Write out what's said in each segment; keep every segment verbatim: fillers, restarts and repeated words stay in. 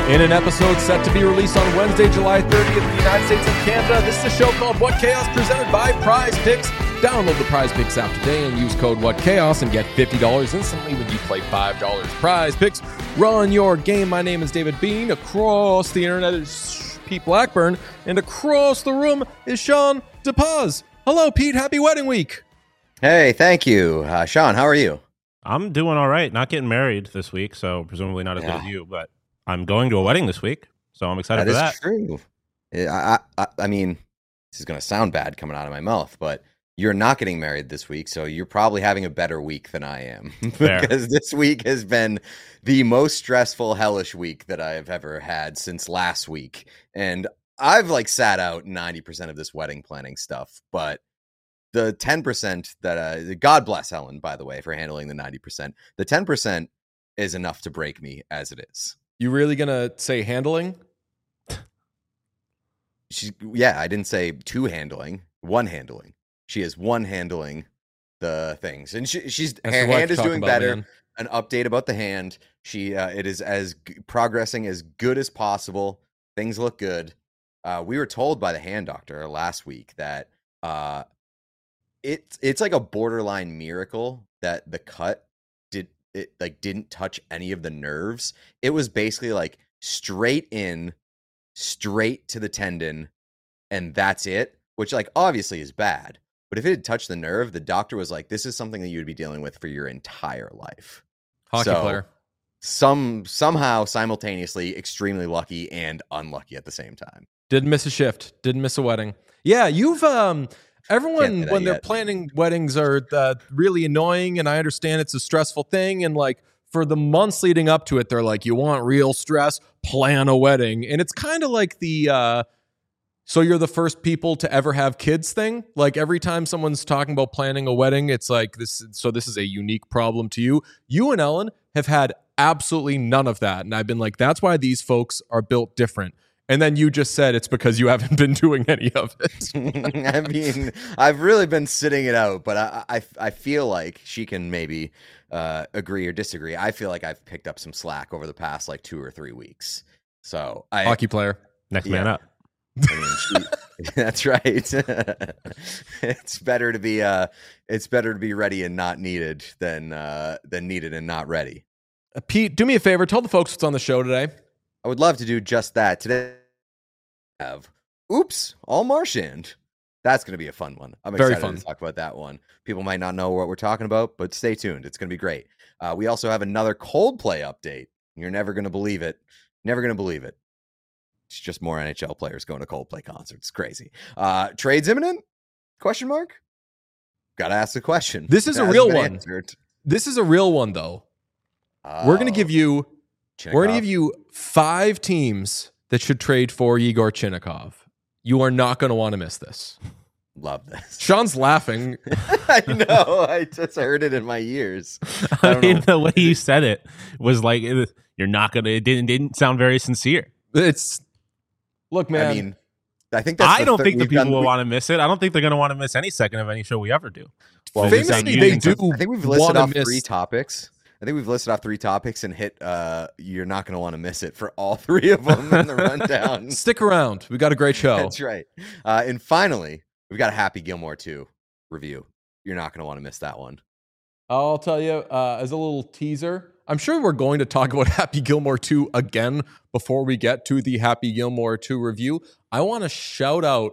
In an episode set to be released on Wednesday, July thirtieth in the United States and Canada, this is a show called What Chaos, presented by Prize Picks. Download the Prize Picks app today and use code What Chaos and get fifty dollars instantly when you play five dollars. Prize Picks, run your game. My name is David Bean. Across the internet is Pete Blackburn. And across the room is Sean DePaz. Hello, Pete. Happy wedding week. Hey, thank you. Uh, Sean, how are you? I'm doing all right. Not getting married this week, so presumably not as yeah. good as you, but I'm going to a wedding this week, so I'm excited that for that. That is true. I, I, I mean, this is going to sound bad coming out of my mouth, but you're not getting married this week, so you're probably having a better week than I am. Because this week has been the most stressful, hellish week that I've ever had since last week. And I've like sat out ninety percent of this wedding planning stuff, but the ten percent that, uh, God bless Helen, by the way, for handling the ninety percent. The ten percent is enough to break me as it is. You really gonna say handling? She's yeah, I didn't say two handling, one handling. She is one handling the things, and she, she's That's her hand is doing about, better. Man. An update about the hand. She uh, it is as g- progressing as good as possible. Things look good. Uh, we were told by the hand doctor last week that uh, it it's like a borderline miracle that the cut did it like didn't touch any of the nerves. It was basically like straight in, straight to the tendon, and that's it. Which like obviously is bad. But if it had touched the nerve, the doctor was like, "This is something that you would be dealing with for your entire life." Hockey so, player. Some somehow simultaneously extremely lucky and unlucky at the same time. Didn't miss a shift. Didn't miss a wedding. Yeah, you've um. Everyone, when they're yet. planning weddings, are uh, really annoying, and I understand it's a stressful thing. And like for the months leading up to it, they're like, "You want real stress? Plan a wedding." And it's kind of like the uh, "so you're the first people to ever have kids" thing. Like every time someone's talking about planning a wedding, it's like this. So this is a unique problem to you. You and Ellen have had absolutely none of that, and I've been like, "That's why these folks are built different." And then you just said it's because you haven't been doing any of it. I mean, I've really been sitting it out, but I, I, I feel like she can maybe uh, agree or disagree. I feel like I've picked up some slack over the past like two or three weeks. So I, hockey player, next yeah. man up. I mean, she, that's right. It's better to be uh, it's better to be ready and not needed than uh, than needed and not ready. Uh, Pete, do me a favor. Tell the folks what's on the show today. I would love to do just that. Today I have Oops, All Marchand. That's going to be a fun one. I'm excited Very fun. to talk about that one. People might not know what we're talking about, but stay tuned. It's going to be great. Uh, we also have another Coldplay update. You're never going to believe it. Never going to believe it. It's just more N H L players going to Coldplay concerts. It's crazy. Uh, trades imminent? Question mark? Got to ask the question. This is It a hasn't real been one. answered. This is a real one, though. Oh, We're going to give you Chinnikov. We're going to give you five teams that should trade for Igor Chinnikov. You are not going to want to miss this. Love this. Sean's laughing. I know. I just heard it in my ears. I I don't mean, know. the way you said it was like, it, you're not going to, it didn't, didn't sound very sincere. It's look, man. I mean, I think that's I the don't thir- think the we've people done- will we- want to miss it. I don't think they're going to want to miss any second of any show we ever do. Well, Famously, we've done- famously, they do. I think we've listed wanna off miss, three topics. I think we've listed off three topics and hit. Uh, you're not going to want to miss it for all three of them in the rundown. Stick around. We got a great show. That's right. Uh, and finally, we've got a Happy Gilmore two review. You're not going to want to miss that one. I'll tell you uh, as a little teaser. I'm sure we're going to talk about Happy Gilmore two again before we get to the Happy Gilmore two review. I want to shout out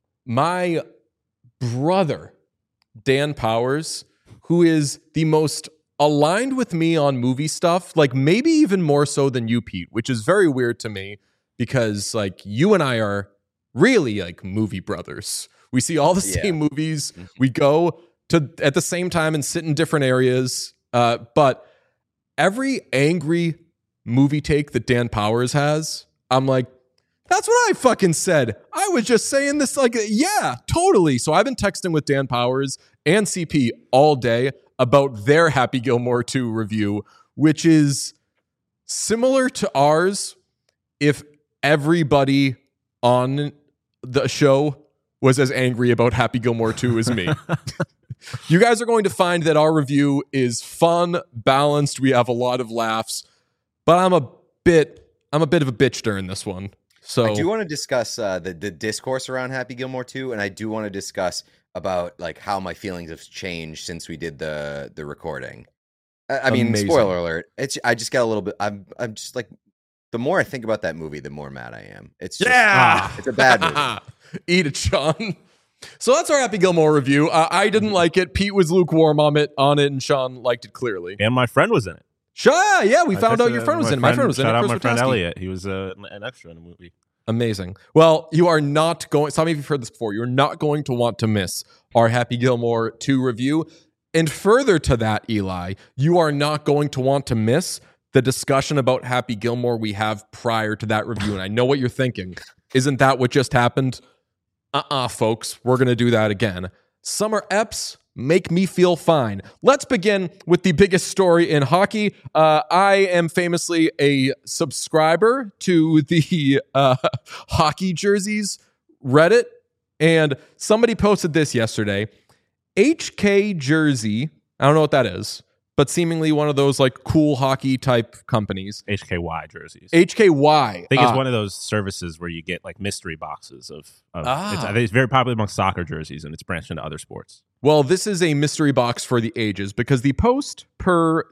my brother, Dan Powers, who is the most aligned with me on movie stuff, like maybe even more so than you, Pete, which is very weird to me because like you and I are really like movie brothers. We see all the Yeah. same movies. We go to at the same time and sit in different areas. Uh, but every angry movie take that Dan Powers has, I'm like, that's what I fucking said. I was just saying this like, yeah, totally. So I've been texting with Dan Powers and C P all day about their Happy Gilmore two review, which is similar to ours if everybody on the show was as angry about Happy Gilmore two as me. You guys are going to find that our review is fun, balanced. We have a lot of laughs, but I'm a bit I'm a bit of a bitch during this one. So I do want to discuss uh, the the discourse around Happy Gilmore too, and I do want to discuss about like how my feelings have changed since we did the the recording. I, I mean, Amazing. spoiler alert. It's I just got a little bit. I'm I'm just like, the more I think about that movie, the more mad I am. It's just, yeah, it's a bad movie. Eat it, Sean. So that's our Happy Gilmore review. Uh, I didn't like it. Pete was lukewarm on it, on it, and Sean liked it clearly. And my friend was in it. Sure, yeah, we I found out texted, your uh, friend was my in it. My friend was in it. Shout out Chris my friend Wojtowski. Elliot. He was uh, an extra in the movie. Amazing. Well, you are not going, some of you have heard this before, you're not going to want to miss our Happy Gilmore two review. And further to that, Eli, you are not going to want to miss the discussion about Happy Gilmore we have prior to that review. And I know what you're thinking. Isn't that what just happened? Uh-uh, folks. We're going to do that again. Summer Eps make me feel fine. Let's begin with the biggest story in hockey. Uh, I am famously a subscriber to the uh, hockey jerseys Reddit, and somebody posted this yesterday. H K Jersey, I don't know what that is, but seemingly one of those like cool hockey type companies. H K Y jerseys. H K Y. I think it's uh, one of those services where you get like mystery boxes of. of Ah. it's, I think it's very popular among soccer jerseys, and it's branched into other sports. Well, this is a mystery box for the ages because the post per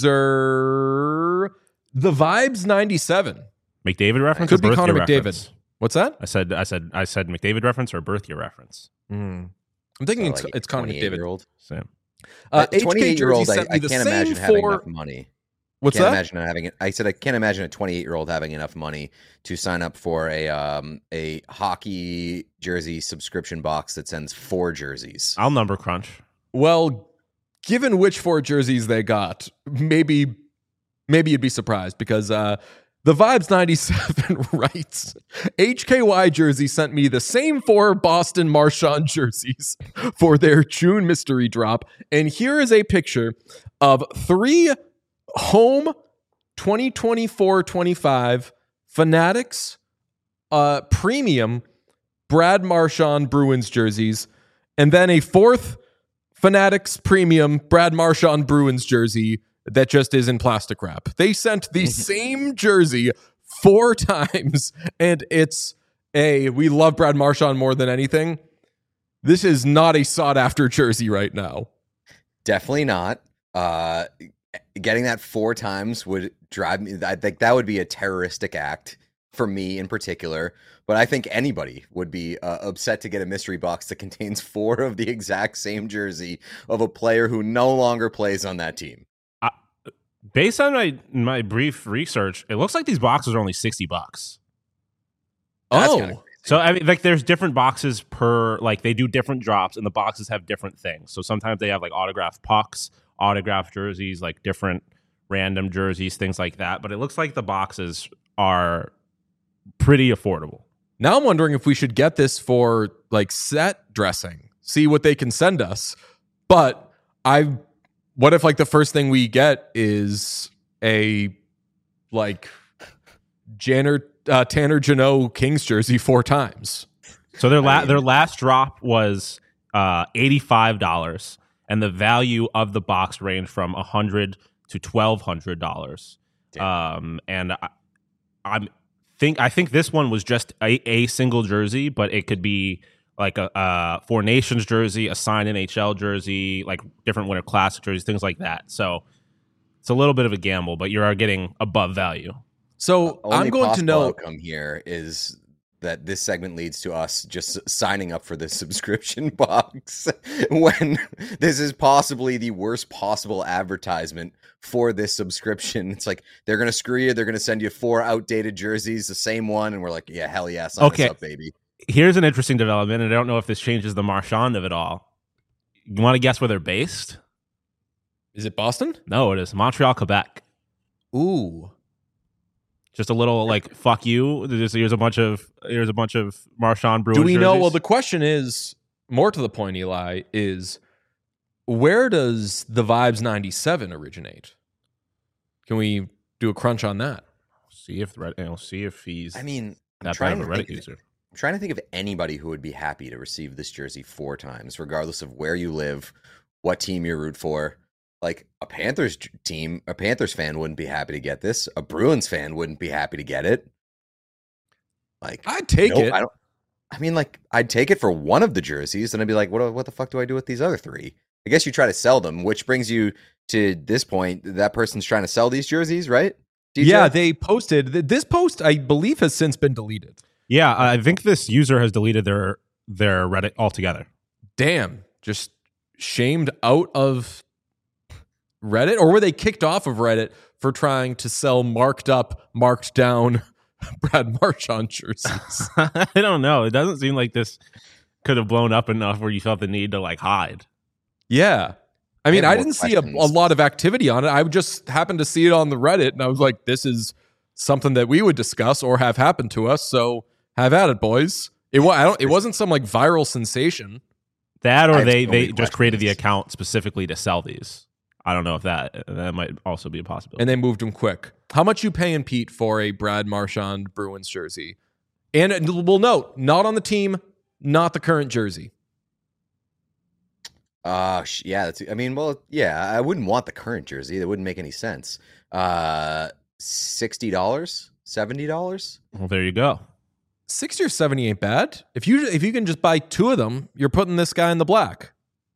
user, the Vibes ninety-seven. McDavid reference Could or be birth Connor year McDavid. reference? What's that? I said, I said, I said McDavid reference or birth year reference. Mm. I'm thinking So, it's, like, it's Connor McDavid. twenty-eight-year-old. Same. Uh, H K twenty-eight-year-old, Jersey I, sent me I the can't same imagine having for. enough money. What's can't that? imagine having it. I said I can't imagine a twenty-eight-year-old having enough money to sign up for a um a hockey jersey subscription box that sends four jerseys. I'll number crunch. Well, given which four jerseys they got, maybe maybe you'd be surprised because uh, the Vibes ninety-seven writes, H K Y Jersey sent me the same four Boston Marchand jerseys for their June mystery drop. And here is a picture of three home twenty twenty-four twenty-five Fanatics uh, premium Brad Marchand Bruins jerseys, and then a fourth Fanatics premium Brad Marchand Bruins jersey that just is in plastic wrap. They sent the same jersey four times, and it's a, we love Brad Marchand more than anything. This is not a sought-after jersey right now. Definitely not. Uh, getting that four times would drive me. I think that would be a terroristic act for me in particular. But I think anybody would be uh, upset to get a mystery box that contains four of the exact same jersey of a player who no longer plays on that team. Uh, based on my my brief research, it looks like these boxes are only sixty bucks. That's Oh, kinda crazy. So I mean, like, there's different boxes per, like, they do different drops, and the boxes have different things. So sometimes they have like autographed pucks, autographed jerseys, like different random jerseys, things like that. But it looks like the boxes are pretty affordable. now I'm wondering if we should get this for like set dressing, see what they can send us. But I, what if like the first thing we get is a like Janner, uh, Tanner Jeannot Kings jersey four times? So their la- I mean- their last drop was uh, eighty-five dollars, and the value of the box ranged from one hundred dollars to twelve hundred dollars. Um, and I, I'm think I think this one was just a, a single jersey, but it could be like a, a Four Nations jersey, a signed N H L jersey, like different Winter Classic jerseys, things like that. So it's a little bit of a gamble, but you are getting above value. So Only I'm going to possible know. outcome here is that this segment leads to us just signing up for this subscription box when this is possibly the worst possible advertisement for this subscription. It's like they're going to screw you. They're going to send you four outdated jerseys, the same one. And we're like, yeah, hell yeah. Sign Okay. us up, baby. Here's an interesting development, and I don't know if this changes the Marchand of it all. You want to guess where they're based? Is it Boston? No, it is Montreal, Quebec. Ooh. Just a little like fuck you. There's, here's a bunch of here's a bunch of Marchand Bruins. Do we know? jerseys. Well, the question is more to the point, Eli, is where does the Vibes ninety-seven originate? Can we do a crunch on that? see if Red, you know, see if he's I mean, I'm that bad trying of to a think Reddit of- user. I'm trying to think of anybody who would be happy to receive this jersey four times, regardless of where you live, what team you root for. like a Panthers team, a Panthers fan wouldn't be happy to get this. A Bruins fan wouldn't be happy to get it. Like, I'd take nope, it. I don't. I mean, like, I'd take it for one of the jerseys, and I'd be like, what? What the fuck do I do with these other three? I guess you try to sell them, which brings you to this point. That person's trying to sell these jerseys, right? D J? Yeah, they posted this post. I believe has since been deleted. Yeah, I think this user has deleted their their Reddit altogether. Damn, just shamed out of Reddit, or were they kicked off of Reddit for trying to sell marked up, marked down Brad Marchand jerseys? I don't know. It doesn't seem like this could have blown up enough where you felt the need to like hide. Yeah. I mean, I I, have didn't more see a, a questions. lot of activity on it. I just happened to see it on the Reddit, and I was like, this is something that we would discuss or have happened to us. So have at it, boys. It, wa- I don't, it wasn't some like viral sensation. That I or have they, so they many just created the questions. account specifically to sell these. I don't know if that that might also be a possibility. And they moved him quick. How much you paying, Pete, for a Brad Marchand Bruins jersey? And we'll note, not on the team, not the current jersey. Uh, sh- yeah. That's. I mean, well, yeah. I wouldn't want the current jersey. That wouldn't make any sense. Uh, sixty dollars, seventy dollars. Well, there you go. sixty or seventy ain't bad. If you if you can just buy two of them, you're putting this guy in the black.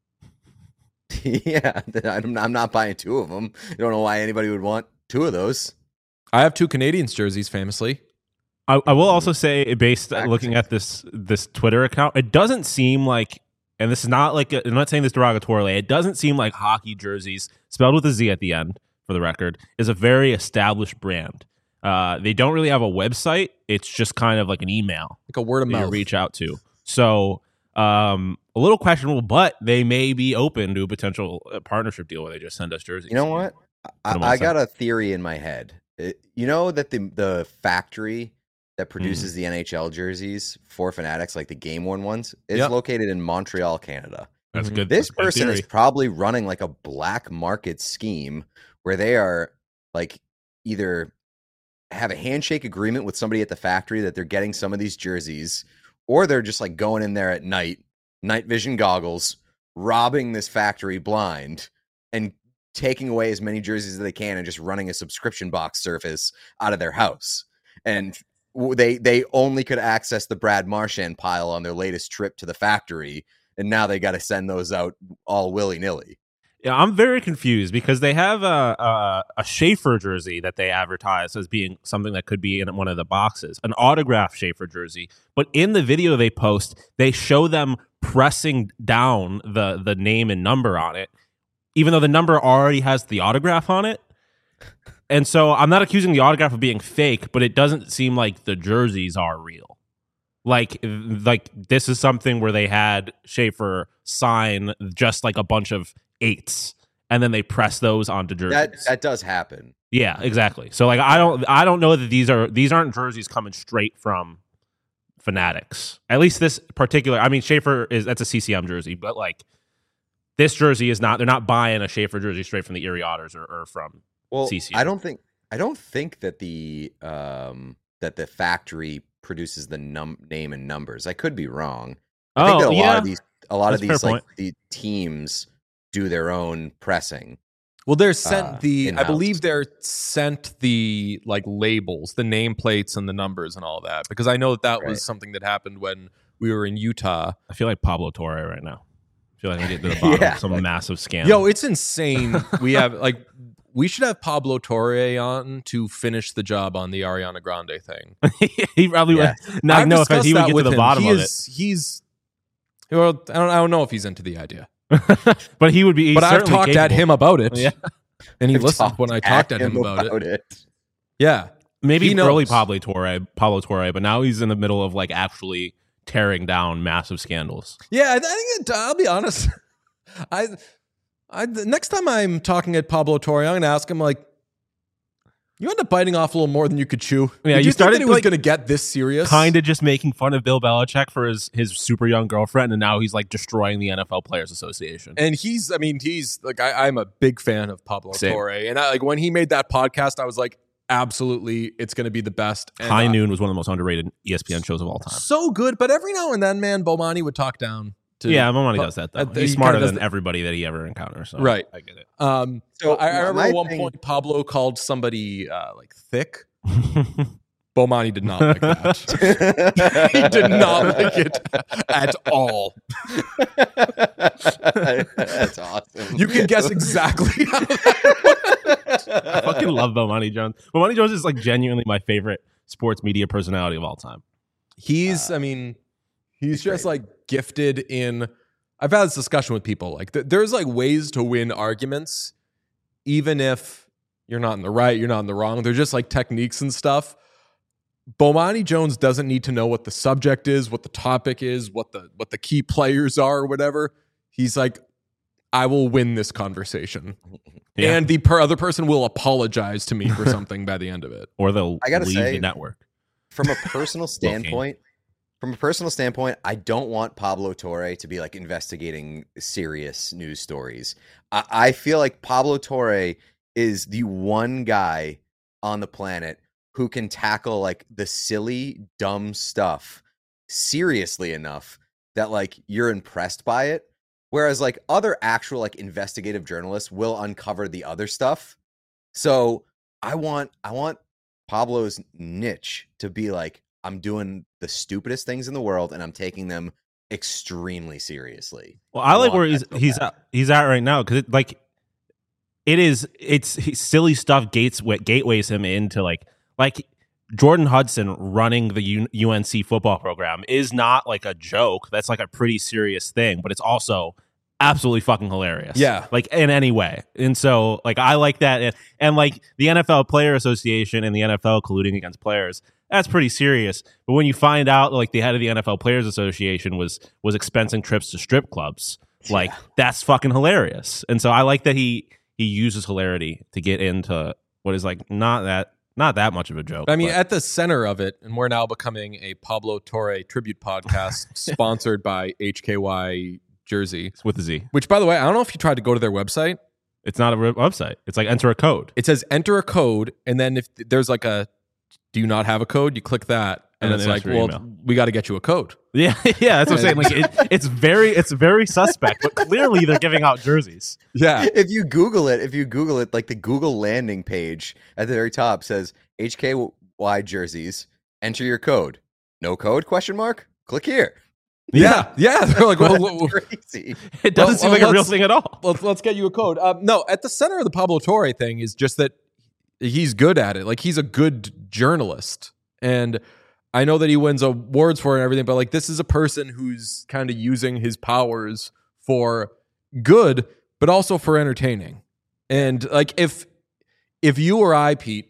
Yeah, I'm, I'm not buying two of them. I don't know why anybody would want two of those. I have two Canadians jerseys, famously. I, I will also say, based Back looking to- at this this Twitter account, it doesn't seem like, and this is not like a, I'm not saying this derogatorily. It doesn't seem like hockey jerseys, spelled with a Z at the end, for the record, is a very established brand. Uh, they don't really have a website. It's just kind of like an email Like a word of that you mouth. reach out to. So um, a little questionable, but they may be open to a potential uh, partnership deal where they just send us jerseys. You know what? I, Put 'em on I sale. got a theory in my head. It- you know that the the factory that produces Hmm. the N H L jerseys for Fanatics, like the game worn ones, is Yep. located in Montreal, Canada. That's Mhm. good. This that's a good person is theory. probably running like a black market scheme where they are like either have a handshake agreement with somebody at the factory that they're getting some of these jerseys, or they're just like going in there at night, night vision goggles, robbing this factory blind and taking away as many jerseys as they can and just running a subscription box service out of their house. And w- they they only could access the Brad Marchand pile on their latest trip to the factory, and now they got to send those out all willy-nilly. Yeah, I'm very confused because they have a, a a Schaefer jersey that they advertise as being something that could be in one of the boxes, an autographed Schaefer jersey. But in the video they post, they show them pressing down the the name and number on it, even though the number already has the autograph on it. And so I'm not accusing the autograph of being fake, but it doesn't seem like the jerseys are real. Like, like this is something where they had Schaefer sign just like a bunch of eights, and then they press those onto jerseys. That that does happen. Yeah, exactly. So like, I don't, I don't know that these are these aren't jerseys coming straight from Fanatics. At least this particular. I mean, Schaefer is that's a C C M jersey, but like this jersey is not. They're not buying a Schaefer jersey straight from the Erie Otters or, or from. Well, C C M. I don't think I don't think that the um that the factory produces the num name and numbers. I could be wrong. I think Oh, that a lot yeah. of these a lot That's of a fair these like point. the teams do their own pressing. Well, they're sent Uh, the. I in-house. believe they're sent the like labels, the nameplates, and the numbers and all that. Because I know that that Right. was something that happened when we were in Utah. I feel like Pablo Torre right now. I feel like I'm getting to the bottom Yeah, of some like- massive scam. Yo, it's insane. We have like we should have Pablo Torre on to finish the job on the Ariana Grande thing. he probably Yeah. would. No, I've no offense, he discussed would that get to with the him. bottom he of is, He's well, I don't, I don't know if he's into the idea, it. But he would be. He's but I've certainly talked at capable. him about it. Yeah. And he I've listened talked when I talked at him, about, it. it. Yeah, Maybe He knows. early Pablo Torre, Pablo Torre, but now he's in the middle of like actually tearing down massive scandals. yeah. I think it, I'll be honest. I, I the next time I'm talking at Pablo Torre, I'm going to ask him like, you end up biting off a little more than you could chew. Yeah, Did you you started, think that he was like, going to get this serious? Kind of just making fun of Bill Belichick for his his super young girlfriend, and now he's like destroying the N F L Players Association. And he's, I mean, he's like, I, I'm a big fan of Pablo Same. Torre. And I, like when he made that podcast, I was like, absolutely, it's going to be the best. And, High uh, Noon was one of the most underrated E S P N shows of all time. so good. But every now and then, man, Bomani would talk down to yeah, Bomani does that though. uh, He's he smarter kinda does than that. everybody that he ever encounters. So Right. I get it. Um, So I, I my remember at one thing- point Pablo called somebody uh, like thick. Bomani did not like that. He did not like it at all. That's awesome. You can guess exactly how that I fucking love Bomani Jones. Bomani Jones is like genuinely my favorite sports media personality of all time. He's, Uh, I mean, he's, he's just great. like gifted in. I've had this discussion with people. Like, th- there's like ways to win arguments, even if you're not in the right, you're not in the wrong. They're just like techniques and stuff. Bomani Jones doesn't need to know what the subject is, what the topic is, what the what the key players are, or whatever. He's like, I will win this conversation, Yeah. and the per- other person will apologize to me for something by the end of it. Or they'll I gotta leave say- the network. From a personal standpoint, from a personal standpoint, I don't want Pablo Torre to be like investigating serious news stories. I, I feel like Pablo Torre is the one guy on the planet who can tackle like the silly, dumb stuff seriously enough that like you're impressed by it. Whereas like other actual like investigative journalists will uncover the other stuff. So I want I want Pablo's niche to be like, I'm doing the stupidest things in the world and I'm taking them extremely seriously. Well, I like want where that he's so he's bad. at, he's at right now because it like it is it's he- silly stuff gates what gateways him into like like Jordan Hudson running the U- UNC football program is not like a joke. That's like a pretty serious thing, but it's also absolutely fucking hilarious. Yeah. like in any way. And so like I like that, and, and like the N F L Player Association and the N F L colluding against players. That's pretty serious. But when you find out like the head of the N F L Players Association was was expensing trips to strip clubs, like that's fucking hilarious. And so I like that he he uses hilarity to get into what is like not that not that much of a joke. I mean, but- at the center of it, and we're now becoming a Pablo Torre tribute podcast sponsored by H K Y Jersey, it's with a Z. which, by the way, I don't know if you tried to go to their website. It's not a re- website. It's like enter a code. It says enter a code, and then if there's like a do you not have a code, you click that, and, And it's then like, enter your well, email. we got to get you a code. Yeah, yeah, that's what I'm saying. Like it, it's very it's very suspect, but clearly they're giving out jerseys. Yeah. If you Google it, if you Google it, like the Google landing page at the very top says H K Y jerseys, enter your code. No code, question mark? Click here. Yeah. Yeah. They're like, well, That's well, crazy. It doesn't Well, seem well, like a real let's- thing at all. let's, let's get you a code. Um, no, at the center of the Pablo Torre thing is just that he's good at it. Like, he's a good journalist. And I know that he wins awards for it and everything, but like, this is a person who's kind of using his powers for good, but also for entertaining. And like, if if you or I, Pete,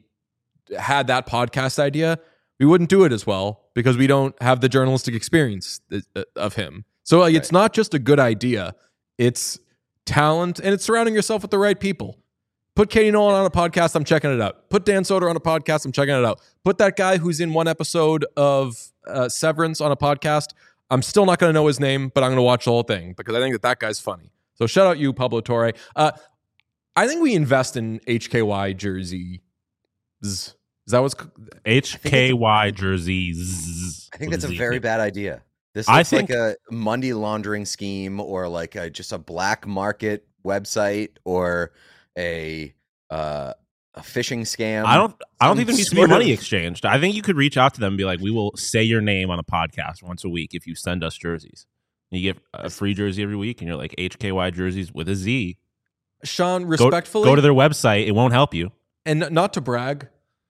had that podcast idea, we wouldn't do it as well because we don't have the journalistic experience of him. So like, it's not just a good idea; it's talent, and it's surrounding yourself with the right people. Put Katie Nolan on a podcast, I'm checking it out. Put Dan Soder on a podcast, I'm checking it out. Put that guy who's in one episode of uh, Severance on a podcast. I'm still not going to know his name, but I'm going to watch the whole thing because I think that that guy's funny. So shout out you, Pablo Torre. Uh, I think we invest in H K Y jerseys. Is that what's H K Y jerseys. I think with that's a Z. very bad idea. This I looks think- like a money laundering scheme or like a, just a black market website or a uh, a phishing scam. I don't. I don't Some think there needs to be sort money of- exchanged. I think you could reach out to them and be like, "We will say your name on a podcast once a week if you send us jerseys." And you get a free jersey every week, and you're like H K Y jerseys with a Z. Sean? Go, Respectfully, go to their website. It won't help you. and n- not to brag.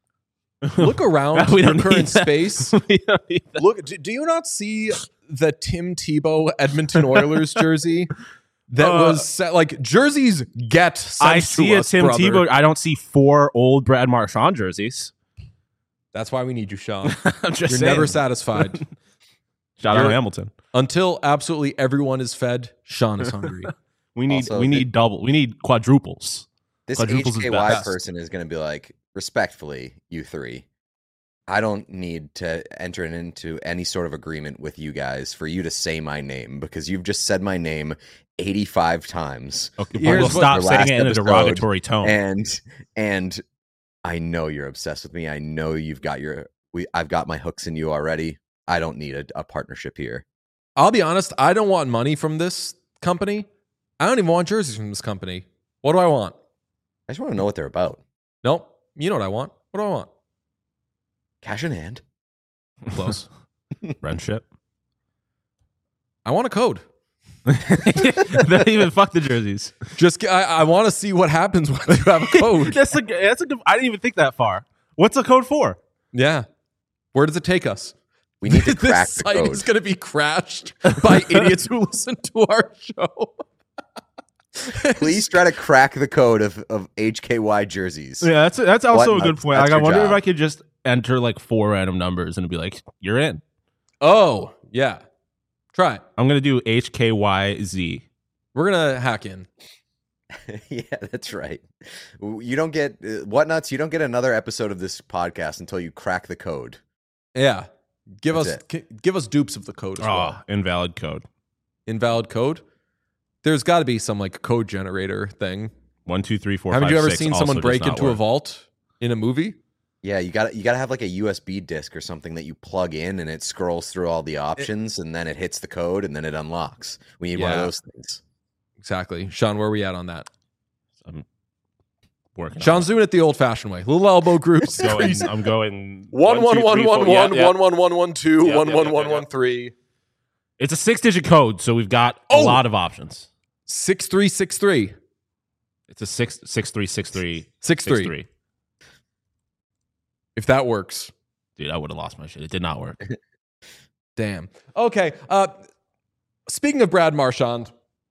Look around We your don't current need that. space. We don't need that. Look, do, do you not see the Tim Tebow Edmonton Oilers jersey that Uh, was set, like jerseys get sent I to see a us, Tim brother. Tebow. I don't see four old Brad Marchand jerseys. That's why we need you, Sean. I'm just You're saying. never satisfied Shout out You're- Hamilton. until absolutely everyone is fed. Sean is hungry. We need Also, we the- need double. We need quadruples. This Quadruples is H K Y best. person is going to be like, respectfully, you three, I don't need to enter into any sort of agreement with you guys for you to say my name because you've just said my name eighty-five times. Okay, Here's we'll what- stop the saying last it in a episode, derogatory tone. And and I know you're obsessed with me. I know you've got your we I've got my hooks in you already. I don't need a, a partnership here. I'll be honest, I don't want money from this company. I don't even want jerseys from this company. What do I want? I just want to know what they're about. Nope. You know what I want. What do I want? Cash in hand. Close. Friendship. I want a code. They even fuck the jerseys. Just I, I want to see what happens when you have a code. that's a that's a good. I didn't even think that far. What's the code for? Yeah. Where does it take us? We need to crack this the site code. is going to be crashed by idiots who listen to our show. Please try to crack the code of, of H K Y jerseys. Yeah, that's that's also What? a good That's- point. that's Like, I your wonder job. if I could just enter like four random numbers and be like, "You're in." Oh, yeah. Try it. I'm gonna do H K Y Z. We're going to hack in. Yeah, that's right. You don't get uh, Whatnuts. You don't get another episode of this podcast until you crack the code. Yeah. Give That's us gi- give us dupes of the code as Oh, well. invalid code. Invalid code. There's got to be some like code generator thing. One, two, three, four. Haven't five, you ever six seen also someone does break not into work. a vault in a movie? Yeah, you got you got to have like a U S B disk or something that you plug in, and it scrolls through all the options, and then it hits the code, and then it unlocks. We need one of Yeah. those things. Exactly. Sean, where are we at on that? I'm working. Sean's doing it the old-fashioned way. Little elbow groups. on it. going, I'm going One one two, one three, one four- yeah, one yeah. one one one one two Yep, one yep, one yep, one yep, one yep. three It's a six-digit code, so we've got Oh! a lot of options. six three six three It's a six six three six three six six three. three. If that works. Dude, I would have lost my shit. It did not work. Damn. Okay. Uh, speaking of Brad Marchand,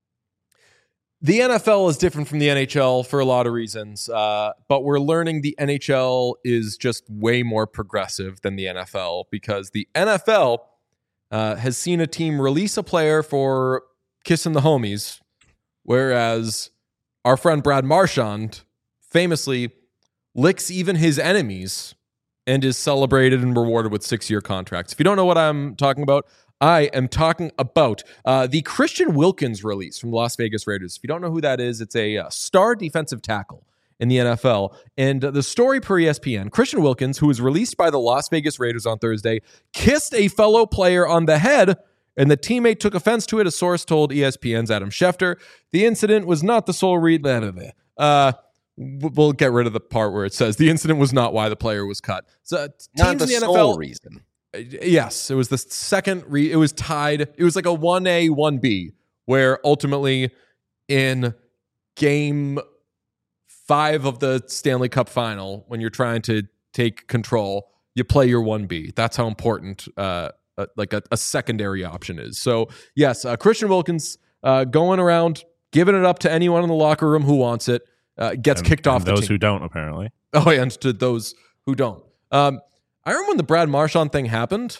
the N F L is different from the N H L for a lot of reasons, uh, but we're learning the N H L is just way more progressive than the N F L because the N F L uh, has seen a team release a player for kissing the homies, whereas our friend Brad Marchand famously licks even his enemies and is celebrated and rewarded with six-year contracts. If you don't know what I'm talking about, I am talking about uh, the Christian Wilkins release from the Las Vegas Raiders. If you don't know who that is, it's a uh, star defensive tackle in the N F L. And uh, the story per E S P N, Christian Wilkins, who was released by the Las Vegas Raiders on Thursday, kissed a fellow player on the head, and the teammate took offense to it, a source told E S P N's Adam Schefter. The incident was not the sole reason. Uh, we'll get rid of the part where it says the incident was not why the player was cut. So uh, teams Not the in the sole N F L reason. Yes, it was the second. Re- it was tied. It was like a one A, one B, where ultimately in game five of the Stanley Cup final, when you're trying to take control, you play your one B. That's how important uh, uh, like a, a secondary option is. So yes, uh, Christian Wilkins uh, going around, giving it up to anyone in the locker room who wants it, uh, gets And- kicked and off the those team. who don't, apparently. Oh, and to those who don't. Um, I remember when the Brad Marchand thing happened,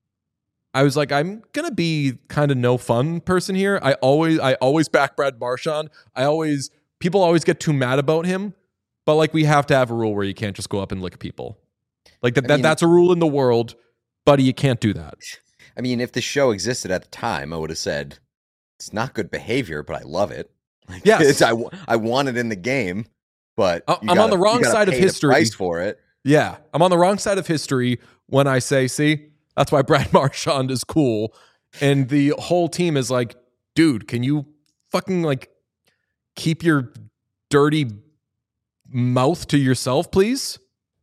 I was like, I'm gonna be kind of no fun person here. I always, I always back Brad Marchand. I always, people always get too mad about him, but like we have to have a rule where you can't just go up and lick people. Like that, I that mean- that's a rule in the world, buddy. You can't do that. I mean, if the show existed at the time, I would have said it's not good behavior, but I love it. Like, Yes. it's, I, wa- I want it in the game, but I- you I'm on gotta- the wrong you gotta side of pay the history. price for it. Yeah, I'm on the wrong side of history when I say, see, that's why Brad Marchand is cool. And the whole team is like, dude, can you fucking like keep your dirty mouth to yourself, please?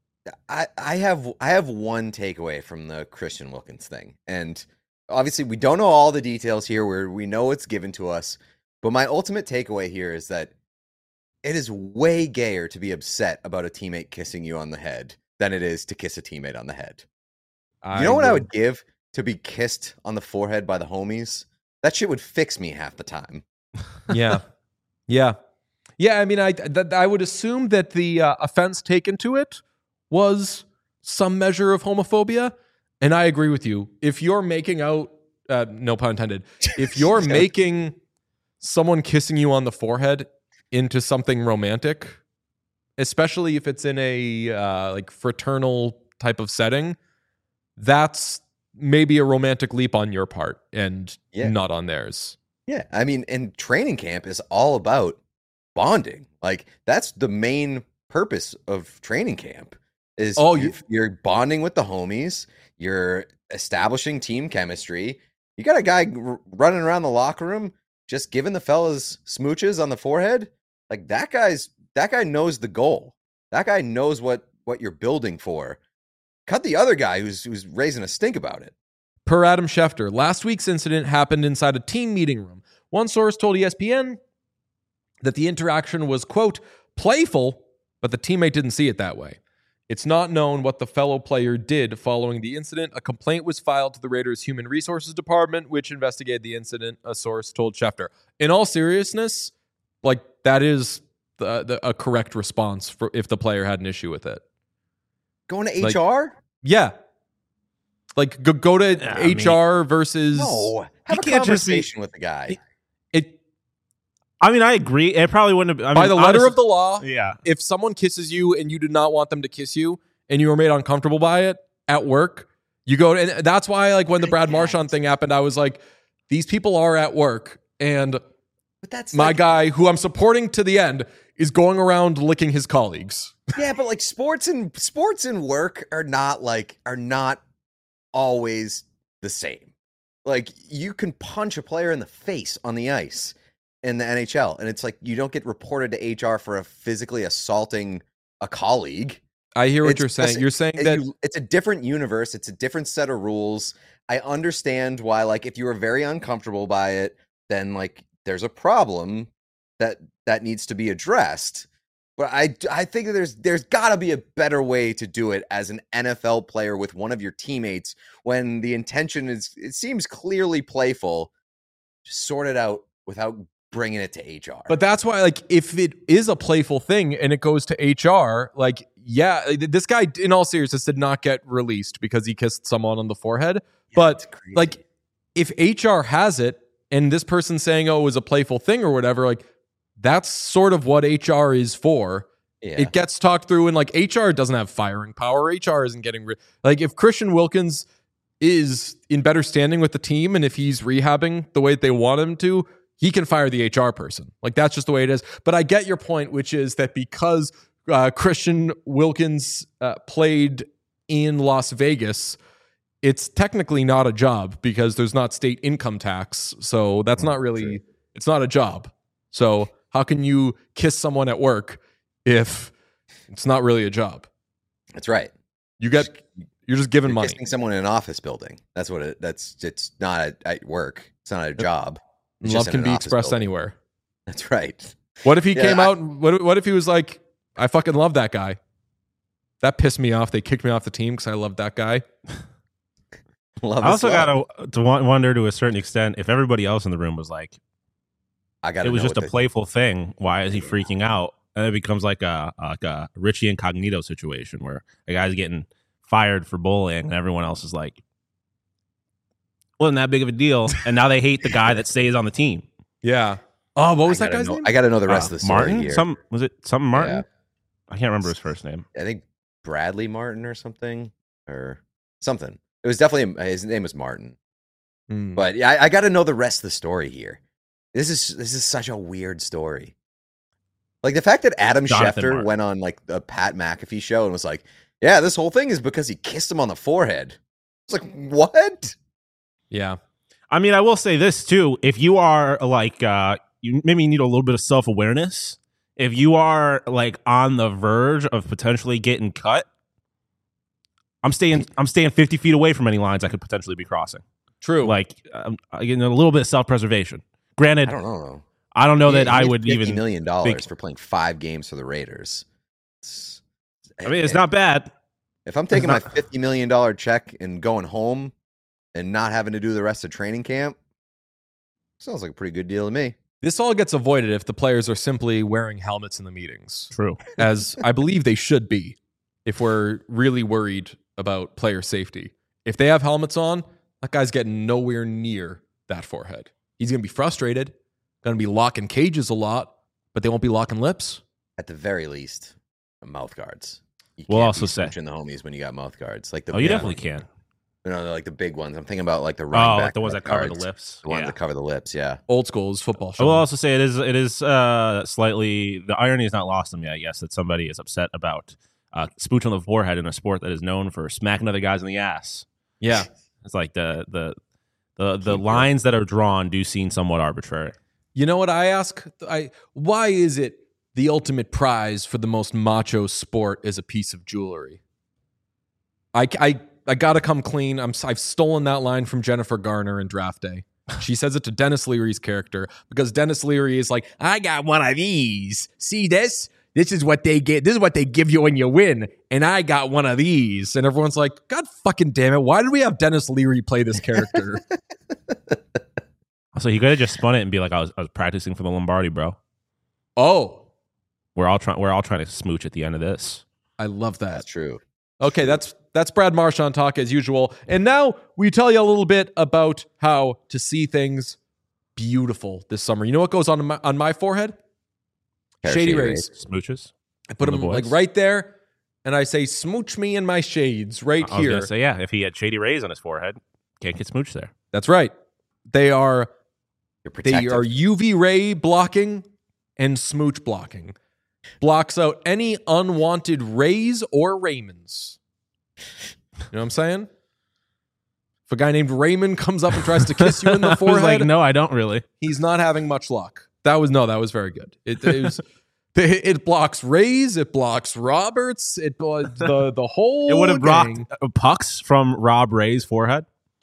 I, I have I have one takeaway from the Christian Wilkins thing, and obviously we don't know all the details here. Where we know it's given to us, but my ultimate takeaway here is that it is way gayer to be upset about a teammate kissing you on the head than it is to kiss a teammate on the head. You know what I would give to be kissed on the forehead by the homies? That shit would fix me half the time. Yeah, yeah, yeah. I mean, I th- I would assume that the uh, offense taken to it was some measure of homophobia, and I agree with you. If you're making out, uh, no pun intended, if you're making someone kissing you on the forehead into something romantic, especially if it's in a uh, like fraternal type of setting, that's maybe a romantic leap on your part and Yeah. not on theirs. Yeah, I mean, and training camp is all about bonding. Like that's the main purpose of training camp. Is Oh, you, you- you're bonding with the homies, you're establishing team chemistry, You got a guy r- running around the locker room just giving the fellas smooches on the forehead. Like that guy's that guy knows the goal. That guy knows what what you're building for. Cut the other guy who's who's raising a stink about it. Per Adam Schefter, last week's incident happened inside a team meeting room. One source told E S P N that the interaction was, quote, playful, but the teammate didn't see it that way. It's not known what the fellow player did following the incident. A complaint was filed to the Raiders Human Resources Department, which investigated the incident, a source told Schefter. In all seriousness, like that is the, the, a correct response for if the player had an issue with it. Going to Like, H R? Yeah. Like go, go to Yeah, H R I mean, versus... No. Have You a can't just be- conversation with the guy. It, I mean, I agree. It probably wouldn't have. I mean, by the letter honestly- of the law, Yeah. if someone kisses you and you did not want them to kiss you and you were made uncomfortable by it at work, you go to, and that's why like when the Brad Marchand thing happened, I was like, these people are at work and But that's my like, guy who I'm supporting to the end is going around licking his colleagues. yeah, but like sports and sports and work are not like are not always the same. Like you can punch a player in the face on the ice in the N H L, and it's like you don't get reported to H R for a physically assaulting a colleague. I hear what It's you're saying. just- You're saying It- that you- it's a different universe. It's a different set of rules. I understand why, like, if you are very uncomfortable by it, then like there's a problem that that needs to be addressed. But I, I think that there's there's got to be a better way to do it as an N F L player with one of your teammates when the intention is it seems clearly playful. Just sort it out without bringing it to H R. But that's why, like, if it is a playful thing and it goes to H R, like, yeah, this guy, in all seriousness, did not get released because he kissed someone on the forehead. Yeah, but, it's crazy. like, if H R has it and this person's saying, oh, it was a playful thing or whatever, like, that's sort of what H R is for. yeah. It gets talked through, and, like, H R doesn't have firing power. H R isn't getting rid. Like, if Christian Wilkins is in better standing with the team and if he's rehabbing the way they want him to, he can fire the H R person. Like, that's just the way it is. But I get your point, which is that because uh, Christian Wilkins uh, played in Las Vegas, it's technically not a job because there's not state income tax. So that's not really, True. it's not a job. So how can you kiss someone at work if it's not really a job? That's right. You get, you're just giving You're money. kissing someone in an office building. That's what it. That's it's not at, at work. It's not a job. It's Love just in can an be office expressed building. anywhere. That's right. What if he Yeah, came I- out? What, what if he was like, I fucking love that guy. That pissed me off. They kicked me off the team because I loved that guy. Love I is also love. got to wonder to a certain extent if everybody else in the room was like, I got. it was just a playful thing. Why is he freaking out? And it becomes like a like a Richie Incognito situation where a guy's getting fired for bullying and everyone else is like, wasn't that big of a deal. And now they hate the guy that stays on the team. Yeah. Oh, what was I that gotta guy's know, name? I got to know the rest Uh, of the story Martin? here. Some was it something Martin? Yeah. I can't remember his first name. I think Bradley Martin or something or something. It was definitely his name was Martin. Hmm. But yeah, I, I got to know the rest of the story here. This is this is such a weird story. Like the fact that Adam Jonathan Schefter Martin. went on like the Pat McAfee show and was like, "Yeah, this whole thing is because he kissed him on the forehead." It's like, what? Yeah. I mean, I will say this too. If you are like, uh, you maybe need a little bit of self awareness. If you are like on the verge of potentially getting cut, I'm staying. I'm staying fifty feet away from any lines I could potentially be crossing. True. Like, um, again, a little bit of self preservation. Granted, I don't know. I don't know Yeah, that he I made would fifty even. million dollars think- for playing five games for the Raiders. It's- I mean, it's not bad. If I'm taking not- my fifty million dollar check and going home and not having to do the rest of training camp, sounds like a pretty good deal to me. This all gets avoided if the players are simply wearing helmets in the meetings, True. as I believe they should be if we're really worried about player safety. If they have helmets on, that guy's getting nowhere near that forehead. He's going to be frustrated, going to be locking cages a lot, but they won't be locking lips. At the very least, mouth guards. You We'll can't also be say- smooching the homies when you got mouth guards. Like the Oh, you yeah, definitely can. You know, like the big ones. I'm thinking about like the Oh, running back like the ones mouth that cover the guards. lips. The ones Yeah. that cover the lips. Yeah. Old school is football. I will Sean. also say it is it is uh, slightly the irony is not lost on me. I guess that somebody is upset about uh, smooch on the forehead in a sport that is known for smacking other guys in the ass. Yeah. It's like the the The the lines that are drawn do seem somewhat arbitrary. You know what I ask? I why is it the ultimate prize for the most macho sport is a piece of jewelry? I, I, I gotta come clean. I'm, I've stolen that line from Jennifer Garner in Draft Day. She says it to Dennis Leary's character because Dennis Leary is like, I got one of these. See this? This is what they get. This is what they give you when you win. And I got one of these. And everyone's like, God fucking damn it. Why did we have Dennis Leary play this character? So he could have just spun it and be like, I was, I was practicing for the Lombardi, bro. Oh. We're all trying. We're all trying to smooch at the end of this. I love that. That's true. Okay, that's that's Brad Marchand talk as usual. And now we tell you a little bit about how to see things beautiful this summer. You know what goes on my, on my forehead? Shady, Shady Rays. Rays. Smooches. I put them the like right there, and I say, smooch me in my shades right I was here. Gonna say, yeah, if he had Shady Rays on his forehead, can't get smooch there. That's right. They are, they are U V ray blocking and smooch blocking. Blocks out any unwanted rays or Raymonds. You know what I'm saying? If a guy named Raymond comes up and tries to kiss you in the forehead, I was like, no, I don't really. He's not having much luck. That was no, that was very good. It, it was. It blocks Rays. It blocks Roberts. It the the whole. It would have gang. blocked pucks from Rob Ray's forehead.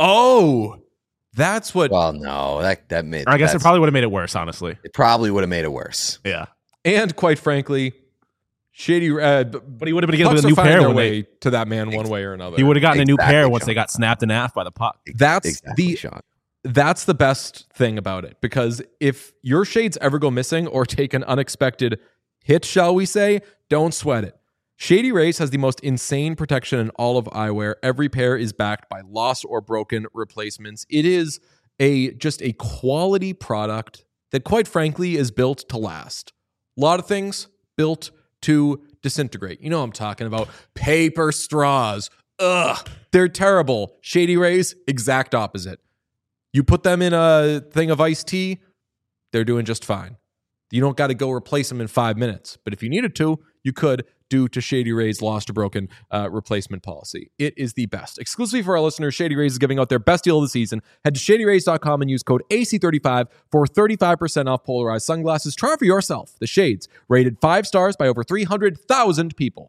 Oh, that's what. Well, no, that that made. Or I guess it probably would have made it worse. Honestly, it probably would have made it worse. Yeah. And quite frankly, Shady, uh, but he would have been getting a new pair their when way they, to that man one way or another. He would have gotten exactly, a new pair once Sean. they got snapped in half by the puck. That's exactly, the Sean. That's the best thing about it, because if your shades ever go missing or take an unexpected hit, shall we say, don't sweat it. Shady Rays has the most insane protection in all of eyewear. Every pair is backed by lost or broken replacements. It is a just a quality product that, quite frankly, is built to last. A lot of things built to disintegrate. You know what I'm talking about. Paper straws. Ugh. They're terrible. Shady Rays, exact opposite. You put them in a thing of iced tea, they're doing just fine. You don't got to go replace them in five minutes. But if you needed to, you could, due to Shady Rays' lost or broken uh, replacement policy. It is the best. Exclusively for our listeners, Shady Rays is giving out their best deal of the season. Head to shady rays dot com and use code A C thirty-five for thirty-five percent off polarized sunglasses. Try for yourself. The Shades, rated five stars by over three hundred thousand people.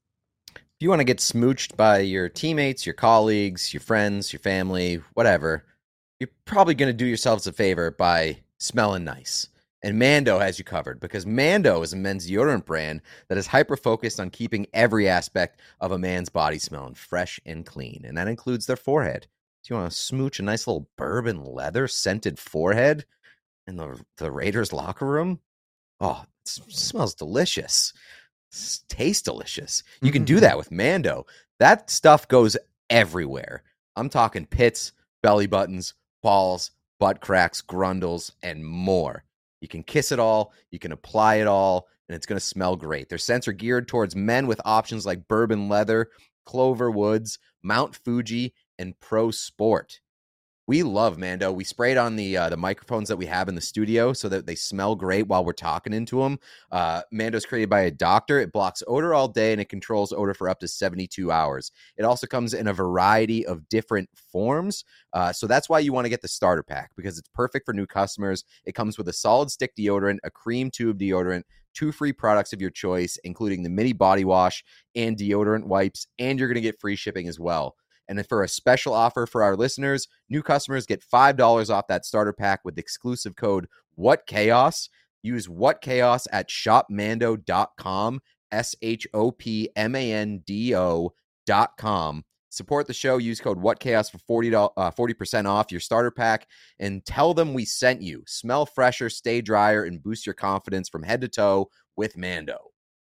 If you want to get smooched by your teammates, your colleagues, your friends, your family, whatever, you're probably going to do yourselves a favor by smelling nice. And Mando has you covered, because Mando is a men's deodorant brand that is hyper-focused on keeping every aspect of a man's body smelling fresh and clean. And that includes their forehead. Do you want to smooch a nice little bourbon leather scented forehead in the, the Raiders locker room? Oh, it smells delicious. It tastes delicious. You can do that with Mando. That stuff goes everywhere. I'm talking pits, belly buttons, balls, butt cracks, grundles, and more. You can kiss it all, you can apply it all, and it's going to smell great. Their scents are geared towards men with options like bourbon leather, Clover Woods, Mount Fuji, and Pro Sport. We love Mando. We spray it on the uh, the microphones that we have in the studio so that they smell great while we're talking into them. Uh, Mando's created by a doctor. It blocks odor all day, and it controls odor for up to seventy-two hours. It also comes in a variety of different forms. Uh, so that's why you want to get the starter pack, because it's perfect for new customers. It comes with a solid stick deodorant, a cream tube deodorant, two free products of your choice, including the mini body wash and deodorant wipes, and you're going to get free shipping as well. And for a special offer for our listeners, new customers get five dollars off that starter pack with exclusive code WhatChaos. Use WhatChaos at shop mando dot com, S H O P M A N D O dot com. Support the show. Use code WhatChaos for forty dollars, uh, forty percent off your starter pack, and tell them we sent you. Smell fresher, stay drier, and boost your confidence from head to toe with Mando.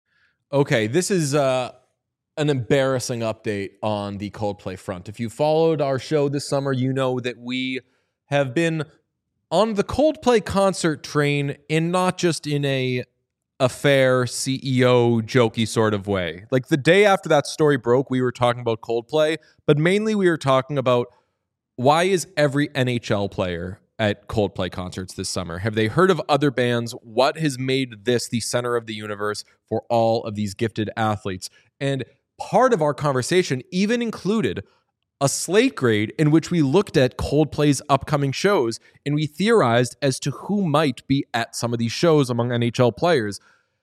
Okay, this is... uh an embarrassing update on the Coldplay front. If you followed our show this summer, you know that we have been on the Coldplay concert train, in not just in a affair C E O jokey sort of way. Like the day after that story broke, we were talking about Coldplay, but mainly we were talking about why is every N H L player at Coldplay concerts this summer? Have they heard of other bands? What has made this the center of the universe for all of these gifted athletes? And part of our conversation even included a slate grade in which we looked at Coldplay's upcoming shows and we theorized as to who might be at some of these shows among N H L players.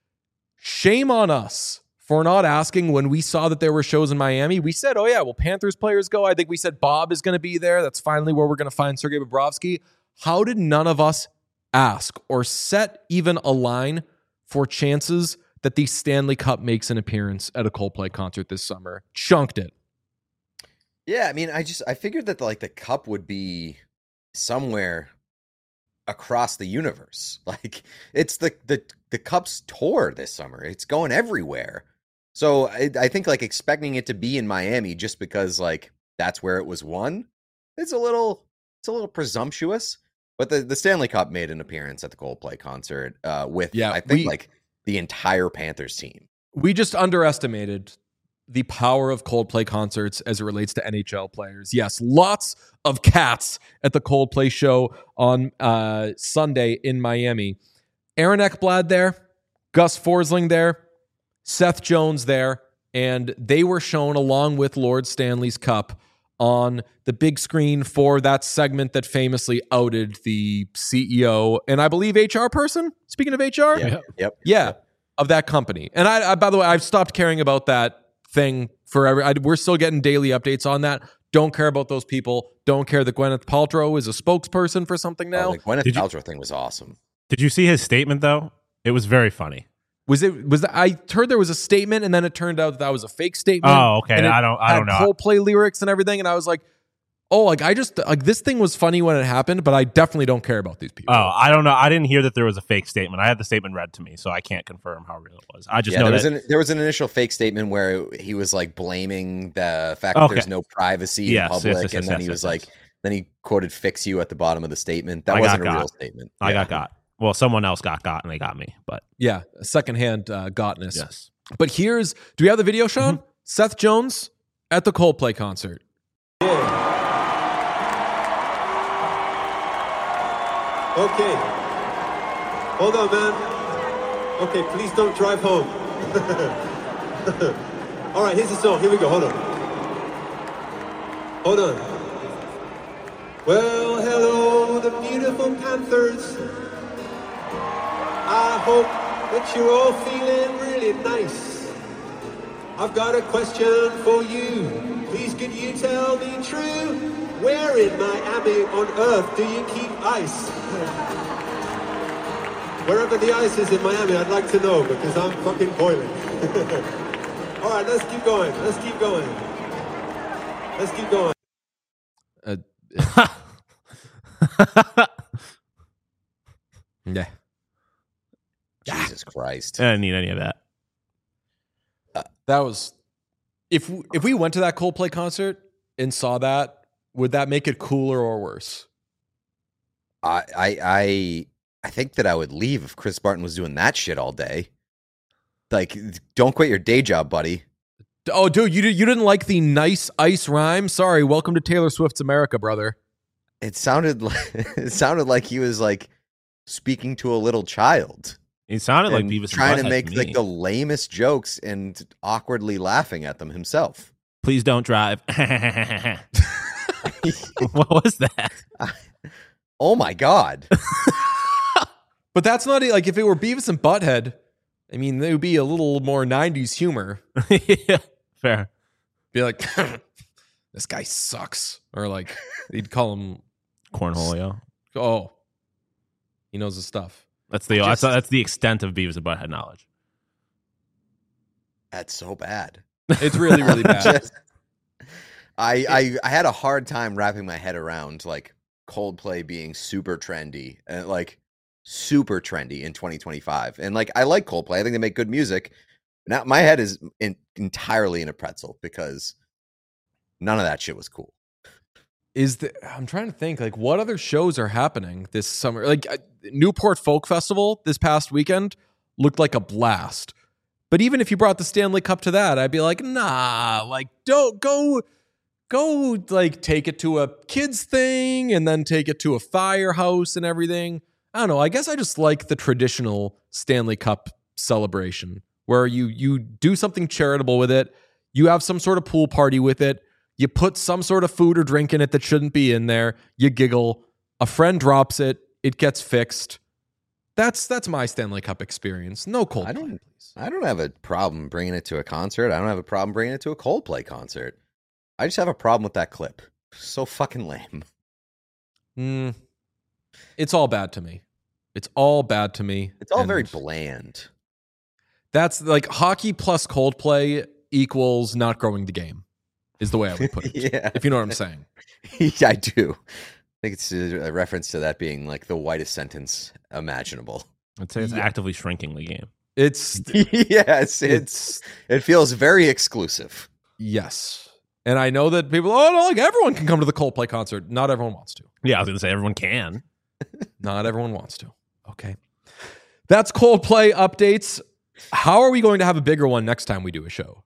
Shame on us for not asking when we saw that there were shows in Miami. We said, oh yeah, well, Panthers players go. I think we said Bob is going to be there. That's finally where we're going to find Sergei Bobrovsky. How did none of us ask or set even a line for chances that the Stanley Cup makes an appearance at a Coldplay concert this summer? Chunked it. Yeah, I mean, I just I figured that like the cup would be somewhere across the universe. Like it's the the the Cup's tour this summer. It's going everywhere. So I, I think like expecting it to be in Miami just because like that's where it was won, it's a little it's a little presumptuous. But the, the Stanley Cup made an appearance at the Coldplay concert uh, with yeah, I think we, like the entire Panthers team. We just underestimated the power of Coldplay concerts as it relates to N H L players. Yes, lots of cats at the Coldplay show on uh, Sunday in Miami. Aaron Ekblad there, Gus Forsling there, Seth Jones there, and they were shown along with Lord Stanley's Cup on the big screen for that segment that famously outed the C E O and I believe H R person. Speaking of H R, yeah, yep, yeah, yep. of that company. And I, I, by the way, I've stopped caring about that thing forever. I, we're still getting daily updates on that. Don't care about those people. Don't care that Gwyneth Paltrow is a spokesperson for something now. Oh, the Gwyneth Did you- Paltrow thing was awesome. Did you see his statement though? It was very funny. Was it? Was that, I heard there was a statement, and then it turned out that, that was a fake statement. Oh, okay. And it I don't. I don't had know. Coldplay lyrics and everything, and I was like, "Oh, like I just like this thing was funny when it happened, but I definitely don't care about these people." Oh, I don't know. I didn't hear that there was a fake statement. I had the statement read to me, so I can't confirm how real it was. I just Yeah, know there that was an there was an initial fake statement where he was like blaming the fact Okay. that there's no privacy Yes, in yes, public, yes, yes, and then yes, he was yes, like, yes. then he quoted "fix you" at the bottom of the statement. That I wasn't got a real got. statement. I Yeah. got got. Well, someone else got got, and they got me. But Yeah, secondhand uh, gotness. yes, But here's, do we have the video, Sean? Mm-hmm. Seth Jones at the Coldplay concert. Okay. Hold on, man. Okay, please don't drive home. All right, here's the song. Here we go. Hold on. Hold on. Well, hello, the beautiful Panthers. I hope that you're all feeling really nice. I've got a question for you. Please could you tell me true? Where in Miami on earth do you keep ice? Wherever the ice is in Miami, I'd like to know because I'm fucking boiling. All right, let's keep going. Let's keep going. Let's keep going. Uh, yeah. Jesus Christ. I didn't need any of that. That was, if if we went to that Coldplay concert and saw that, would that make it cooler or worse? I I I I think that I would leave if Chris Barton was doing that shit all day. Like, don't quit your day job, buddy. Oh, dude, you did, you didn't like the nice ice rhyme? Sorry, welcome to Taylor Swift's America, brother. It sounded like it sounded like he was like speaking to a little child. It sounded like and Beavis and trying to Butthead make me. like the lamest jokes and awkwardly laughing at them himself. Please don't drive. What was that? Oh my god. But that's not like if it were Beavis and Butthead. I mean, it would be a little more nineties humor. Yeah, fair. Be like, this guy sucks, or like they'd call him, Cornholio. oh, he knows his stuff. That's the Just- that's, that's the extent of Beavis and Butthead knowledge. That's so bad. It's really, really bad. Just- I, I I had a hard time wrapping my head around like Coldplay being super trendy and like super trendy in twenty twenty-five. And like I like Coldplay. I think they make good music. Now my head is in, entirely in a pretzel because none of that shit was cool. Is the I'm trying to think like what other shows are happening this summer? Like uh, Newport Folk Festival this past weekend looked like a blast. But even if you brought the Stanley Cup to that, I'd be like, nah, like don't go go like take it to a kids thing and then take it to a firehouse and everything. I don't know. I guess I just like the traditional Stanley Cup celebration where you you do something charitable with it. You have some sort of pool party with it. You put some sort of food or drink in it that shouldn't be in there. You giggle. A friend drops it. It gets fixed. That's that's my Stanley Cup experience. No Coldplay. I don't. I don't have a problem bringing it to a concert. I don't have a problem bringing it to a Coldplay concert. I just have a problem with that clip. So fucking lame. Mm, it's all bad to me. It's all bad to me. It's all and very bland. That's like hockey plus Coldplay equals not growing the game, is the way I would put it. Yeah. If you know what I'm saying. Yeah, I do. I think it's a reference to that being like the whitest sentence imaginable. I'd say it's Yeah. actively shrinking the game. It's Yes, it's it feels very exclusive. yes. And I know that people, oh, no, like everyone can come to the Coldplay concert. Not everyone wants to. Yeah, I was going to say everyone can. Not everyone wants to. Okay. That's Coldplay updates. How are we going to have a bigger one next time we do a show?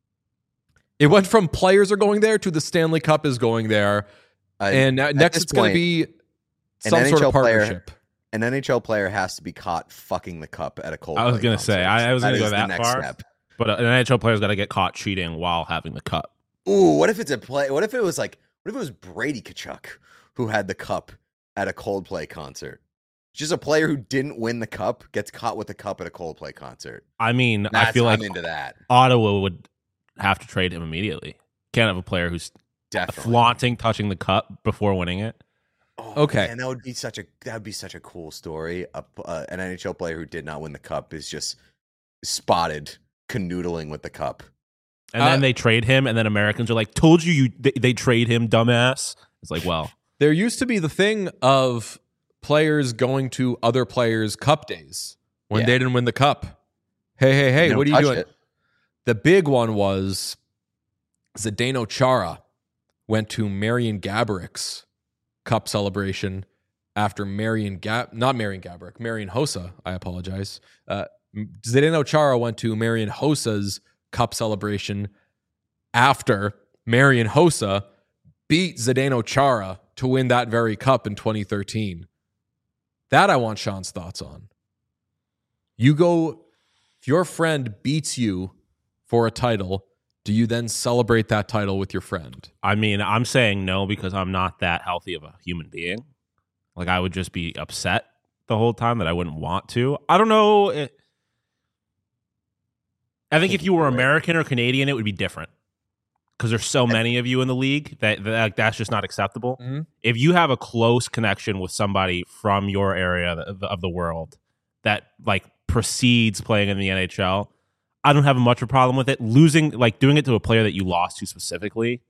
It went from players are going there to the Stanley Cup is going there. Uh, and now, next this it's going to point, be an some N H sort L of player- partnership. An N H L player has to be caught fucking the cup at a Coldplay I was going to say, concert. I, I was That going to go is the that next far. step. But an N H L player's got to get caught cheating while having the cup. Ooh, what if it's a play? What if it was like, what if it was Brady Tkachuk who had the cup at a Coldplay concert? Just a player who didn't win the cup gets caught with the cup at a Coldplay concert. I mean, That's, I feel like I'm into that. Ottawa would have to trade him immediately. Can't have a player who's Definitely. flaunting touching the cup before winning it. Oh, Okay. and that would be such a that would be such a cool story. A, uh, an N H L player who did not win the cup is just spotted canoodling with the cup. And Uh, then they trade him, and then Americans are like, "Told you, you they, they trade him, dumbass." It's like, well, There used to be the thing of players going to other players' cup days when Yeah. they didn't win the cup. Hey, hey, hey, They what are don't you touch doing? it. The big one was Zdeno Chara went to Marian Gabourik's cup celebration after Marian Gab, not Marian Gaborik, Marian Hossa. I apologize. Uh, Zdeno Chara went to Marian Hossa's cup celebration after Marian Hossa beat Zdeno Chara to win that very cup in twenty thirteen. That I want Sean's thoughts on. You go, if your friend beats you for a title, do you then celebrate that title with your friend? I mean, I'm saying no because I'm not that healthy of a human being. Like, I would just be upset the whole time that I wouldn't want to. I don't know. It, I think if you were American or Canadian, it would be different because there's so many of you in the league that, that that's just not acceptable. Mhm. If you have a close connection with somebody from your area of the, of the world that like precedes playing in the N H L, I don't have much of a problem with it. Losing, like doing it to a player that you lost to specifically,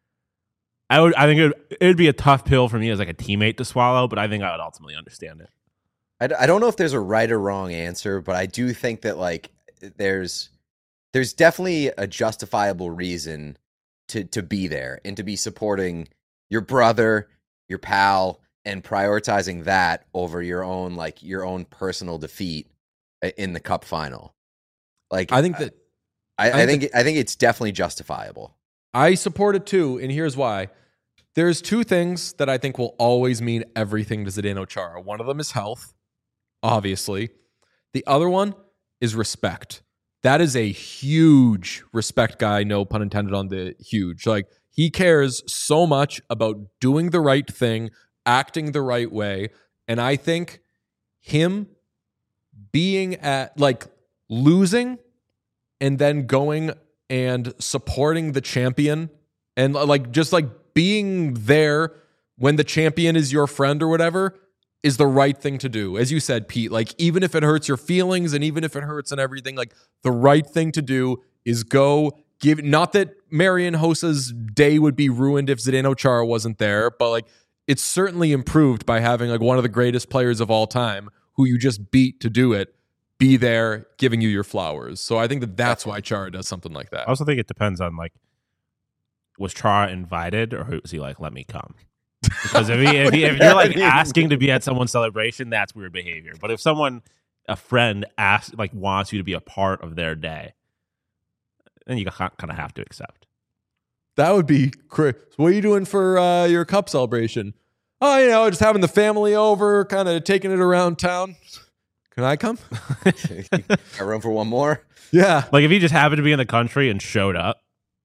I would. I think it would, it would be a tough pill for me as like a teammate to swallow, but I think I would ultimately understand it. I, d- I don't know if there's a right or wrong answer, but I do think that like there's there's definitely a justifiable reason to to be there and to be supporting your brother, your pal, and prioritizing that over your own like your own personal defeat i- in the cup final. Like I think that I, I I think think I think it's definitely justifiable. I support it too, and here's why. There's two things that I think will always mean everything to Zdeno Chara. One of them is health, obviously. The other one is respect. That is a huge respect guy, no pun intended on the huge. Like, he cares so much about doing the right thing, acting the right way. And I think him being at, like, losing and then going and supporting the champion and, like, just like being there when the champion is your friend or whatever is the right thing to do. As you said, Pete, like, even if it hurts your feelings and even if it hurts and everything, like, the right thing to do is go give, not that Marian Hossa's day would be ruined if Zdeno Chara wasn't there, but like, it's certainly improved by having like one of the greatest players of all time who you just beat to do it, be there giving you your flowers. So I think that that's why Chara does something like that. I also think it depends on like, was Chara invited or was he like, let me come? Because if, he, if, he, if you're like asking to be at someone's celebration, that's weird behavior. But if someone, a friend, asks like wants you to be a part of their day, then you kind of have to accept. That would be crazy. So what are you doing for uh, your cup celebration? Oh, you know, just having the family over, kind of taking it around town. Can I come? Got room for one more? Yeah. Like if he just happened to be in the country and showed up,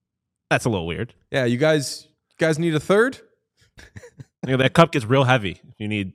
That's a little weird. Yeah, you guys, you guys need a third? You know, that cup gets real heavy. You need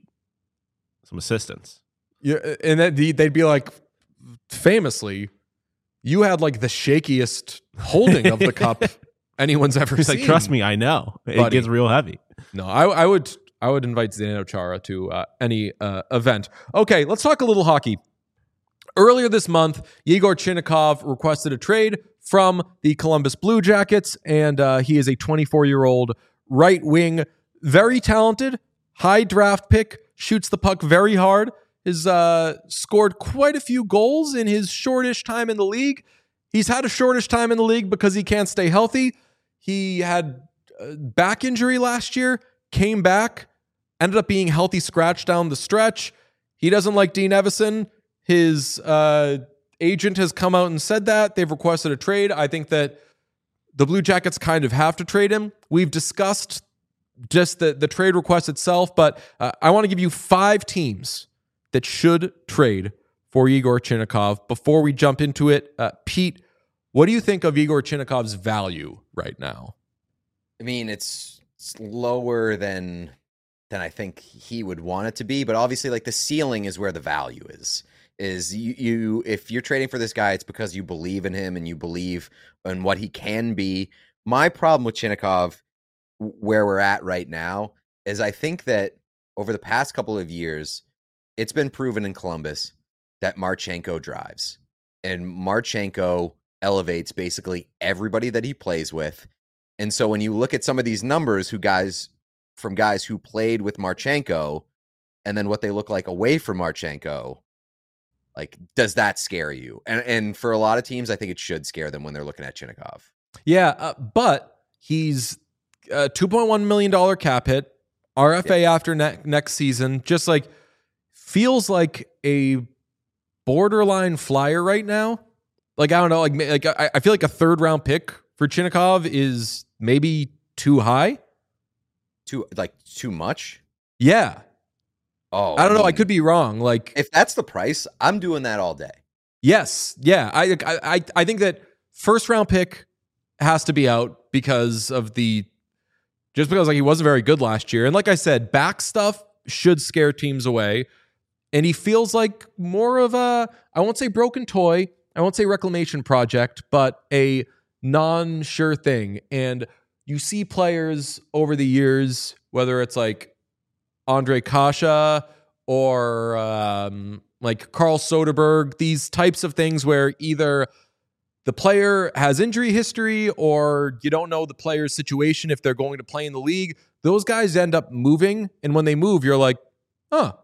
some assistance. Yeah, and that they'd be like, famously, you had like the shakiest holding of the cup anyone's ever He's seen. like, trust me, I know. It Buddy. gets real heavy. No, I, I would I would invite Zdeno Chara to uh, any uh, event. Okay, let's talk a little hockey. Earlier this month, Yegor Chinnikov requested a trade from the Columbus Blue Jackets, and uh, he is a twenty-four-year-old right wing, very talented, high draft pick, shoots the puck very hard, has uh, scored quite a few goals in his shortish time in the league. He's had a shortish time in the league because he can't stay healthy. He had a back injury last year, came back, ended up being healthy scratch down the stretch. He doesn't like Dean Evison. His uh, agent has come out and said that. They've requested a trade. I think that the Blue Jackets kind of have to trade him. We've discussed just the, the trade request itself, but uh, I want to give you five teams that should trade for Yegor Chinnikov. Before we jump into it, uh, Pete, what do you think of Yegor Chinnikov's value right now? I mean, it's, it's lower than than I think he would want it to be, but obviously, like, the ceiling is where the value is. Is you, you if you're trading for this guy, it's because you believe in him and you believe in what he can be. My problem with Chinnikov, where we're at right now, is I think that over the past couple of years, it's been proven in Columbus that Marchenko drives. And Marchenko elevates basically everybody that he plays with. And so when you look at some of these numbers who guys from guys who played with Marchenko and then what they look like away from Marchenko, like, does that scare you? And and for a lot of teams, I think it should scare them when they're looking at Chinnikov. Yeah, uh, but he's a two point one million dollars cap hit, R F A yeah. after ne- next season, just like feels like a borderline flyer right now. Like, I don't know, like, like I, I feel like a third round pick for Chinnikov is maybe too high. Too, like, too much? Yeah. Oh, I don't I know. mean, I could be wrong. Like, if that's the price, I'm doing that all day. Yes. Yeah. I, I, I think that first round pick has to be out because of the, just because like he wasn't very good last year. And like I said, back stuff should scare teams away. And he feels like more of a, I won't say broken toy, I won't say reclamation project, but a non-sure thing. And you see players over the years, whether it's like Andre Kasha or um, like Carl Soderberg, these types of things where either the player has injury history or you don't know the player's situation if they're going to play in the league. Those guys end up moving. And when they move, you're like, huh,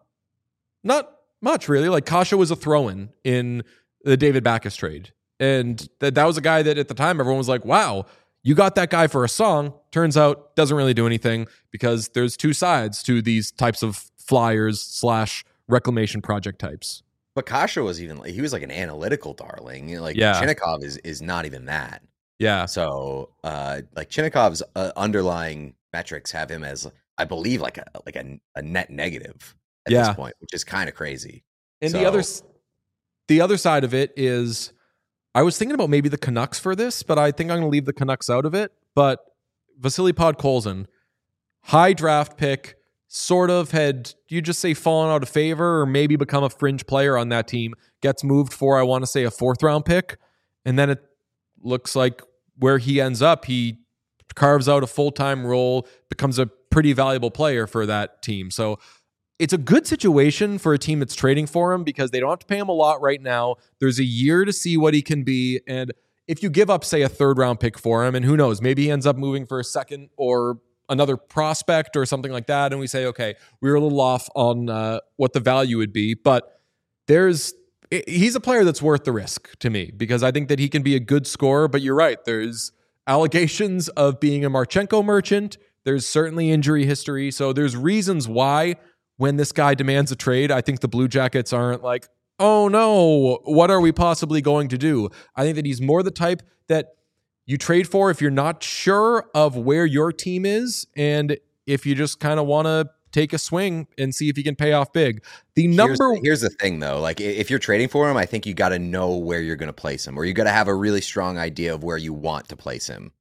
not much really. Like Kasha was a throw-in in the David Backes trade. And that that was a guy that at the time everyone was like, wow, you got that guy for a song. Turns out doesn't really do anything because there's two sides to these types of flyers slash reclamation project types. But Kasha was even like, he was like an analytical darling. Like yeah. Chinnikov is is not even that. Yeah. So uh, like Chinnikov's uh, underlying metrics have him as, I believe, like a like a, a net negative at yeah. this point, which is kind of crazy. And so, the other the other side of it is, I was thinking about maybe the Canucks for this, but I think I'm going to leave the Canucks out of it. But Vasily Podkolzin, high draft pick, sort of had, you just say fallen out of favor or maybe become a fringe player on that team, gets moved for, I want to say, a fourth round pick. And then it looks like where he ends up, he carves out a full-time role, becomes a pretty valuable player for that team. So it's a good situation for a team that's trading for him because they don't have to pay him a lot right now. There's a year to see what he can be. And if you give up, say, a third round pick for him, and who knows, maybe he ends up moving for a second or another prospect or something like that. And we say, okay, we were a little off on uh, what the value would be. But there's, he's a player that's worth the risk to me because I think that he can be a good scorer. But you're right. There's allegations of being a Marchenko merchant. There's certainly injury history. So there's reasons why when this guy demands a trade, I think the Blue Jackets aren't like, oh no, what are we possibly going to do? I think that he's more the type that you trade for if you're not sure of where your team is and if you just kind of want to take a swing and see if you can pay off big. The number here's, here's the thing though, like if you're trading for him, I think you got to know where you're going to place him, or you got to have a really strong idea of where you want to place him.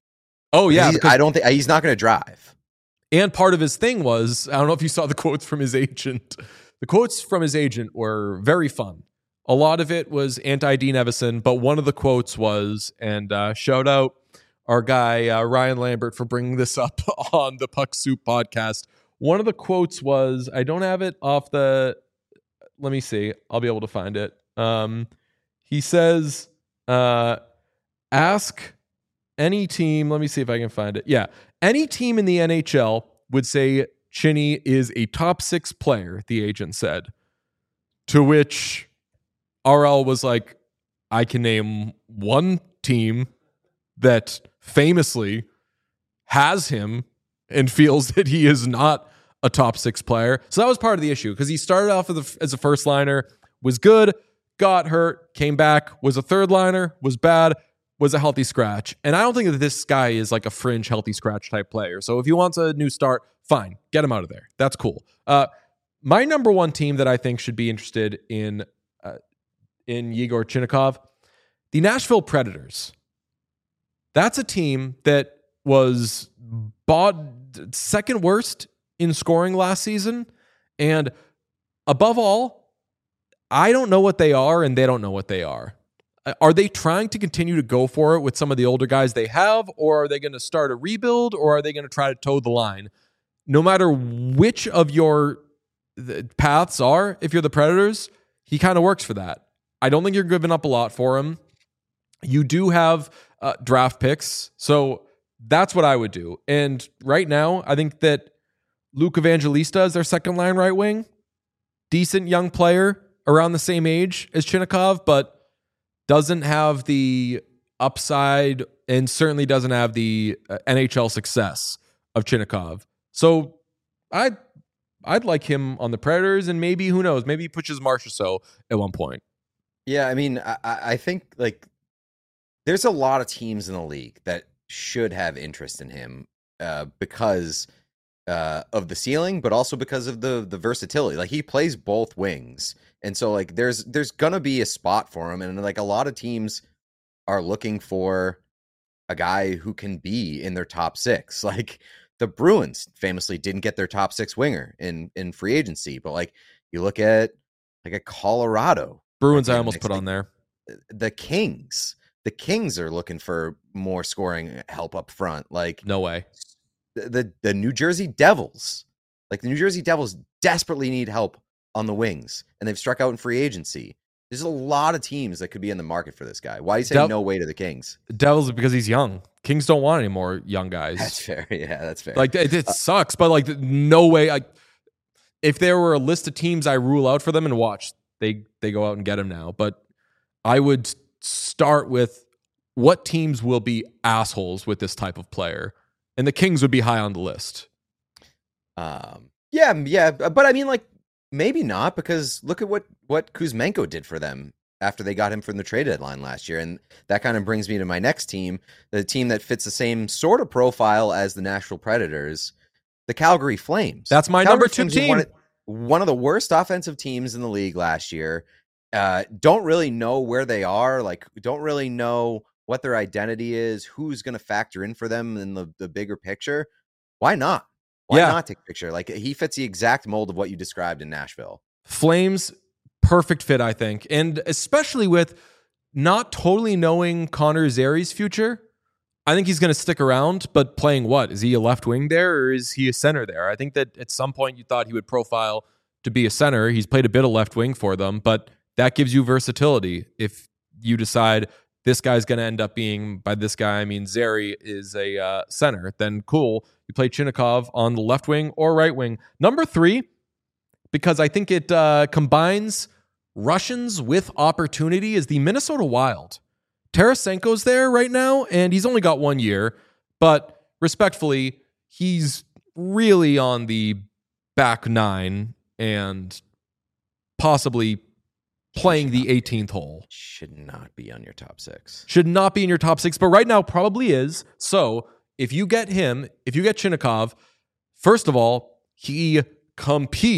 Oh yeah, He's- because, I don't think he's not going to drive. and part of his thing was, I don't know if you saw the quotes from his agent. The quotes from his agent were very fun. A lot of it was anti-Dean Evison, but one of the quotes was, and uh, shout out our guy uh, Ryan Lambert for bringing this up on the Puck Soup podcast. One of the quotes was, I don't have it off the, let me see, I'll be able to find it. Um, he says, uh, ask any team, let me see if I can find it. Yeah, any team in the N H L would say Chinny is a top six player, the agent said. To which R L was like, I can name one team that famously has him and feels that he is not a top six player. So that was part of the issue because he started off as a, as a first liner, was good, got hurt, came back, was a third liner, was bad, was a healthy scratch. And I don't think that this guy is like a fringe healthy scratch type player. So if he wants a new start, fine, get him out of there. That's cool. Uh, my number one team that I think should be interested in uh, in Yegor Chinnikov, the Nashville Predators. That's a team that was bought second worst in scoring last season. And above all, I don't know what they are and they don't know what they are. Are they trying to continue to go for it with some of the older guys they have, or are they going to start a rebuild, or are they going to try to toe the line? No matter which of your paths are, if you're the Predators, he kind of works for that. I don't think you're giving up a lot for him. You do have uh, draft picks, so that's what I would do. And right now, I think that Luke Evangelista is their second line right wing. Decent young player, around the same age as Chinnikov, but doesn't have the upside and certainly doesn't have the uh, N H L success of Chinnikov. So I'd, I'd like him on the Predators, and maybe, who knows, maybe he pushes Marchessault at one point. Yeah, I mean, I, I think like there's a lot of teams in the league that should have interest in him uh, because uh, of the ceiling, but also because of the the versatility. Like he plays both wings, and so like there's there's gonna be a spot for him, and like a lot of teams are looking for a guy who can be in their top six. Like the Bruins famously didn't get their top six winger in in free agency, but like you look at like a Colorado. Bruins, like, I almost put like, on there. The Kings. The Kings are looking for more scoring help up front. Like No way. the, the the New Jersey Devils. Like the New Jersey Devils desperately need help on the wings, and they've struck out in free agency. There's a lot of teams that could be in the market for this guy. Why are you saying Dev- no way to the Kings? Devils, because he's young. Kings don't want any more young guys. That's fair. Yeah, that's fair. Like it, it sucks, but like no way. I, if there were a list of teams I rule out for them and watch, they they go out and get him now. But I would start with what teams will be assholes with this type of player, and the Kings would be high on the list. Um, yeah, yeah, but I mean, like maybe not, because look at what what Kuzmenko did for them after they got him from the trade deadline last year, and that kind of brings me to my next team, the team that fits the same sort of profile as the Nashville Predators, the Calgary Flames. That's my Calgary number two Flames were team. One of, one of the worst offensive teams in the league last year. Uh, don't really know where they are. Like, don't really know what their identity is, who's going to factor in for them in the, the bigger picture. Why not? Why Yeah. not take a picture? Like, he fits the exact mold of what you described in Nashville. Flames, perfect fit, I think. And especially with not totally knowing Connor Zeri's future, I think he's going to stick around, but playing what? Is he a left wing there, or is he a center there? I think that at some point you thought he would profile to be a center. He's played a bit of left wing for them, but that gives you versatility. If you decide this guy's going to end up being, by this guy, I mean Zeri is a uh, center, then cool. You play Chinnikov on the left wing or right wing. Number three, because I think it uh, combines Russians with opportunity, is the Minnesota Wild. Tarasenko's there right now, and he's only got one year, but respectfully, he's really on the back nine and possibly playing the eighteenth hole. Should not be on your top six. Should not be in your top six, but right now probably is. So if you get him, if you get Chinnikov, first of all, he competes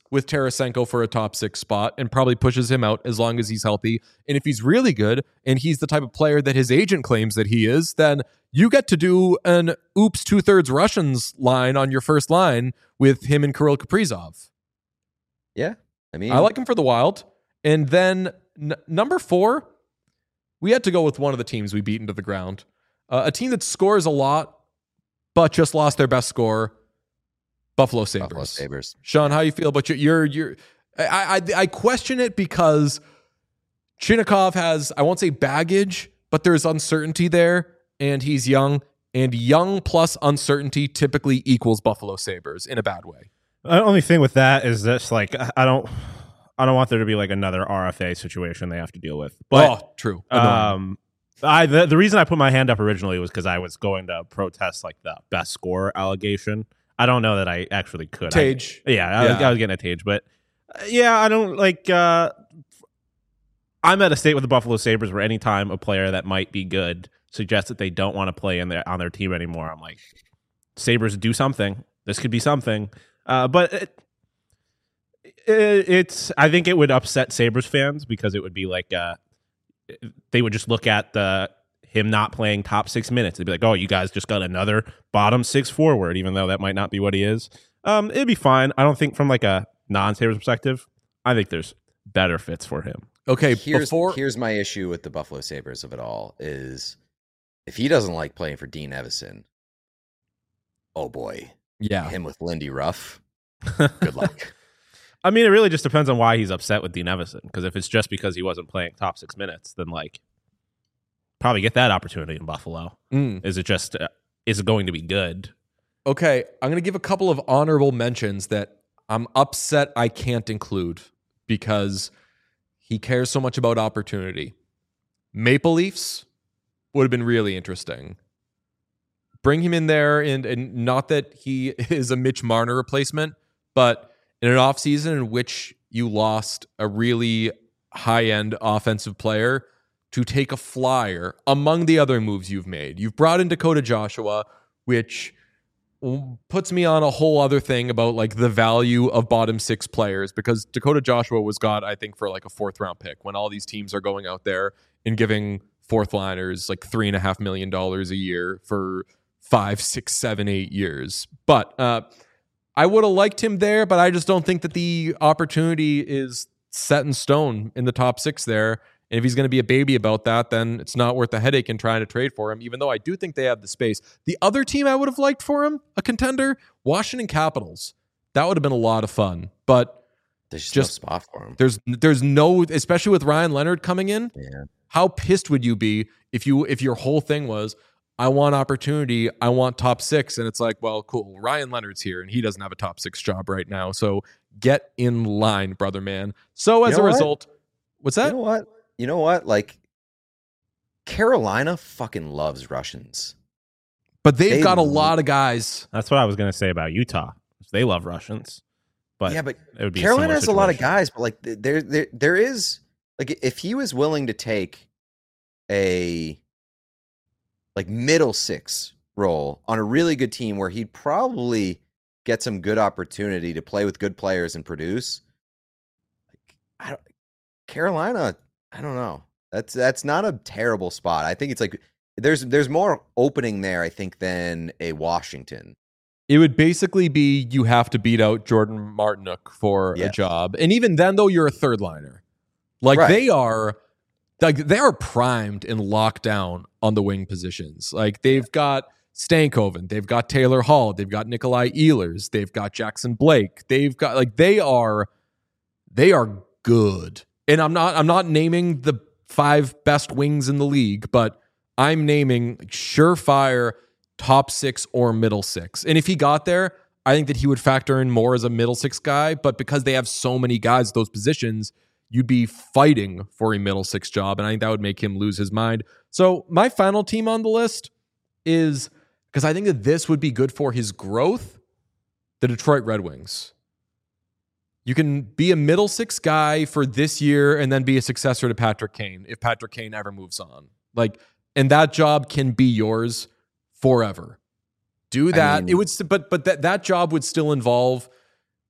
with Tarasenko for a top six spot and probably pushes him out as long as he's healthy. And if he's really good and he's the type of player that his agent claims that he is, then you get to do an oops two-thirds Russians line on your first line with him and Kirill Kaprizov. Yeah. I mean, I like him for the Wild. And then n- number four, we had to go with one of the teams we beat into the ground. Uh, a team that scores a lot, but just lost their best scorer, Buffalo Sabres. Buffalo Sabres. Sean, how you feel about your, your, your I, I, I question it because Chinakhov has, I won't say baggage, but there's uncertainty there, and he's young, and young plus uncertainty typically equals Buffalo Sabres in a bad way. The only thing with that is this, like, I don't, I don't want there to be like another R F A situation they have to deal with. But, oh, true. Um, I the, the reason I put my hand up originally was because I was going to protest like the best score allegation. I don't know that I actually could. Tage. I, yeah, I, yeah. Was, I was getting a Tage, but uh, yeah, I don't like. Uh, I'm at a state with the Buffalo Sabres where anytime a player that might be good suggests that they don't want to play in their on their team anymore, I'm like, Sabres, do something. This could be something. Uh, but it, it, it's. I think it would upset Sabres fans because it would be like uh, they would just look at the him not playing top six minutes. They'd be like, "Oh, you guys just got another bottom six forward," even though that might not be what he is. Um, it'd be fine. I don't think from like a non-Sabres perspective, I think there's better fits for him. Okay, here's before here's my issue with the Buffalo Sabres of it all is if he doesn't like playing for Dean Evison, oh boy, yeah, him with Lindy Ruff, good luck. I mean, it really just depends on why he's upset with Dean Evison. Because if it's just because he wasn't playing top six minutes, then like probably get that opportunity in Buffalo. Mm. Is it just uh, is it going to be good? Okay, I'm going to give a couple of honorable mentions that I'm upset I can't include because he cares so much about opportunity. Maple Leafs would have been really interesting. Bring him in there, and, and not that he is a Mitch Marner replacement, but in an offseason in which you lost a really high-end offensive player to take a flyer among the other moves you've made. You've brought in Dakota Joshua, which puts me on a whole other thing about like the value of bottom six players, because Dakota Joshua was got, I think, for like a fourth round pick when all these teams are going out there and giving fourth liners like three and a half million dollars a year for five, six, seven, eight years. But uh, I would have liked him there, but I just don't think that the opportunity is set in stone in the top six there. And if he's going to be a baby about that, then it's not worth the headache in trying to trade for him, even though I do think they have the space. The other team I would have liked for him, a contender, Washington Capitals. That would have been a lot of fun. But there's just no spot for him. There's there's no, especially with Ryan Leonard coming in. Yeah. How pissed would you be if you if your whole thing was, I want opportunity, I want top six, and it's like, well, cool, Ryan Leonard's here, and he doesn't have a top six job right now, so get in line, brother man. So as you know a result, what? what's that? You know what? You know what? Like, Carolina fucking loves Russians. But they've They got a lo- lot of guys. That's what I was going to say about Utah. They love Russians, but yeah, but it would be Carolina a has a lot of situation. guys, but like there, there, there is like if he was willing to take a like middle six role on a really good team where he'd probably get some good opportunity to play with good players and produce. Like, I don't, Carolina, I don't know. That's that's not a terrible spot. I think it's like there's there's more opening there, I think, than a Washington. It would basically be you have to beat out Jordan Martinook for Yes. a job. And even then, though, you're a third liner. Like Right. they are like they are primed and locked down on the wing positions. Like they've got Stankoven, they've got Taylor Hall, they've got Nikolai Ehlers, they've got Jackson Blake. They've got like they are they are good. And I'm not I'm not naming the five best wings in the league, but I'm naming like, surefire top six or middle six. And if he got there, I think that he would factor in more as a middle six guy. But because they have so many guys at those positions, you'd be fighting for a middle six job. And I think that would make him lose his mind. So my final team on the list is, because I think that this would be good for his growth, the Detroit Red Wings. You can be a middle six guy for this year and then be a successor to Patrick Kane if Patrick Kane ever moves on. Like, and that job can be yours forever. Do that. mean- it would, st- but but that that job would still involve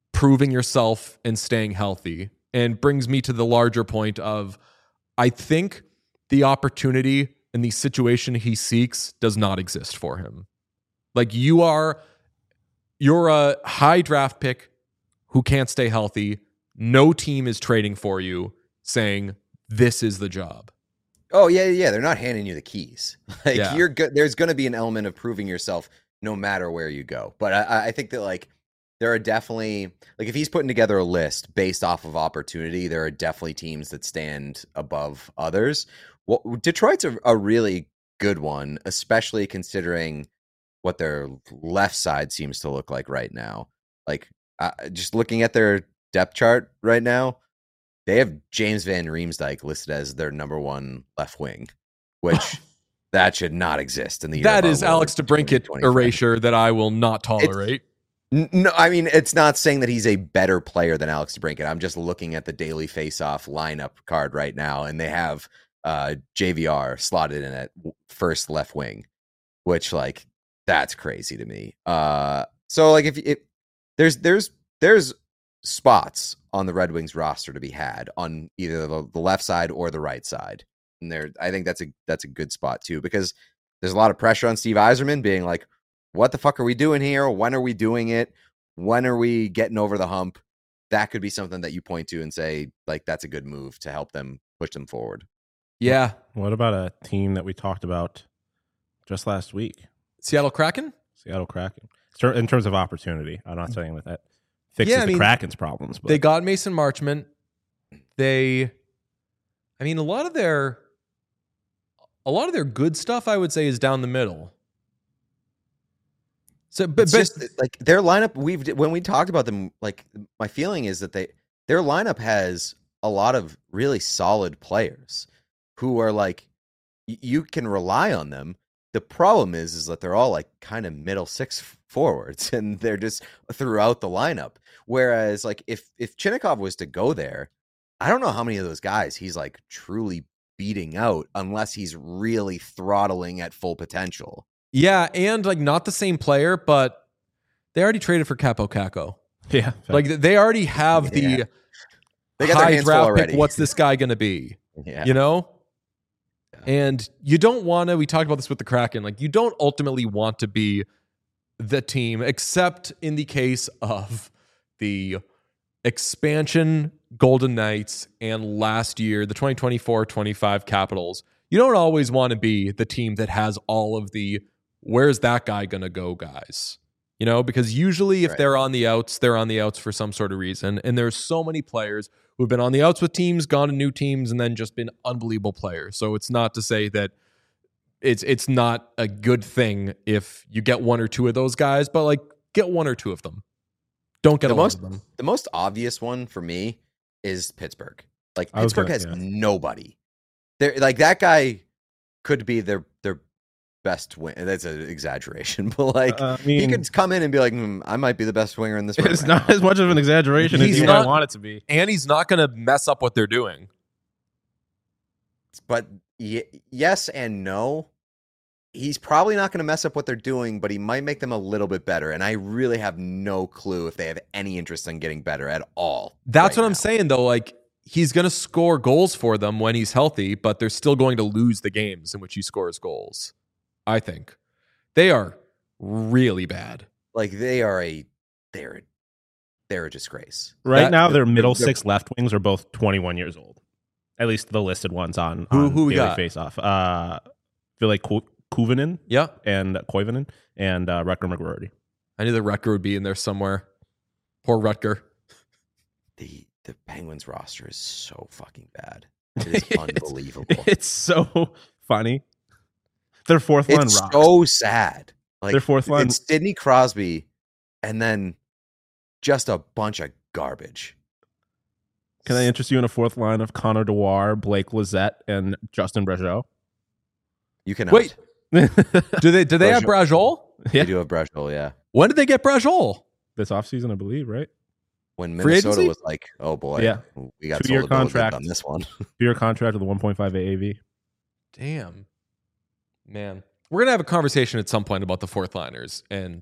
proving yourself and staying healthy. And brings me to the larger point of, I think the opportunity and the situation he seeks does not exist for him. Like you are, you're a high draft pick who can't stay healthy. No team is trading for you saying this is the job. Oh yeah, yeah. They're not handing you the keys. Like Yeah. you're good. There's going to be an element of proving yourself no matter where you go. But I, I think that like there are definitely like if he's putting together a list based off of opportunity, there are definitely teams that stand above others. Well, Detroit's a, a really good one, especially considering what their left side seems to look like right now. Like uh, just looking at their depth chart right now, they have James Van Riemsdyk listed as their number one left wing, which that should not exist in the year. That of is our Lord Alex DeBrincat twenty twenty-five. erasure that I will not tolerate. N- No, I mean, it's not saying that he's a better player than Alex DeBrincat. I'm just looking at the daily face-off lineup card right now, and they have uh, J V R slotted in at first left wing, which, like, that's crazy to me. Uh, so, like, if it, there's there's there's spots on the Red Wings roster to be had on either the, the left side or the right side, and there, I think that's a that's a good spot too, because there's a lot of pressure on Steve Yzerman being like, what the fuck are we doing here? When are we doing it? When are we getting over the hump? That could be something that you point to and say, like, that's a good move to help them push them forward. Yeah. What about a team that we talked about just last week? Seattle Kraken? Seattle Kraken. Ter- In terms of opportunity, I'm not saying that that fixes Yeah, I the mean, Kraken's problems. But They got Mason Marchment. They, I mean, a lot of their, a lot of their good stuff, I would say, is down the middle. So, but, It's but just like their lineup. We've when we talked about them, like my feeling is that they their lineup has a lot of really solid players who are like y- you can rely on them. The problem is, is that they're all like kind of middle six forwards, and they're just throughout the lineup. Whereas, like if if Chinnikov was to go there, I don't know how many of those guys he's like truly beating out, unless he's really throttling at full potential. yeah, and like not the same player, but they already traded for Capo Caco. yeah, Like they already have Yeah. the They got their high hands full draft already. pick. What's this guy going to be? Yeah. You know? Yeah. And you don't want to, we talked about this with the Kraken, like you don't ultimately want to be the team, except in the case of the expansion Golden Knights and last year, the twenty twenty-four twenty-five Capitals. You don't always want to be the team that has all of the, where's that guy going to go guys? You know, because usually if Right. they're on the outs, they're on the outs for some sort of reason. And there's so many players who've been on the outs with teams, gone to new teams, and then just been unbelievable players. So it's not to say that it's it's not a good thing if you get one or two of those guys, but like get one or two of them. Don't get The a lot most of them. the most obvious one for me is Pittsburgh. Like I was Pittsburgh gonna- has yeah. nobody. They're like that guy could be their their best wing. That's an exaggeration, but like Uh, I he mean, could come in and be like, hmm, I might be the best winger in this. room it's right not now." as much of an exaggeration He's as you not- might want it to be. And he's not going to mess up what they're doing. But y- yes and no. He's probably not going to mess up what they're doing, but he might make them a little bit better. And I really have no clue if they have any interest in getting better at all. That's right what I'm now. saying, though. Like, he's going to score goals for them when he's healthy, but they're still going to lose the games in which he scores goals. I think they are really bad. Like they are a they're they're a disgrace. Right That- now, their middle they're- six left wings are both twenty-one years old. At least the listed ones on, Who- on who we Daily got? Face Off. Uh, feel like Ku- Kuvanen Yeah, and Koivunen and uh, Rutger McGroarty. I knew the Rutger would be in there somewhere. Poor Rutger. The the Penguins roster is so fucking bad. It is It's- unbelievable. It's so funny. Their fourth line It's rocks. so sad. Like Their fourth line- it's Sidney Crosby, and then just a bunch of garbage. Can I interest you in a fourth line of Connor Dewar, Blake Lizette, and Justin Brazeau? You cannot. Wait, do they do they have Brajol? They yeah. do have Brashville, yeah. When did they get Brajol? This offseason, I believe, right? When Free Minnesota agency? was like, "Oh boy, Yeah. we got Two-year sold a bill of goods contract. on this one." Two-year contract with a one point five A A V. Damn, man, we're gonna have a conversation at some point about the fourth liners and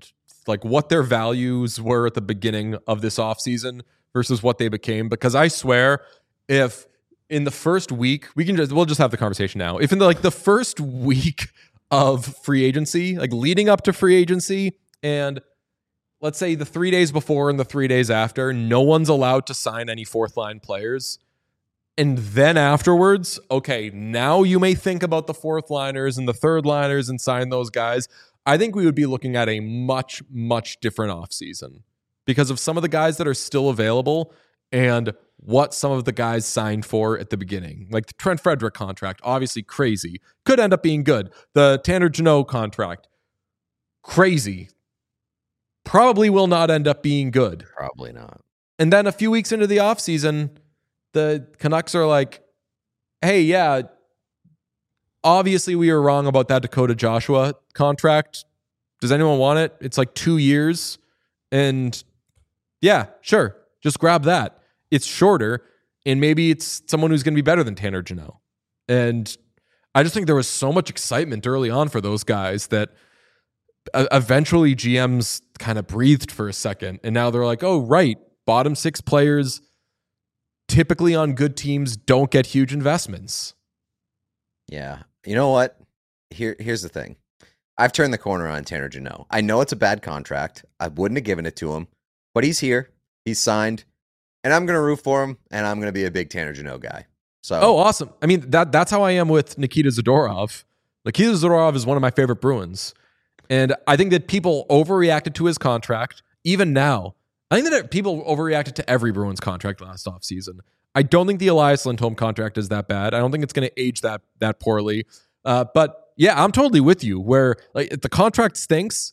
like what their values were at the beginning of this offseason versus what they became. Because I swear, if in the first week, we can just, we'll just have the conversation now. If in the, like the first week of free agency, like leading up to free agency, and let's say the three days before and the three days after, no one's allowed to sign any fourth line players. And then afterwards, okay, now you may think about the fourth liners and the third liners and sign those guys. I think we would be looking at a much, much different offseason because of some of the guys that are still available and what some of the guys signed for at the beginning. Like the Trent Frederick contract, obviously crazy. Could end up being good. The Tanner Jeannot contract, crazy. Probably will not end up being good. Probably not. And then a few weeks into the offseason, the Canucks are like, hey, yeah, obviously we were wrong about that Dakota Joshua contract. Does anyone want it? It's like two years. And yeah, sure. Just grab that. It's shorter. And maybe it's someone who's going to be better than Tanner Jeannot. And I just think there was so much excitement early on for those guys that eventually G Ms kind of breathed for a second. And now they're like, oh, right. Bottom six players typically on good teams don't get huge investments. Yeah. You know what? Here, here's the thing. I've turned the corner on Tanner Jeannot. I know it's a bad contract. I wouldn't have given it to him, but he's here. He's signed, and I'm going to root for him, and I'm going to be a big Tanner Jeannot guy. So, oh, awesome. I mean, that that's how I am with Nikita Zadorov. Nikita Zadorov is one of my favorite Bruins, and I think that people overreacted to his contract. Even now, I think that people overreacted to every Bruins contract last offseason. I don't think the Elias Lindholm contract is that bad. I don't think it's going to age that that poorly. Uh, but yeah, I'm totally with you. Where like if the contract stinks,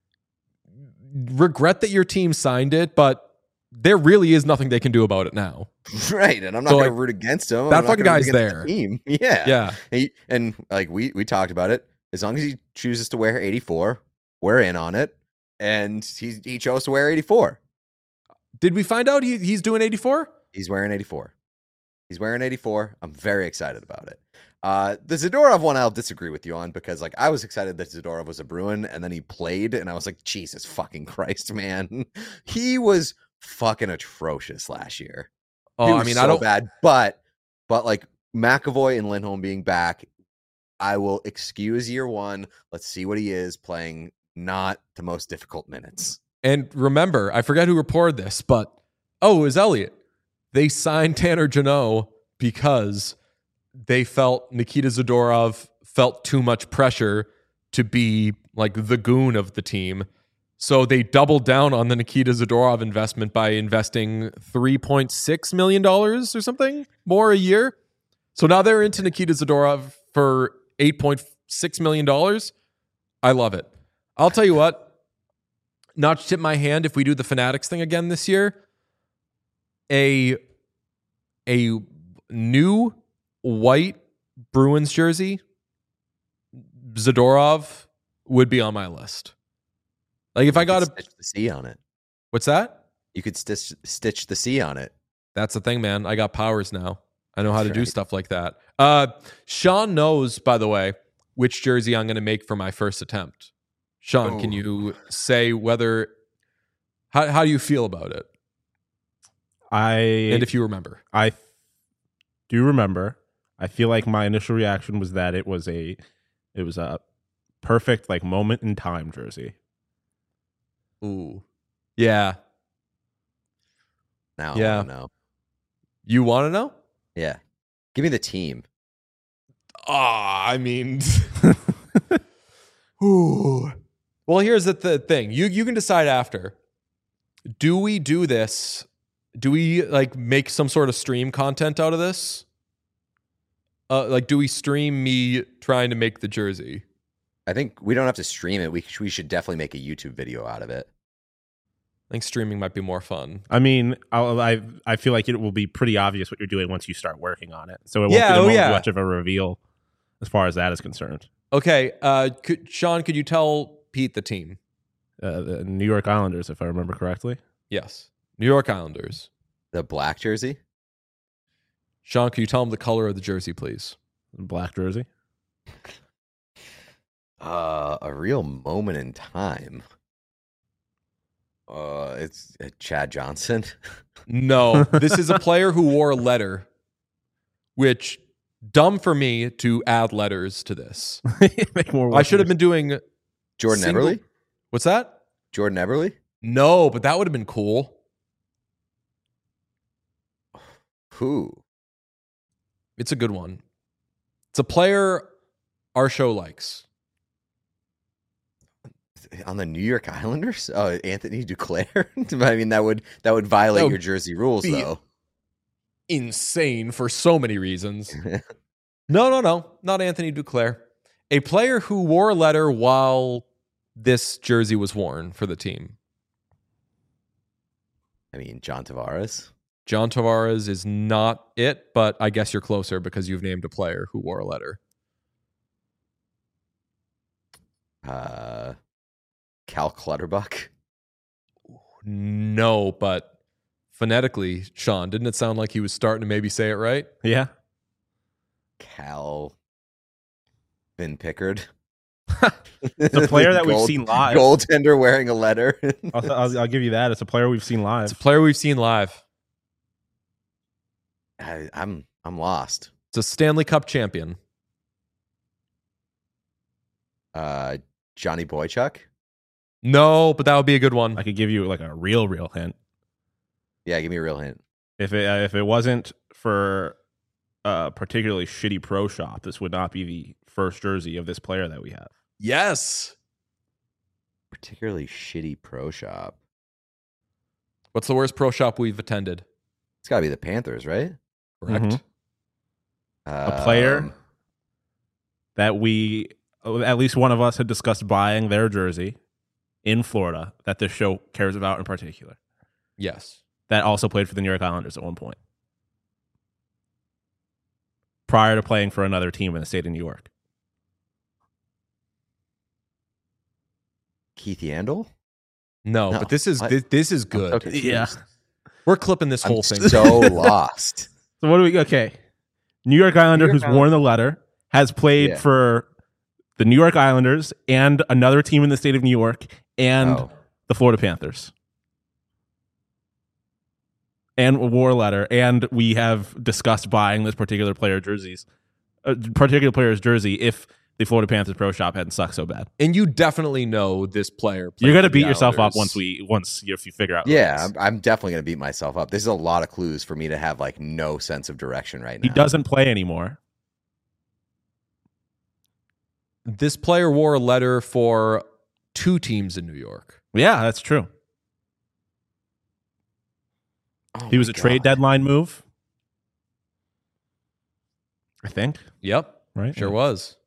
regret that your team signed it, but there really is nothing they can do about it now. Right, and I'm not So, going to like, root against him. that I'm not fucking gonna root guy's against there. the team. Yeah, Yeah. He, and like we we talked about it. As long as he chooses to wear eighty-four, we're in on it. And he he chose to wear eighty-four. Did we find out he, he's doing eighty-four? He's wearing eighty-four. He's wearing eighty-four. I'm very excited about it. Uh, the Zadorov one I'll disagree with you on because like I was excited that Zadorov was a Bruin and then he played and I was like, Jesus fucking Christ, man. He was fucking atrocious last year. Oh, He I was mean, so I don't. bad. But but like McAvoy and Lindholm being back, I will excuse year one. Let's see what he is playing. Not the most difficult minutes. And remember, I forget who reported this, but oh, it was Elliot. They signed Tanner Jeannot because they felt Nikita Zadorov felt too much pressure to be like the goon of the team. So they doubled down on the Nikita Zadorov investment by investing three point six million dollars or something more a year. So now they're into Nikita Zadorov for eight point six million dollars. I love it. I'll tell you what, not to tip my hand if we do the Fanatics thing again this year, a, a new white Bruins jersey, Zadorov, would be on my list. Like if You I got could a, stitch the C on it. what's that? You could stitch stitch the C on it. That's the thing, man. I got powers now. I know how That's to do right. stuff like that. Uh, Sean knows, by the way, which jersey I'm going to make for my first attempt. Sean, can Oh. you say whether, how, how do you feel about it? I And if you remember. I do remember. I feel like my initial reaction was that it was a it was a perfect like moment in time jersey. Ooh. Yeah. Now Yeah. I wanna know. You want to know? Yeah. Give me the team. Ah, I mean, ooh. Well, here's the th- thing. You you can decide after. Do we do this? Do we like make some sort of stream content out of this? Uh, like, do we stream me trying to make the jersey? I think we don't have to stream it. We we should definitely make a YouTube video out of it. I think streaming might be more fun. I mean, I'll, I I feel like it will be pretty obvious what you're doing once you start working on it. So it won't, Yeah, be, it oh, won't yeah. be much of a reveal as far as that is concerned. Okay, uh, could, Sean, could you tell Pete the team? Uh, the New York Islanders, if I remember correctly. Yes, New York Islanders. The black jersey? Sean, could you tell him the color of the jersey, please? Black jersey. Uh, a real moment in time. Uh, it's uh, Chad Johnson. No, this is a player who wore a letter, which dumb for me to add letters to this. Make more I should have been doing Jordan single- Eberle? What's that? Jordan Eberle? No, but that would have been cool. Who? It's a good one. It's a player our show likes. On the New York Islanders? Oh, Anthony Duclair? I mean, that would that would violate That would your jersey rules, be- though. Insane for so many reasons. No, no, no. Not Anthony Duclair. A player who wore a letter while this jersey was worn for the team. I mean, John Tavares. John Tavares is not it, but I guess you're closer because you've named a player who wore a letter. Uh, Cal Clutterbuck. No, but phonetically, Sean, didn't it sound like he was starting to maybe say it right? Yeah. Cal Vin Pickard. It's a player that we've Gold- seen live. Goaltender wearing a letter. I'll, I'll, I'll give you that. It's a player we've seen live. It's a player we've seen live. I, I'm I'm lost. It's a Stanley Cup champion. Uh, Johnny Boychuk. No, but that would be a good one. I could give you like a real, real hint. Yeah, give me a real hint. If it uh, if it wasn't for a particularly shitty pro shop, this would not be the first jersey of this player that we have. Yes. Particularly shitty pro shop. What's the worst pro shop we've attended? It's got to be the Panthers, right? Correct. Mhm. A Um, player that we, at least one of us, had discussed buying their jersey in Florida that this show cares about in particular. Yes. That also played for the New York Islanders at one point, prior to playing for another team in the state of New York. Keith Yandel. No, No, but this is I- this, this is I'm good. so confused. Yeah. We're clipping this whole I'm thing. so lost. So what do we? Okay, New York Islander New York who's worn the letter has played Yeah. for the New York Islanders and another team in the state of New York and Oh. the Florida Panthers. And wore a letter, and we have discussed buying this particular player jerseys, uh, particular player's jersey if the Florida Panthers pro shop hadn't sucked so bad. And you definitely know this player. played You're gonna for the beat yourself up Islanders. once we once you, if you figure out. who it Yeah, is. I'm, I'm definitely gonna beat myself up. This is a lot of clues for me to have like no sense of direction right He now. doesn't play anymore. This player wore a letter for two teams in New York. Yeah, that's true. Oh He was my a trade God. deadline move, I think. Yep. Right? Sure was.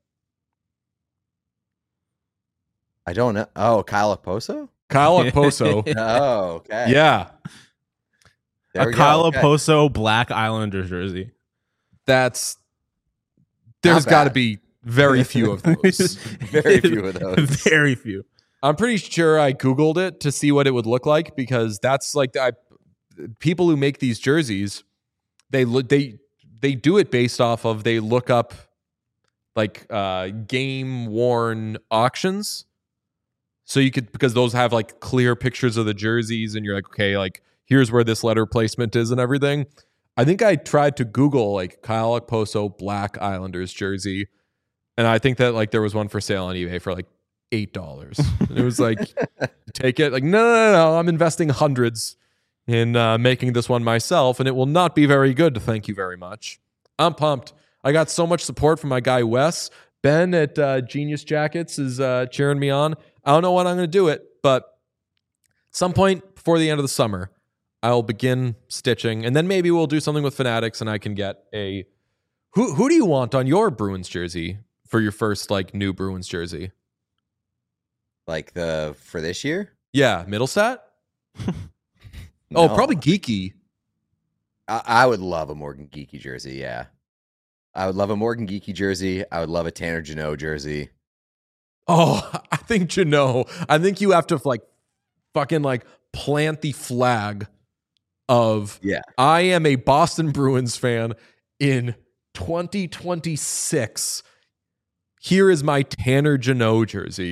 I don't know. Oh, Kyle Okposo. Kyle Okposo. Oh, okay. Yeah. There a we go. Kyle Okay. Okposo black Islanders jersey. That's there's Not got to bad. be very few of those. Very few of those. Very few. I'm pretty sure I Googled it to see what it would look like because that's like I, people who make these jerseys, they look they they do it based off of they look up like uh, game worn auctions. So you could because those have like clear pictures of the jerseys and you're like, okay, like here's where this letter placement is and everything. I think I tried to Google like Kyle Okposo black Islanders jersey. And I think that like there was one for sale on eBay for like eight dollars. It was like, take it. Like, no, no, no, no. I'm investing hundreds in uh, making this one myself, and it will not be very good. Thank you very much. I'm pumped. I got so much support from my guy Wes. Ben at uh, Genius Jackets is uh, cheering me on. I don't know when I'm going to do it, but at some point before the end of the summer, I'll begin stitching, and then maybe we'll do something with Fanatics, and I can get a. Who who do you want on your Bruins jersey for your first like new Bruins jersey? Like the for this year? Yeah, Middlestat. Oh, No. probably Geeky. I, I would love a Morgan Geeky jersey. Yeah, I would love a Morgan Geeky jersey. I would love a Tanner Jeannot jersey. Oh, I think you know. I think you have to like fucking like plant the flag of Yeah. I am a Boston Bruins fan in twenty twenty-six. Here is my Tanner Jeannot jersey.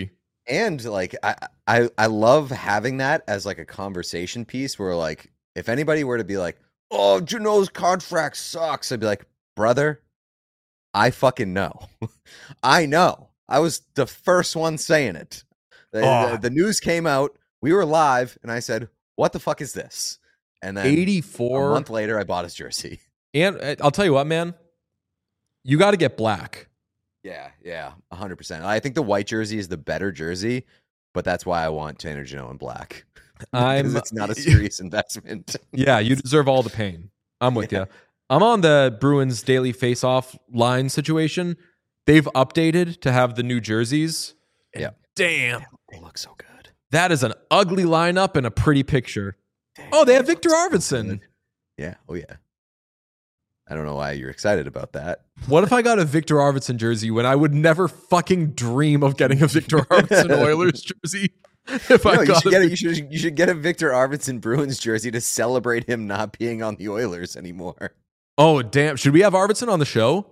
And like I, I I love having that as like a conversation piece where like if anybody were to be like, oh, Janot's contract sucks, I'd be like, brother, I fucking know. I know. I was the first one saying it. The, Oh. the, the news came out, we were live, and I said, what the fuck is this? And then eighty-four a month later I bought his jersey. And uh, I'll tell you what, man, you got to get black. Yeah, yeah, one hundred percent. I think the white jersey is the better jersey, but that's why I want Tanner Jeannot in black. I'm Because it's not a serious investment. Yeah, you deserve all the pain. I'm with Yeah. you. I'm on the Bruins daily face-off line situation. They've updated to have the new jerseys. And Yeah. damn, They look so good. that is an ugly lineup and a pretty picture. Damn, Oh, they have look Victor so Arvidsson. good. Yeah. Oh, yeah. I don't know why you're excited about that. What if I got a Victor Arvidsson jersey when I would never fucking dream of getting a Victor Arvidsson Oilers jersey? If No, I you got should a get a, you should you should get a Victor Arvidsson Bruins jersey to celebrate him not being on the Oilers anymore. Oh, damn. Should we have Arvidsson on the show?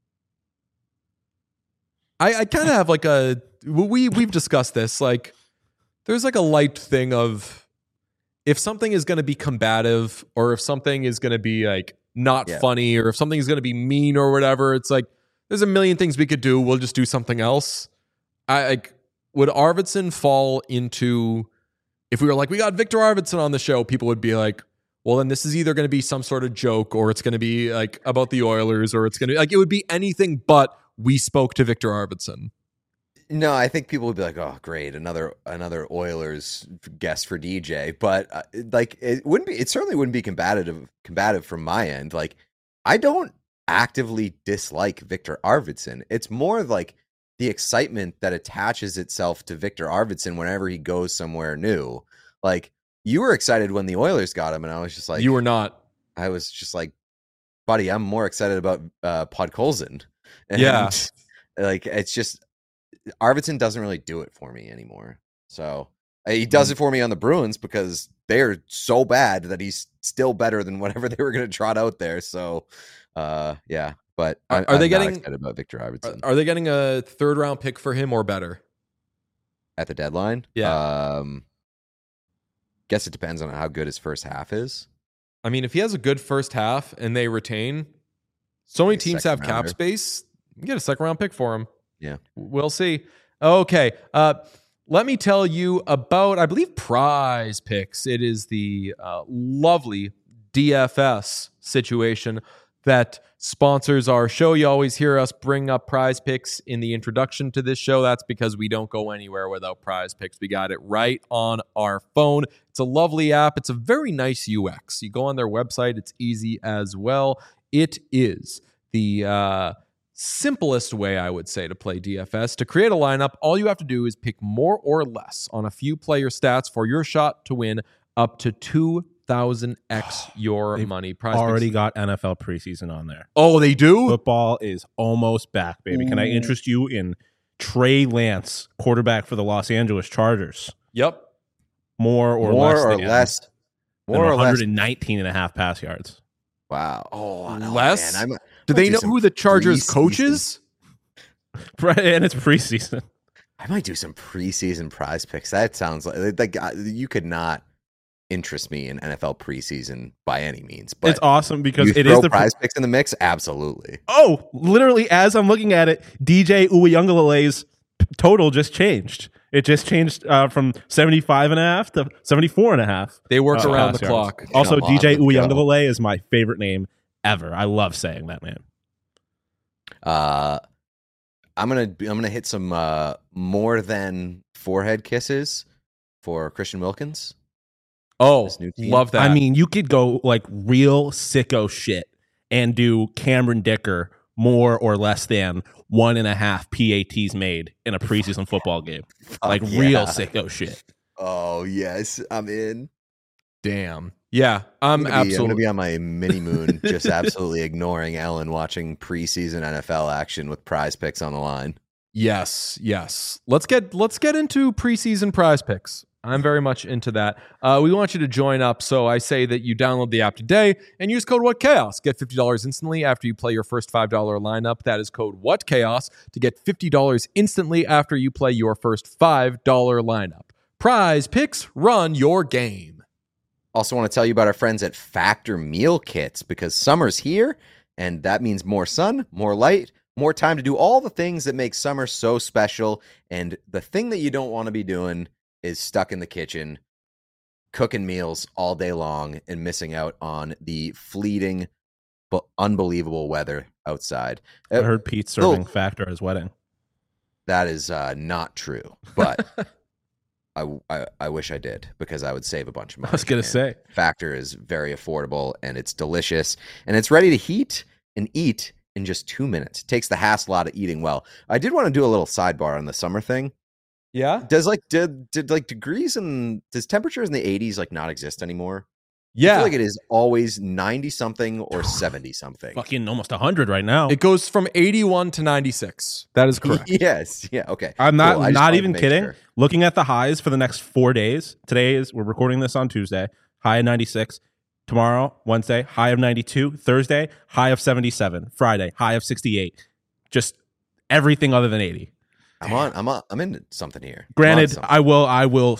I, I kind of have like a we we've discussed this. Like, there's like a light thing of if something is going to be combative or if something is going to be like not Yeah. funny or if something is going to be mean or whatever. It's like there's a million things we could do. We'll just do something else. I like would Arvidsson fall into if we were like we got Victor Arvidsson on the show, people would be like, well, then this is either going to be some sort of joke or it's going to be like about the Oilers or it's going to like it would be anything but we spoke to Victor Arvidsson. No, I think people would be like, "Oh, great, another another Oilers guest for D J." But uh, like, it wouldn't be. It certainly wouldn't be combative. Combative from my end. Like, I don't actively dislike Victor Arvidsson. It's more like the excitement that attaches itself to Victor Arvidsson whenever he goes somewhere new. Like, you were excited when the Oilers got him, and I was just like, You were not. I was just like, buddy, I'm more excited about uh, Podkolzin. And, Yeah. like it's just Arvidsson doesn't really do it for me anymore. So uh, he does it for me on the Bruins because they're so bad that he's still better than whatever they were going to trot out there. So, uh, yeah. But Are- I'm, are they I'm not getting- excited about Victor Are, Arvidsson are they getting a third round pick for him or better? at the deadline? Yeah. Um, guess it depends on how good his first half is. I mean, if he has a good first half and they retain, so many Like a teams second have cap rounder. space. You get a second round pick for him. Yeah. We'll see. Okay. Uh, let me tell you about, I believe, Prize Picks. It is the uh, lovely D F S situation that sponsors our show. You always hear us bring up Prize Picks in the introduction to this show. That's because we don't go anywhere without Prize Picks. We got it right on our phone. It's a lovely app. It's a very nice U X. You go on their website. It's easy as well. It is the uh, simplest way, I would say, to play D F S. To create a lineup, all you have to do is pick more or less on a few player stats for your shot to win up to two thousand x your They've money. Prize Already Picks- got N F L preseason on there. Oh, they do? Football is almost back, baby. Can I Ooh. interest you in Trey Lance, quarterback for the Los Angeles Chargers? Yep. More or more less or than, less. than More or less. one nineteen and a half pass yards. Wow. Oh, no, Less? man, I'm- Do might they do know some who the Chargers preseason. coach is? Right, and it's preseason. I might do some preseason prize picks. That sounds like like uh, you could not interest me in N F L preseason by any means. But It's awesome because you it throw is the prize picks in the mix. Absolutely. Oh, literally, as I'm looking at it, D J Uyunglele's total just changed. It just changed uh, from seventy-five and a half to seventy-four and a half. They work uh, around pass the yards. clock. Also, Come on, D J let's go. Uyunglele is my favorite name ever. I love saying that name. Uh, I'm gonna I'm gonna hit some uh, more than forehead kisses for Christian Wilkins. Oh, This new team. love that. I mean, you could go like real sicko shit and do Cameron Dicker more or less than one and a half P A Ts made in a preseason football game. Like yeah. real sicko shit. Oh yes, I'm in. damn. Yeah, I'm, I'm gonna, be, I'm absolutely. gonna be on my mini moon, just absolutely ignoring Ellen, watching preseason N F L action with prize picks on the line. Yes, yes. Let's get let's get into preseason prize picks. I'm very much into that. Uh, we want you to join up, so I say that you download the app today and use code WhatChaos. Get fifty dollars instantly after you play your first five dollars lineup. That is code WhatChaos to get fifty dollars instantly after you play your first five dollars lineup. Prize Picks, run your game. Also want to tell you about our friends at Factor Meal Kits, because summer's here, and that means more sun, more light, more time to do all the things that make summer so special. And the thing that you don't want to be doing is stuck in the kitchen, cooking meals all day long and missing out on the fleeting but unbelievable weather outside. I heard Pete serving oh, Factor at his wedding. That is uh, not true, but I, I, I wish I did, because I would save a bunch of money. I was going to say. Factor is very affordable, and it's delicious, and it's ready to heat and eat in just two minutes. It takes the hassle out of eating well. I did want to do a little sidebar on the summer thing. Yeah. Does like did did like degrees and does temperatures in the eighties like not exist anymore? Yeah. I feel like it is always ninety something or seventy something. Fucking almost one hundred right now. It goes from eighty-one to ninety-six. That is correct. Yes. Yeah. Okay. I'm not cool. not even kidding. Sure. Looking at the highs for the next four days. Today is we're recording this on Tuesday. High of ninety-six. Tomorrow, Wednesday, high of ninety-two. Thursday, high of seventy-seven. Friday, high of sixty-eight. Just everything other than eighty. I'm on. I'm on, I'm into something here. Granted, something. I will. I will.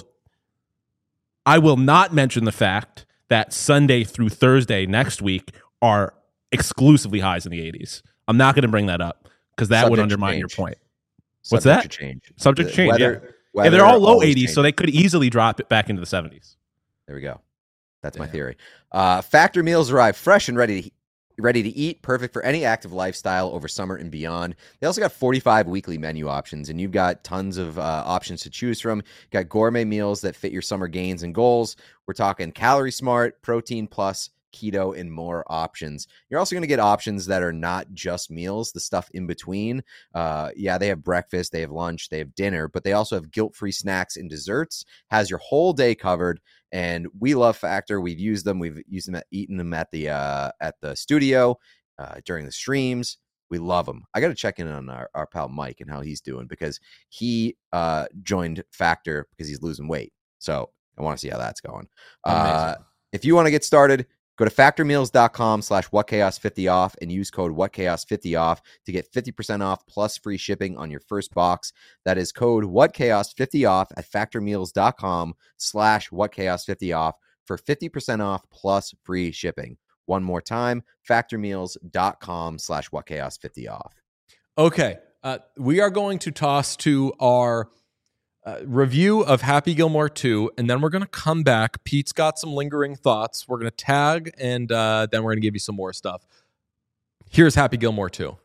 I will not mention the fact that Sunday through Thursday next week are exclusively highs in the eighties. I'm not going to bring that up because that Subject would undermine your change. point. Subject What's that? To change. Subject to change. Weather, yeah. weather yeah, they're all low eighties, changes. so they could easily drop it back into the seventies. There we go. That's Damn. my theory. Uh, Factor meals arrive fresh and ready to ready to eat, perfect for any active lifestyle over summer and beyond. They also got forty-five weekly menu options, and you've got tons of uh, options to choose from. You got gourmet meals that fit your summer gains and goals. We're talking Calorie Smart, Protein Plus, keto, and more options. You're also going to get options that are not just meals, the stuff in between. Uh, yeah, they have breakfast, they have lunch, they have dinner, but they also have guilt-free snacks and desserts. Has your whole day covered. And we love Factor. We've used them. We've used them, at, eaten them at the uh, at the studio uh, during the streams. We love them. I got to check in on our, our pal Mike and how he's doing, because he uh, joined Factor because he's losing weight. So I want to see how that's going. Uh, if you want to get started, go to factormeals.com slash whatchaos50 off and use code whatchaos50 off to get fifty percent off plus free shipping on your first box. That is code whatchaos50 off at factormeals.com slash whatchaos50 off for fifty percent off plus free shipping. One more time, factormeals.com slash whatchaos50 off. Okay. Uh, we are going to toss to our Uh, review of Happy Gilmore two, and then we're going to come back. Pete's got some lingering thoughts. We're going to tag, and uh, then we're going to give you some more stuff. Here's Happy Gilmore two.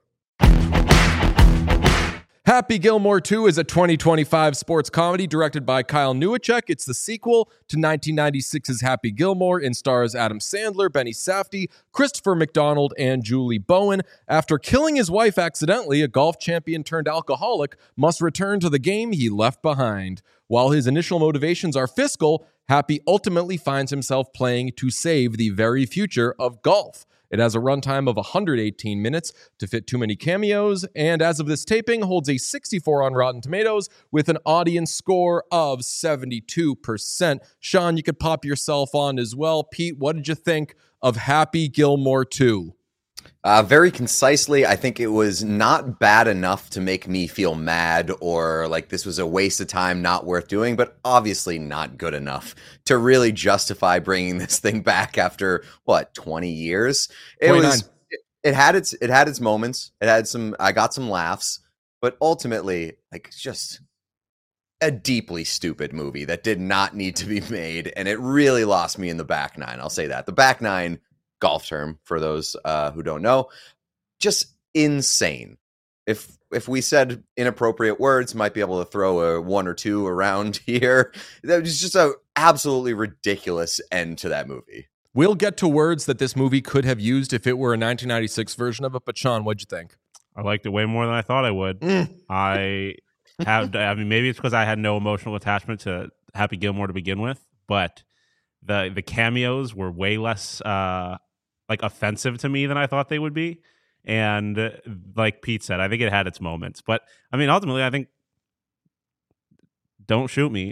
Happy Gilmore two is a twenty twenty-five sports comedy directed by Kyle Newacek. It's the sequel to nineteen ninety-six's Happy Gilmore and stars Adam Sandler, Benny Safdie, Christopher McDonald, and Julie Bowen. After killing his wife accidentally, a golf champion turned alcoholic must return to the game he left behind. While his initial motivations are fiscal, Happy ultimately finds himself playing to save the very future of golf. It has a runtime of one hundred eighteen minutes to fit too many cameos, and as of this taping, holds a sixty-four on Rotten Tomatoes with an audience score of seventy-two percent. Sean, you could pop yourself on as well. Pete, what did you think of Happy Gilmore two? Uh, very concisely, I think it was not bad enough to make me feel mad or like this was a waste of time, not worth doing, but obviously not good enough to really justify bringing this thing back after, what, twenty years? It twenty-nine. was. It, it had its. It had its moments. It had some. I got some laughs, but ultimately, like, just a deeply stupid movie that did not need to be made, and it really lost me in the back nine. I'll say that the back nine. Golf term for those uh, who don't know, just insane. If if we said inappropriate words, might be able to throw a one or two around here. That was just a absolutely ridiculous end to that movie. We'll get to words that this movie could have used if it were a nineteen ninety-six version of it. But Sean, what'd you think? I liked it way more than I thought I would. Mm. I have. I mean, maybe it's because I had no emotional attachment to Happy Gilmore to begin with, but the the cameos were way less. Uh, like offensive to me than I thought they would be. And uh, like Pete said, I think it had its moments. But I mean, ultimately, I think don't shoot me. Like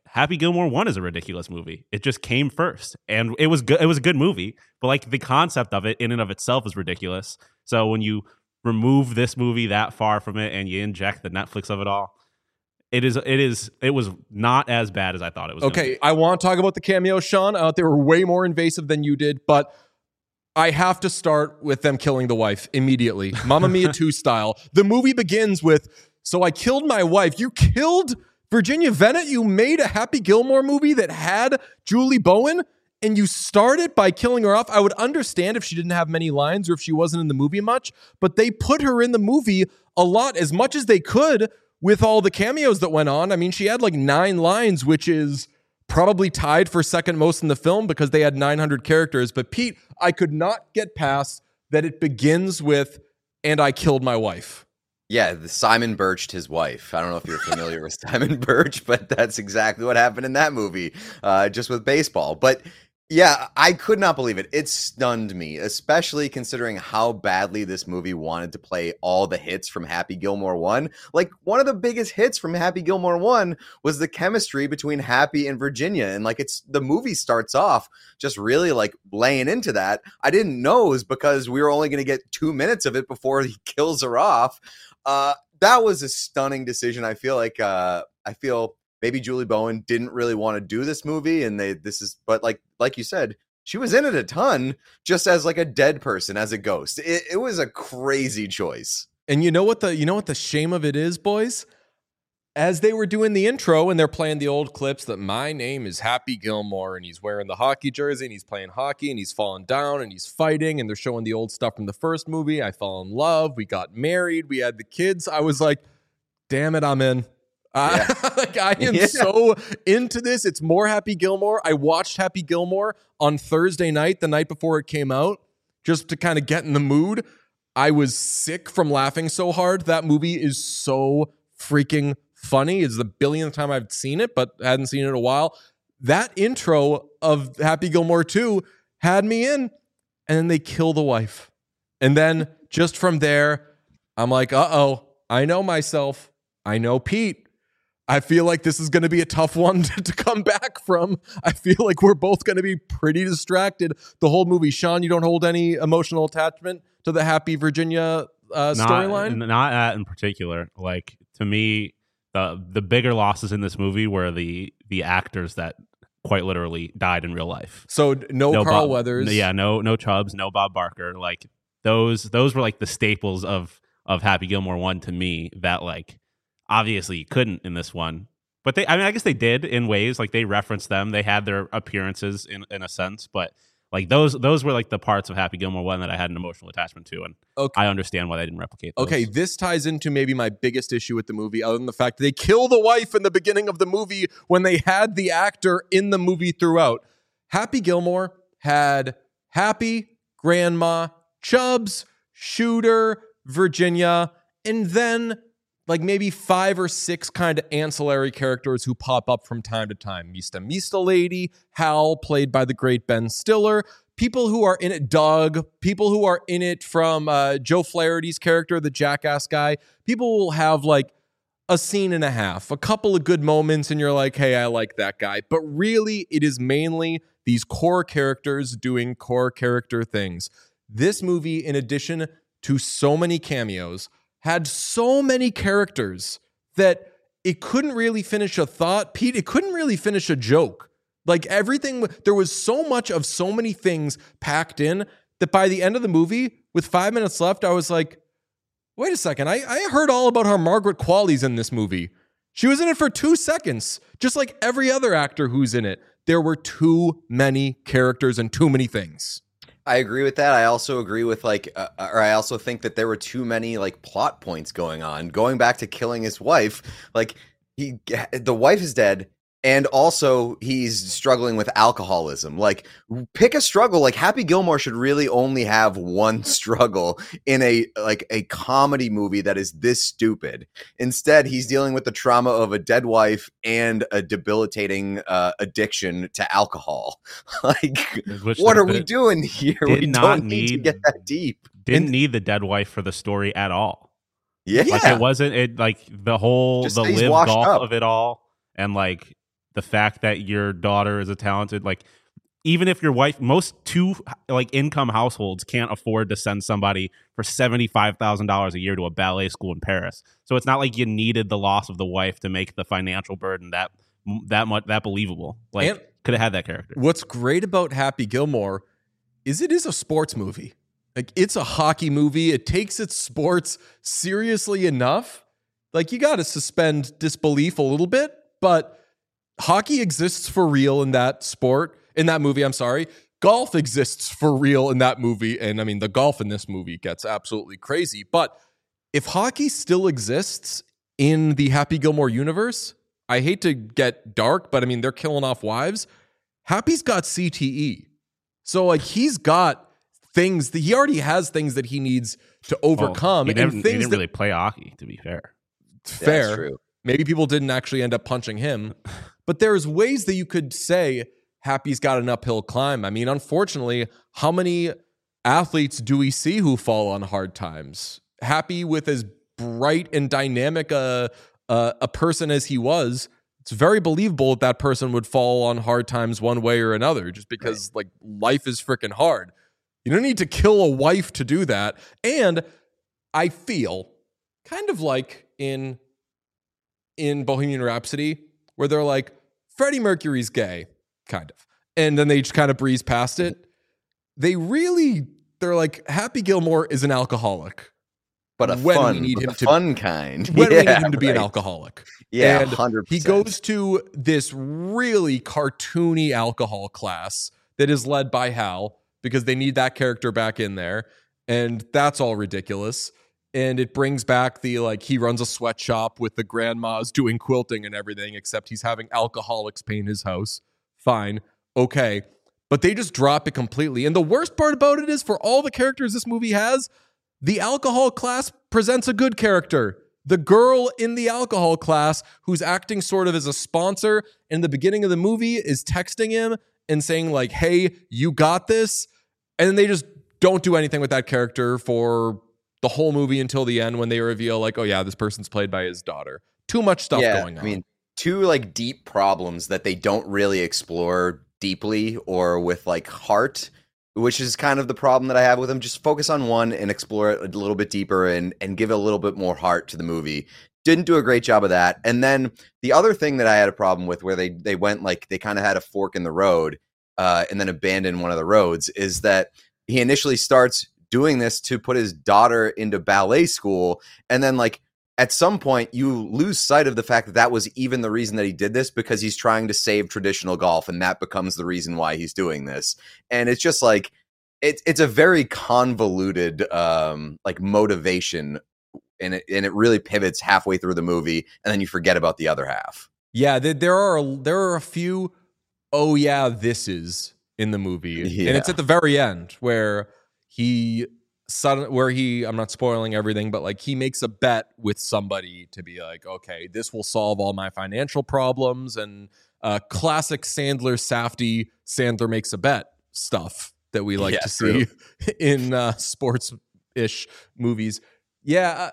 Happy Gilmore one is a ridiculous movie. It just came first, and it was good. It was a good movie, but like the concept of it in and of itself is ridiculous. So when you remove this movie that far from it and you inject the Netflix of it all, it is it is it was not as bad as I thought it was. Okay, I want to talk about the cameos, Sean. Uh, they were way more invasive than you did, but I have to start with them killing the wife immediately, Mamma Mia two style. The movie begins with, "So I killed my wife." You killed Virginia Venet. You made a Happy Gilmore movie that had Julie Bowen, and you started by killing her off. I would understand if she didn't have many lines or if she wasn't in the movie much, but they put her in the movie a lot, as much as they could, with all the cameos that went on. I mean, she had like nine lines, which is probably tied for second most in the film because they had nine hundred characters. But Pete, I could not get past that it begins with, "And I killed my wife." Yeah, the Simon Birched his wife. I don't know if you're familiar with Simon Birch, but that's exactly what happened in that movie, uh, just with baseball. But yeah, I could not believe it. It stunned me, especially considering how badly this movie wanted to play all the hits from Happy Gilmore one. Like, one of the biggest hits from Happy Gilmore one was the chemistry between Happy and Virginia. And like, it's the movie starts off just really like laying into that. I didn't know it was because we were only going to get two minutes of it before he kills her off. Uh, that was a stunning decision. I feel like, uh, I feel maybe Julie Bowen didn't really want to do this movie, and they, this is, but like, like you said, she was in it a ton, just as like a dead person, as a ghost. It, it was a crazy choice. And you know what the, you know what the shame of it is, boys? As they were doing the intro and they're playing the old clips that "My name is Happy Gilmore," and he's wearing the hockey jersey and he's playing hockey and he's falling down and he's fighting, and they're showing the old stuff from the first movie. "I fell in love. We got married. We had the kids." I was like, damn it, I'm in. Uh, Yeah. like, I am Yeah. so into this. It's more Happy Gilmore. I watched Happy Gilmore on Thursday night, the night before it came out, just to kind of get in the mood. I was sick from laughing so hard. That movie is so freaking funny. It's the billionth time I've seen it, but hadn't seen it in a while. That intro of Happy Gilmore two had me in, and then they kill the wife. And then just from there, I'm like, uh-oh, I know myself. I know Pete. I feel like this is going to be a tough one to, to come back from. I feel like we're both going to be pretty distracted the whole movie. Sean, you don't hold any emotional attachment to the Happy Virginia uh, storyline? Not that in particular. Like, to me, the the bigger losses in this movie were the the actors that quite literally died in real life. So no, No Carl Bob- Weathers. Yeah, no no Chubbs, no Bob Barker. Like, those those were like the staples of of Happy Gilmore one to me that like obviously you couldn't in this one. But they, I mean, I guess they did in ways. Like, they referenced them. They had their appearances in, in a sense. But like those those were like the parts of Happy Gilmore one that I had an emotional attachment to. And Okay. I understand why they didn't replicate those. Okay, this ties into maybe my biggest issue with the movie, other than the fact that they kill the wife in the beginning of the movie when they had the actor in the movie throughout. Happy Gilmore had Happy, Grandma, Chubbs, Shooter, Virginia, and then like maybe five or six kind of ancillary characters who pop up from time to time. Mista Mista Lady, Hal, played by the great Ben Stiller, people who are in it, Doug, people who are in it from uh, Joe Flaherty's character, the jackass guy. People will have like a scene and a half, a couple of good moments, and you're like, hey, I like that guy. But really, it is mainly these core characters doing core character things. This movie, in addition to so many cameos, had so many characters that it couldn't really finish a thought. Pete, it couldn't really finish a joke. Like, everything, there was so much of so many things packed in that by the end of the movie, with five minutes left, I was like, wait a second, I, I heard all about how Margaret Qualley's in this movie. She was in it for two seconds, just like every other actor who's in it. There were too many characters and too many things. I agree with that. I also agree with like, uh, or I also think that there were too many like plot points going on. Going back to killing his wife, like he, the wife is dead, and also he's struggling with alcoholism. Like, pick a struggle. Like, Happy Gilmore should really only have one struggle in a like a comedy movie that is this stupid. Instead, he's dealing with the trauma of a dead wife and a debilitating uh, addiction to alcohol. Like, Which what the- are we the- doing here? did We not don't need to need- get that deep. Didn't And- need the dead wife for the story at all. Yeah. Like, it wasn't it like the whole Just the say he's live washed golf up. of it all, and like the fact that your daughter is a talented, like, even if your wife, most two like income households can't afford to send somebody for seventy-five thousand dollars a year to a ballet school in Paris. So it's not like you needed the loss of the wife to make the financial burden that that much that believable. Like, could have had that character. What's great about Happy Gilmore is it is a sports movie. Like, it's a hockey movie. It takes its sports seriously enough. Like, you got to suspend disbelief a little bit, but hockey exists for real in that sport. In that movie, I'm sorry. Golf exists for real in that movie. And I mean, the golf in this movie gets absolutely crazy. But if hockey still exists in the Happy Gilmore universe, I hate to get dark, but I mean, they're killing off wives. Happy's got C T E. So, like, he's got things that he already has things that he needs to overcome. Well, he, never, and he things didn't that, really play hockey, to be fair. Fair. That's true. Maybe people didn't actually end up punching him. But there's ways that you could say Happy's got an uphill climb. I mean, unfortunately, how many athletes do we see who fall on hard times? Happy, with as bright and dynamic a, a, a person as he was, it's very believable that that person would fall on hard times one way or another, just because right. like life is freaking hard. You don't need to kill a wife to do that. And I feel kind of like in, in Bohemian Rhapsody, where they're like, Freddie Mercury's gay. Kind of. And then they just kind of breeze past it. They really, they're like, Happy Gilmore is an alcoholic. But a when fun, we need him to, fun kind. When yeah, we need him to be right. an alcoholic. Yeah, and one hundred percent. He goes to this really cartoony alcohol class that is led by Hal, because they need that character back in there. And that's all ridiculous. And it brings back the, like, he runs a sweatshop with the grandmas doing quilting and everything, except he's having alcoholics paint his house. Fine. Okay. But they just drop it completely. And the worst part about it is, for all the characters this movie has, the alcohol class presents a good character. The girl in the alcohol class, who's acting sort of as a sponsor in the beginning of the movie, is texting him and saying, like, hey, you got this. And then they just don't do anything with that character for the whole movie until the end, when they reveal, like, oh yeah, this person's played by his daughter. Too much stuff yeah, going on. I mean, two like deep problems that they don't really explore deeply or with like heart, which is kind of the problem that I have with them. Just focus on one and explore it a little bit deeper and and give a little bit more heart to the movie. Didn't do a great job of that. And then the other thing that I had a problem with, where they they went like they kind of had a fork in the road uh, and then abandoned one of the roads, is that he initially starts doing this to put his daughter into ballet school, and then like at some point you lose sight of the fact that that was even the reason that he did this, because he's trying to save traditional golf, and that becomes the reason why he's doing this. And it's just like it's it's a very convoluted um like motivation, and it and it really pivots halfway through the movie, and then you forget about the other half. Yeah, there are there are a few oh yeah, this is in the movie. Yeah. And it's at the very end where he suddenly, where he, I'm not spoiling everything, but like he makes a bet with somebody to be like, okay, this will solve all my financial problems, and uh, classic Sandler, Safdie, Sandler makes a bet stuff that we like Yeah, to see in uh, sports-ish movies. Yeah,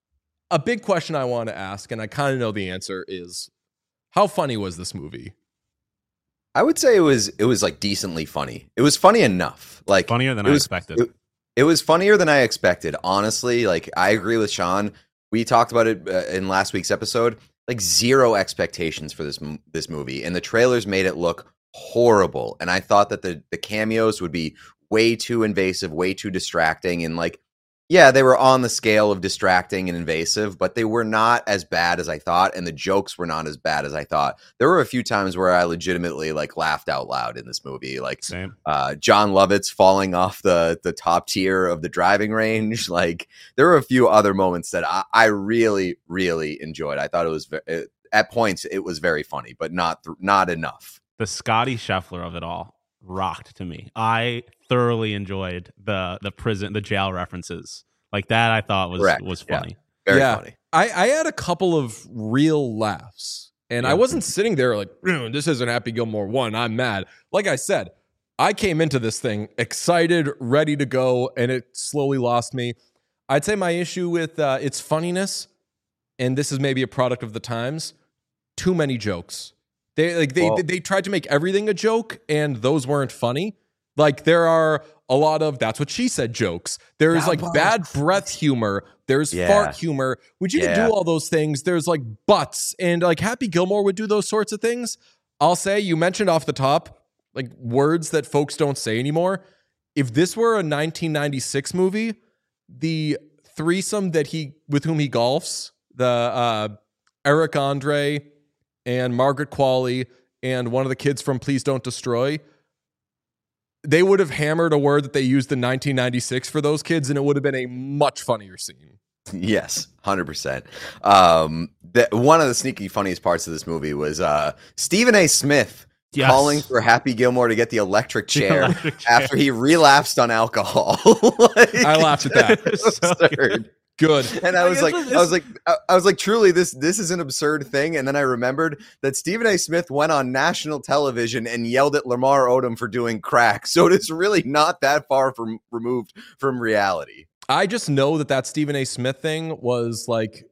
a big question I want to ask, and I kind of know the answer, is how funny was this movie? I would say it was it was like decently funny. It was funny enough. Like Funnier than it I was, expected. It, it was funnier than I expected. Honestly, like I agree with Sean. We talked about it uh, in last week's episode. Like zero expectations for this this movie, and the trailers made it look horrible. And I thought that the the cameos would be way too invasive, way too distracting, and like yeah, they were on the scale of distracting and invasive, but they were not as bad as I thought, and the jokes were not as bad as I thought. There were a few times where I legitimately like laughed out loud in this movie, like Same. Uh, John Lovitz falling off the the top tier of the driving range. Like there were a few other moments that I, I really, really enjoyed. I thought it was ve- at points it was very funny, but not th- not enough. The Scotty Scheffler of it all rocked to me. I thoroughly enjoyed the the prison, the jail references like that. I thought was Correct. was funny. Yeah. Very yeah, funny. I, I had a couple of real laughs, and Yeah. I wasn't sitting there like, this isn't Happy Gilmore one, I'm mad. Like I said, I came into this thing excited, ready to go, and it slowly lost me. I'd say my issue with uh, its funniness, and this is maybe a product of the times, too many jokes. They like they Well- they tried to make everything a joke, and those weren't funny. Like there are a lot of that's what she said jokes. There's Yeah, like but- bad breath humor. There's Yeah. fart humor. Which you can Yeah. do all those things. There's like butts, and like Happy Gilmore would do those sorts of things. I'll say you mentioned off the top like words that folks don't say anymore. If this were a nineteen ninety-six movie, the threesome that he with whom he golfs, the uh, Eric Andre and Margaret Qualley and one of the kids from Please Don't Destroy, they would have hammered a word that they used in nineteen ninety-six for those kids, and it would have been a much funnier scene. Yes, one hundred percent. Um, the, one of the sneaky funniest parts of this movie was uh, Stephen A. Smith Yes. calling for Happy Gilmore to get the electric The chair electric chair. after he relapsed on alcohol. Like, I laughed at that. it's So absurd. Good. And I Like, was this like, was- I was like, I I was like, truly, this this is an absurd thing. And then I remembered that Stephen A. Smith went on national television and yelled at Lamar Odom for doing crack. So it is really not that far from removed from reality. I just know that that Stephen A. Smith thing was like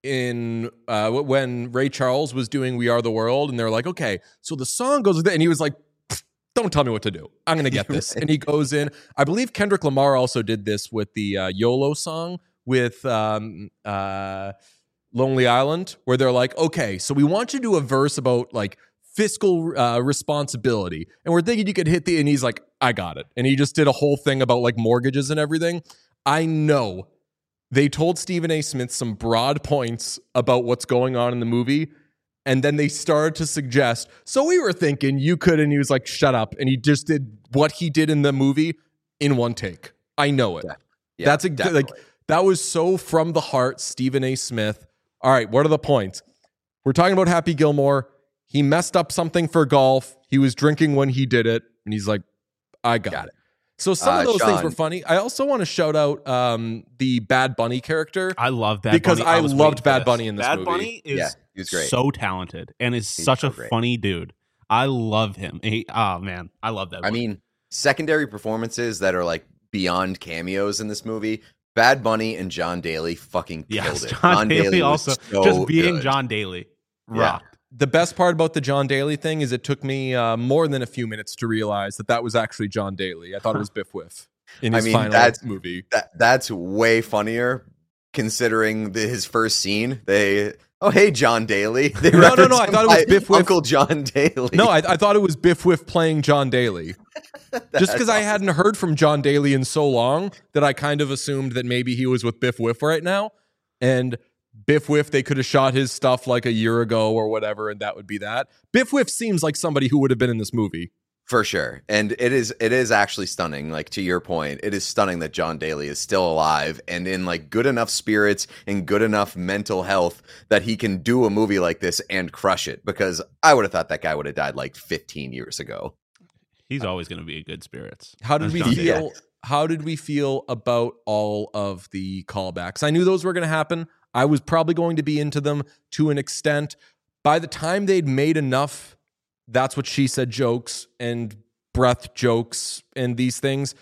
in uh, w- when Ray Charles was doing We Are the World, and they're like, okay, so the song goes with it, and he was like, don't tell me what to do. I'm gonna get this. And he goes in. I believe Kendrick Lamar also did this with the uh, YOLO song with um, uh, Lonely Island, where they're like, okay, so we want you to do a verse about like fiscal uh, responsibility, and we're thinking you could hit the. And he's like, I got it. And he just did a whole thing about like mortgages and everything. I know they told Stephen A. Smith some broad points about what's going on in the movie. And then they started to suggest, so we were thinking you could. And he was like, shut up. And he just did what he did in the movie in one take. I know it. Yeah. Yeah, That's a, like, definitely. that was so from the heart, Stephen A. Smith. All right, what are the points? We're talking about Happy Gilmore. He messed up something for golf. He was drinking when he did it. And he's like, I got, Got it. So some Uh, of those things Sean. were funny. I also want to shout out um, the Bad Bunny character. I love Bad Because Bunny. I was loved waiting for Bad this. Bunny in this Bad movie. Bunny is Yeah, he was great. so talented and is He's such so a great. funny dude. I love him. He, oh man, I love that. I mean, secondary performances that are like beyond cameos in this movie. Bad Bunny and John Daly fucking killed yes, it. John, Daly, was also so just being good. John Daly Yeah. rocked. The best part about the John Daly thing is it took me uh, more than a few minutes to realize that that was actually John Daly. I thought it was Biff Whiff in I his mean, final that's- movie. That that's way funnier considering the, his first scene. They oh hey John Daly. They No, no, no, reference I him thought it was by Biff Whiff. Uncle John Daly. No, I, I thought it was Biff Whiff playing John Daly. Just because I hadn't heard from John Daly in so long that I kind of assumed that maybe he was with Biff Whiff right now. And Biff Whiff, they could have shot his stuff like a year ago or whatever, and that would be that. Biff Whiff seems like somebody who would have been in this movie. For sure. And it is it is actually stunning. Like to your point, it is stunning that John Daly is still alive and in like good enough spirits and good enough mental health that he can do a movie like this and crush it. Because I would have thought that guy would have died like fifteen years ago. He's always going to be in good spirits. How did That's we John feel? Daly. How did we feel about all of the callbacks? I knew those were going to happen. I was probably going to be into them to an extent. By the time they'd made enough, that's what she said jokes and breath jokes and these things,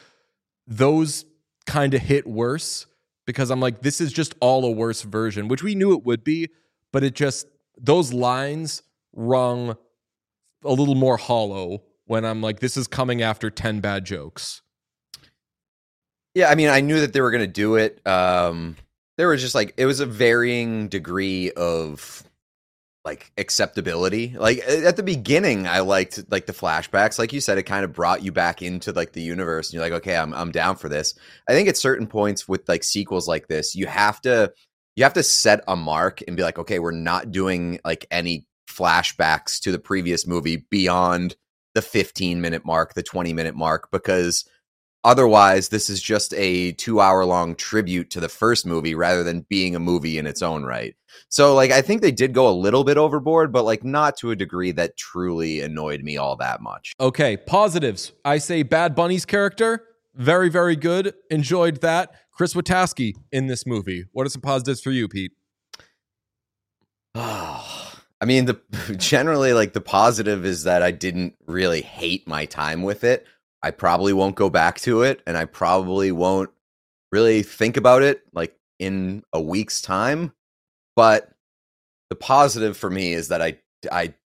those kind of hit worse because I'm like, this is just all a worse version, which we knew it would be, but it just, those lines rung a little more hollow when I'm like, this is coming after ten bad jokes. Yeah, I mean, I knew that they were going to do it. Um, there was just like, it was a varying degree of like acceptability. Like at the beginning, I liked like the flashbacks. Like you said, it kind of brought you back into like the universe and you're like, okay, I'm I'm down for this. I think at certain points with like sequels like this, you have to you have to set a mark and be like, okay, we're not doing like any flashbacks to the previous movie beyond the fifteen minute mark, the twenty minute mark, because otherwise this is just a two hour long tribute to the first movie rather than being a movie in its own right. So like, I think they did go a little bit overboard, but like not to a degree that truly annoyed me all that much. Okay, positives. I say Bad Bunny's character, very, very good. Enjoyed that. Chris Wataski in this movie. What are some positives for you, Pete? I mean, the generally like the positive is that I didn't really hate my time with it. I probably won't go back to it, and I probably won't really think about it like in a week's time. But the positive for me is that I I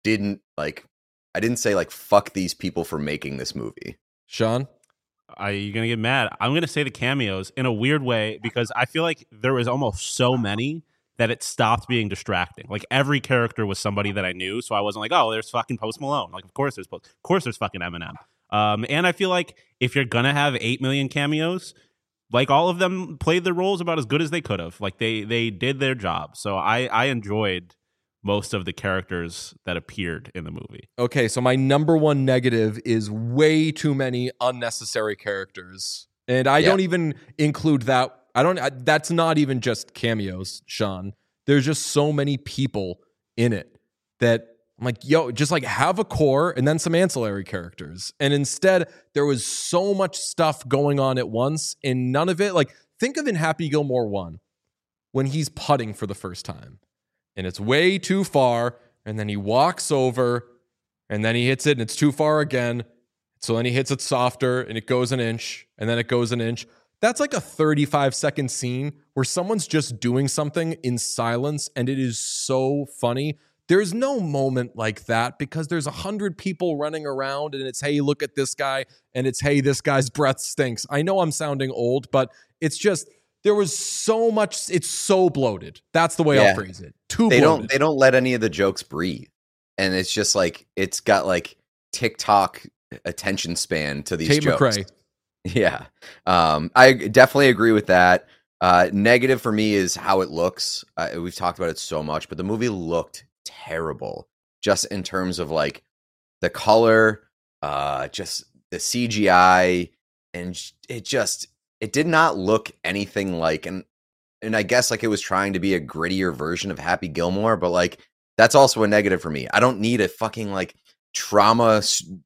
didn't like. I didn't say like fuck these people for making this movie. Sean? Are you going to get mad? I'm going to say the cameos in a weird way because I feel like there was almost so many that it stopped being distracting. Like every character was somebody that I knew, so I wasn't like, oh, there's fucking Post Malone. Like, of course there's Post, of course there's fucking Eminem. Um, and I feel like if you're gonna have eight million cameos, like all of them played their roles about as good as they could have. Like they they did their job. So I I enjoyed most of the characters that appeared in the movie. Okay, so my number one negative is way too many unnecessary characters. And I Yeah. don't even include that. I don't, I, that's not even just cameos, Sean. There's just so many people in it that I'm like, yo, just like have a core and then some ancillary characters. And instead, there was so much stuff going on at once and none of it. Like, think of in Happy Gilmore one when he's putting for the first time and it's way too far. And then he walks over and then he hits it and it's too far again. So then he hits it softer and it goes an inch and then it goes an inch. That's like a thirty-five second scene where someone's just doing something in silence and it is so funny. There's no moment like that because there's a hundred people running around and it's, hey, look at this guy. And it's, hey, this guy's breath stinks. I know I'm sounding old, but it's just, there was so much, it's so bloated. That's the way Yeah. I'll phrase it. Too They bloated. don't they don't let any of the jokes breathe. And it's just like it's got like TikTok attention span to these Tate jokes. McRae. Yeah. Um, I definitely agree with that. Uh, negative for me is how it looks. Uh, we've talked about it so much, but the movie looked terrible just in terms of like the color, uh, just the C G I, and j- it just it did not look anything like and and I guess like it was trying to be a grittier version of Happy Gilmore, but like that's also a negative for me. I don't need a fucking like trauma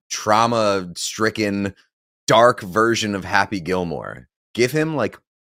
trauma stricken dark version of Happy Gilmore. Give him like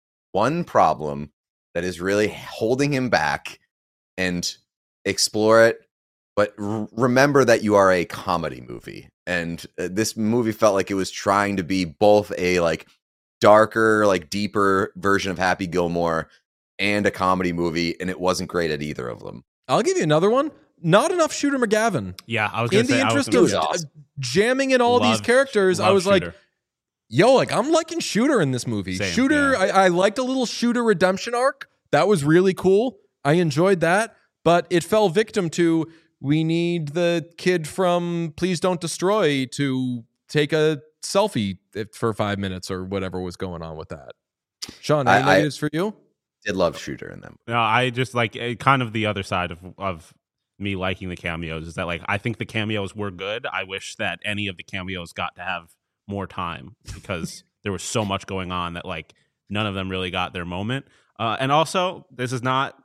one problem that is really holding him back and explore it. But r- remember that you are a comedy movie. And uh, this movie felt like it was trying to be both a like darker, like deeper version of Happy Gilmore and a comedy movie. And it wasn't great at either of them. I'll give you another one. Not enough Shooter McGavin. Yeah, I was going In to say the I was interest gonna of say- awesome. jamming in all these Love- characters, I love was like, Shooter. yo, like I'm liking Shooter in this movie. Same, Shooter, yeah. I, I liked a little Shooter redemption arc. That was really cool. I enjoyed that, but it fell victim to we need the kid from Please Don't Destroy to take a selfie for five minutes or whatever was going on with that. Sean, any I- I- negatives for you? Did love Shooter in them. No, I just like eh, kind of the other side of of me liking the cameos is that like I think the cameos were good. I wish that any of the cameos got to have more time because there was so much going on that like none of them really got their moment. Uh, and also, this is not.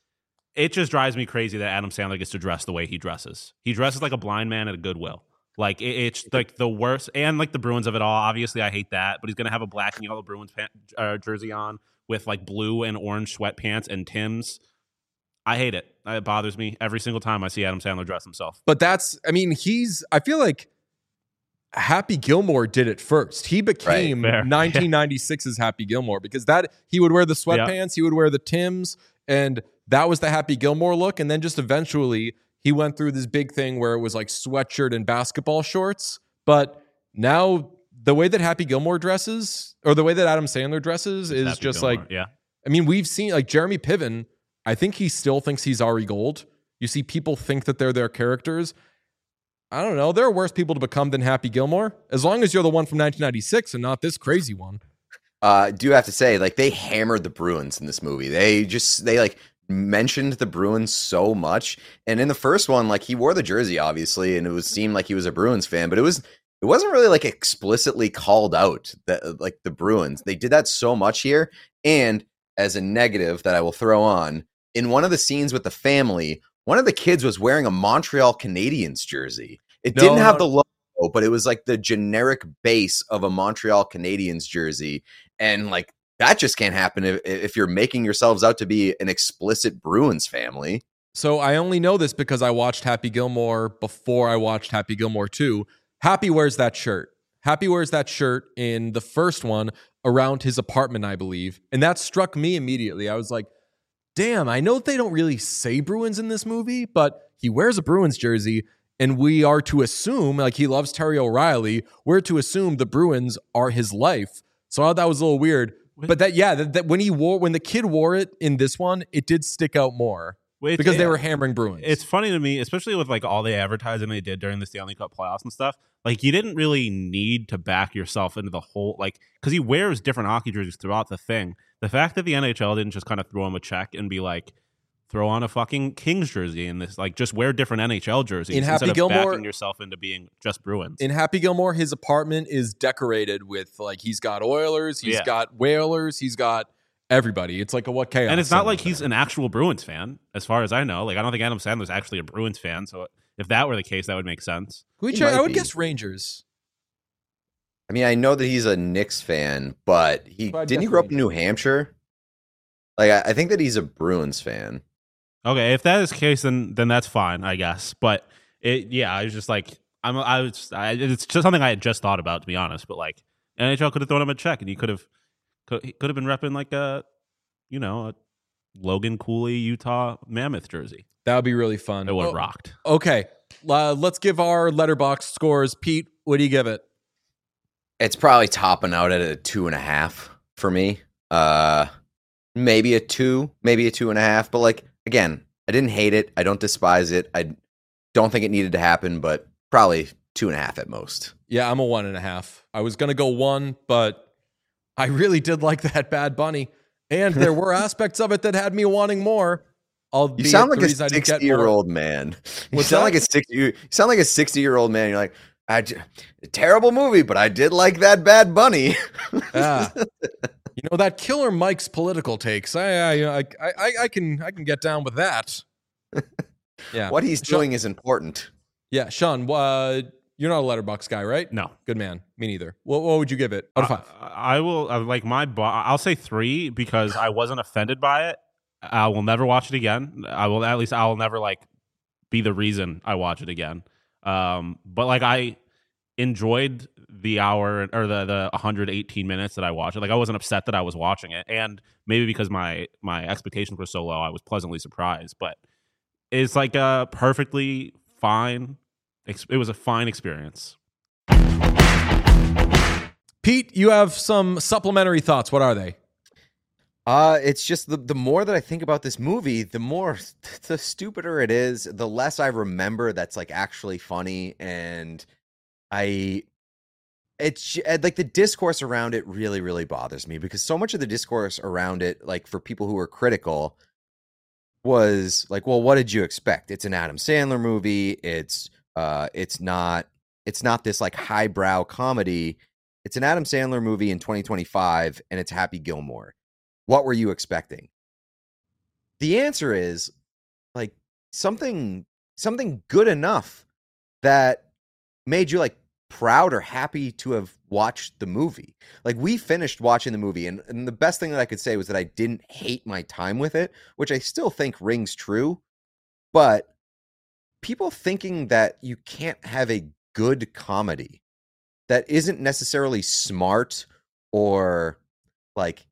It just drives me crazy that Adam Sandler gets to dress the way he dresses. He dresses like a blind man at a Goodwill. Like it, it's like the worst, and like the Bruins of it all. Obviously, I hate that, but he's gonna have a black and yellow Bruins pant, uh, jersey on with like blue and orange sweatpants and Tim's. I hate it. It bothers me every single time I see Adam Sandler dress himself. But that's, I mean, he's, I feel like Happy Gilmore did it first. He became fair. nineteen ninety-six's Happy Gilmore because that he would wear the sweatpants, he would wear the Tims, and that was the Happy Gilmore look. And then just eventually he went through this big thing where it was like sweatshirt and basketball shorts. But now the way that Happy Gilmore dresses, or the way that Adam Sandler dresses, is Happy just Gilmore, like, yeah. I mean, we've seen like Jeremy Piven. I think he still thinks he's Ari Gold. You see people think that they're their characters. I don't know. There are worse people to become than Happy Gilmore. As long as you're the one from nineteen ninety-six and not this crazy one. Uh, I do have to say, like, they hammered the Bruins in this movie. They just, they like mentioned the Bruins so much. And in the first one, like, he wore the jersey, obviously, and it was seemed like he was a Bruins fan, but it was, it wasn't really like explicitly called out that, like, the Bruins. They did that so much here. And as a negative that I will throw on, in one of the scenes with the family, one of the kids was wearing a Montreal Canadiens jersey. It No, didn't have no. the logo, but it was like the generic base of a Montreal Canadiens jersey. And like that just can't happen if, if you're making yourselves out to be an explicit Bruins family. So I only know this because I watched Happy Gilmore before I watched Happy Gilmore two. Happy wears that shirt. Happy wears that shirt in the first one around his apartment, I believe. And that struck me immediately. I was like, damn, I know they don't really say Bruins in this movie, but he wears a Bruins jersey. And we are to assume, like he loves Terry O'Reilly, we're to assume the Bruins are his life. So I thought that was a little weird. But that, yeah, that, that when he wore, when the kid wore it in this one, it did stick out more Which, because they yeah, were hammering Bruins. It's funny to me, especially with like all the advertising they did during the Stanley Cup playoffs and stuff. Like you didn't really need to back yourself into the whole, like, because he wears different hockey jerseys throughout the thing. The fact that the N H L didn't just kind of throw him a check and be like, throw on a fucking Kings jersey in this, like just wear different N H L jerseys in Happy instead of Gilmore, backing yourself into being just Bruins. In Happy Gilmore, his apartment is decorated with like he's got Oilers, he's Yeah. got Whalers, he's got everybody. It's like a what chaos. And it's not like center he's there. an actual Bruins fan, as far as I know. Like I don't think Adam Sandler's actually a Bruins fan. So if that were the case, that would make sense. Can we He check? might I would be. guess Rangers. I mean, I know that he's a Knicks fan, but he But I'd didn't he guess grow up in Rangers. New Hampshire? Like, I, I think that he's a Bruins fan. Okay, if that is the case, then then that's fine, I guess. But it, yeah, I was just like, I'm, I was, I, it's just something I had just thought about, to be honest. But like, N H L could have thrown him a check, and he could have, could, he could have been repping like a, you know, a Logan Cooley Utah Mammoth jersey. That would be really fun. It would have Oh, rocked. Okay, uh, let's give our letterbox scores. Pete, what do you give it? It's probably topping out at a two and a half for me. Uh, maybe a two, maybe a two and a half. But like again, I didn't hate it. I don't despise it. I don't think it needed to happen, but probably two and a half at most. Yeah, I'm a one and a half. I was gonna go one, but I really did like that Bad Bunny, and there were aspects of it that had me wanting more. I'll You sound like a sixty-year-old more. man. You What's sound that? like a sixty. You sound like a sixty-year-old man. You're like, I j- terrible movie, but I did like that Bad Bunny. Yeah. You know that Killer Mike's political takes. I I I I, I can I can get down with that. Yeah. What he's Sean- doing is important. Yeah, Sean. Uh, you're not a letterbox guy, right? No. Good man. Me neither. What, what would you give it? Out of five. I, I will uh, like my. Bo- I'll say three because I wasn't offended by it. I will never watch it again. I will at least I will never like be the reason I watch it again. Um, but like I enjoyed the hour or the the one hundred eighteen minutes that I watched it. Like I wasn't upset that I was watching it, and maybe because my my expectations were so low, I was pleasantly surprised. But it's like a perfectly fine. Ex- it was a fine experience. Pete, you have some supplementary thoughts. What are they? Uh, it's just the the more that I think about this movie, the more the stupider it is, the less I remember that's like actually funny, and I it's j- like the discourse around it really really bothers me because so much of the discourse around it, like for people who are critical, was like, well, what did you expect? It's an Adam Sandler movie. It's uh it's not it's not this like highbrow comedy. It's an Adam Sandler movie in twenty twenty-five, and it's Happy Gilmore. What were you expecting? The answer is like something something good enough that made you like proud or happy to have watched the movie. Like we finished watching the movie, and, and the best thing that I could say was that I didn't hate my time with it, which I still think rings true. But people thinking that you can't have a good comedy that isn't necessarily smart or like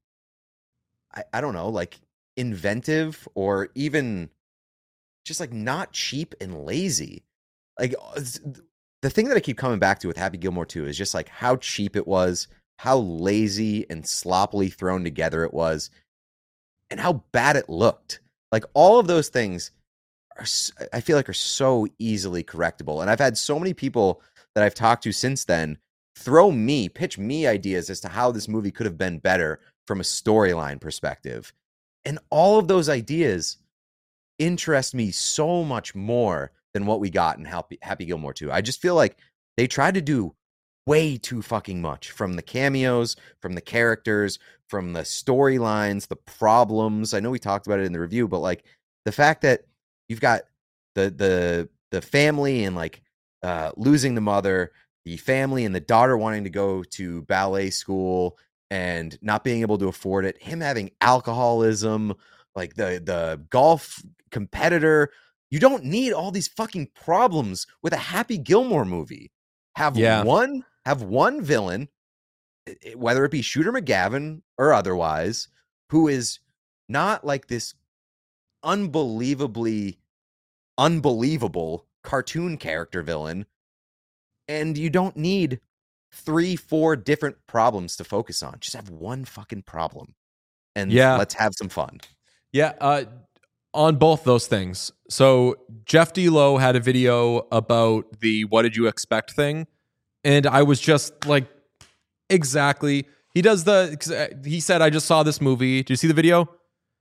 I, I don't know, like inventive or even just like not cheap and lazy. Like the thing that I keep coming back to with Happy Gilmore two is just like how cheap it was, how lazy and sloppily thrown together it was, and how bad it looked. Like all of those things are, I feel like, are so easily correctable. And I've had so many people that I've talked to since then throw me, pitch me ideas as to how this movie could have been better from a storyline perspective. And all of those ideas interest me so much more than what we got in Happy, Happy Gilmore two. I just feel like they tried to do way too fucking much from the cameos, from the characters, from the storylines, the problems. I know we talked about it in the review, but like the fact that you've got the the the family and like uh, losing the mother, the family and the daughter wanting to go to ballet school and not being able to afford it, him having alcoholism, like the the golf competitor. You don't need all these fucking problems with a Happy Gilmore movie. Have Yeah. one, have one villain, whether it be Shooter McGavin or otherwise, who is not like this unbelievably unbelievable cartoon character villain, and you don't need three, four different problems to focus on. Just have one fucking problem, and Yeah. let's have some fun. Yeah, uh, on both those things. So Jeff D. Lowe had a video about the "What did you expect" thing, and I was just like, exactly. He does the. He said, "I just saw this movie. Did you see the video?"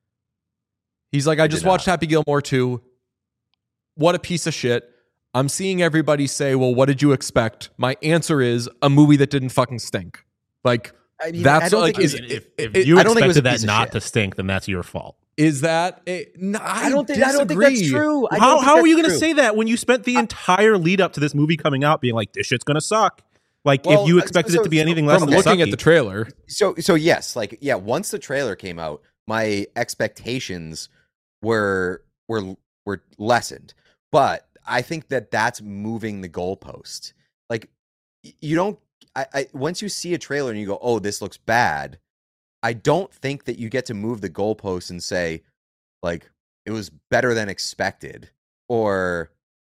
He's like, "I just did not. watched Happy Gilmore two. What a piece of shit." I'm seeing everybody say, "Well, what did you expect?" My answer is a movie that didn't fucking stink. Like I mean, I that's don't like think is it- if, if it- you I don't think it was expected a that piece of not shit. to stink, then that's your fault. is that a, no, I, I don't think I don't think that's disagree. true. I don't How think how are that's you going to true. say that when you spent the entire lead up to this movie coming out being like, this shit's going to suck? Like, Well, if you uh, expected so- it to be so anything from less From than looking at sucky. the trailer, So so yes, like yeah, once the trailer came out, my expectations were were were lessened. But I think that that's moving the goalpost. Like y- you don't I, I once you see a trailer and you go, "Oh, this looks bad." I don't think that you get to move the goalpost and say like it was better than expected, or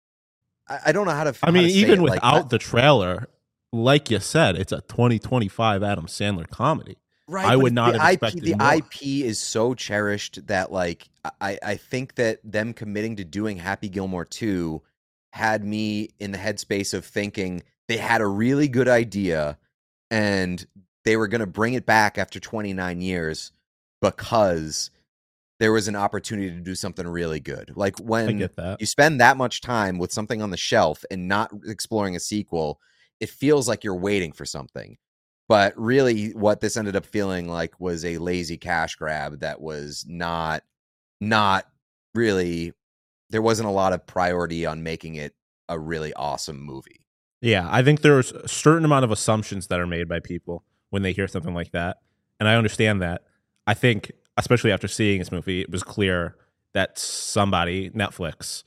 I, I don't know how to. I how mean, to say even it. without Like, I- the trailer, like you said, it's a twenty twenty-five Adam Sandler comedy. Right, I but would not the have I P, expected the more. I P is so cherished that like I, I think that them committing to doing Happy Gilmore two had me in the headspace of thinking they had a really good idea and they were going to bring it back after twenty-nine years because there was an opportunity to do something really good. Like I when get that. you spend that much time with something on the shelf and not exploring a sequel, it feels like you're waiting for something. But really, what this ended up feeling like was a lazy cash grab that was not, not really. There wasn't a lot of priority on making it a really awesome movie. Yeah, I think there's a certain amount of assumptions that are made by people when they hear something like that. And I understand that. I think, especially after seeing this movie, it was clear that somebody, Netflix,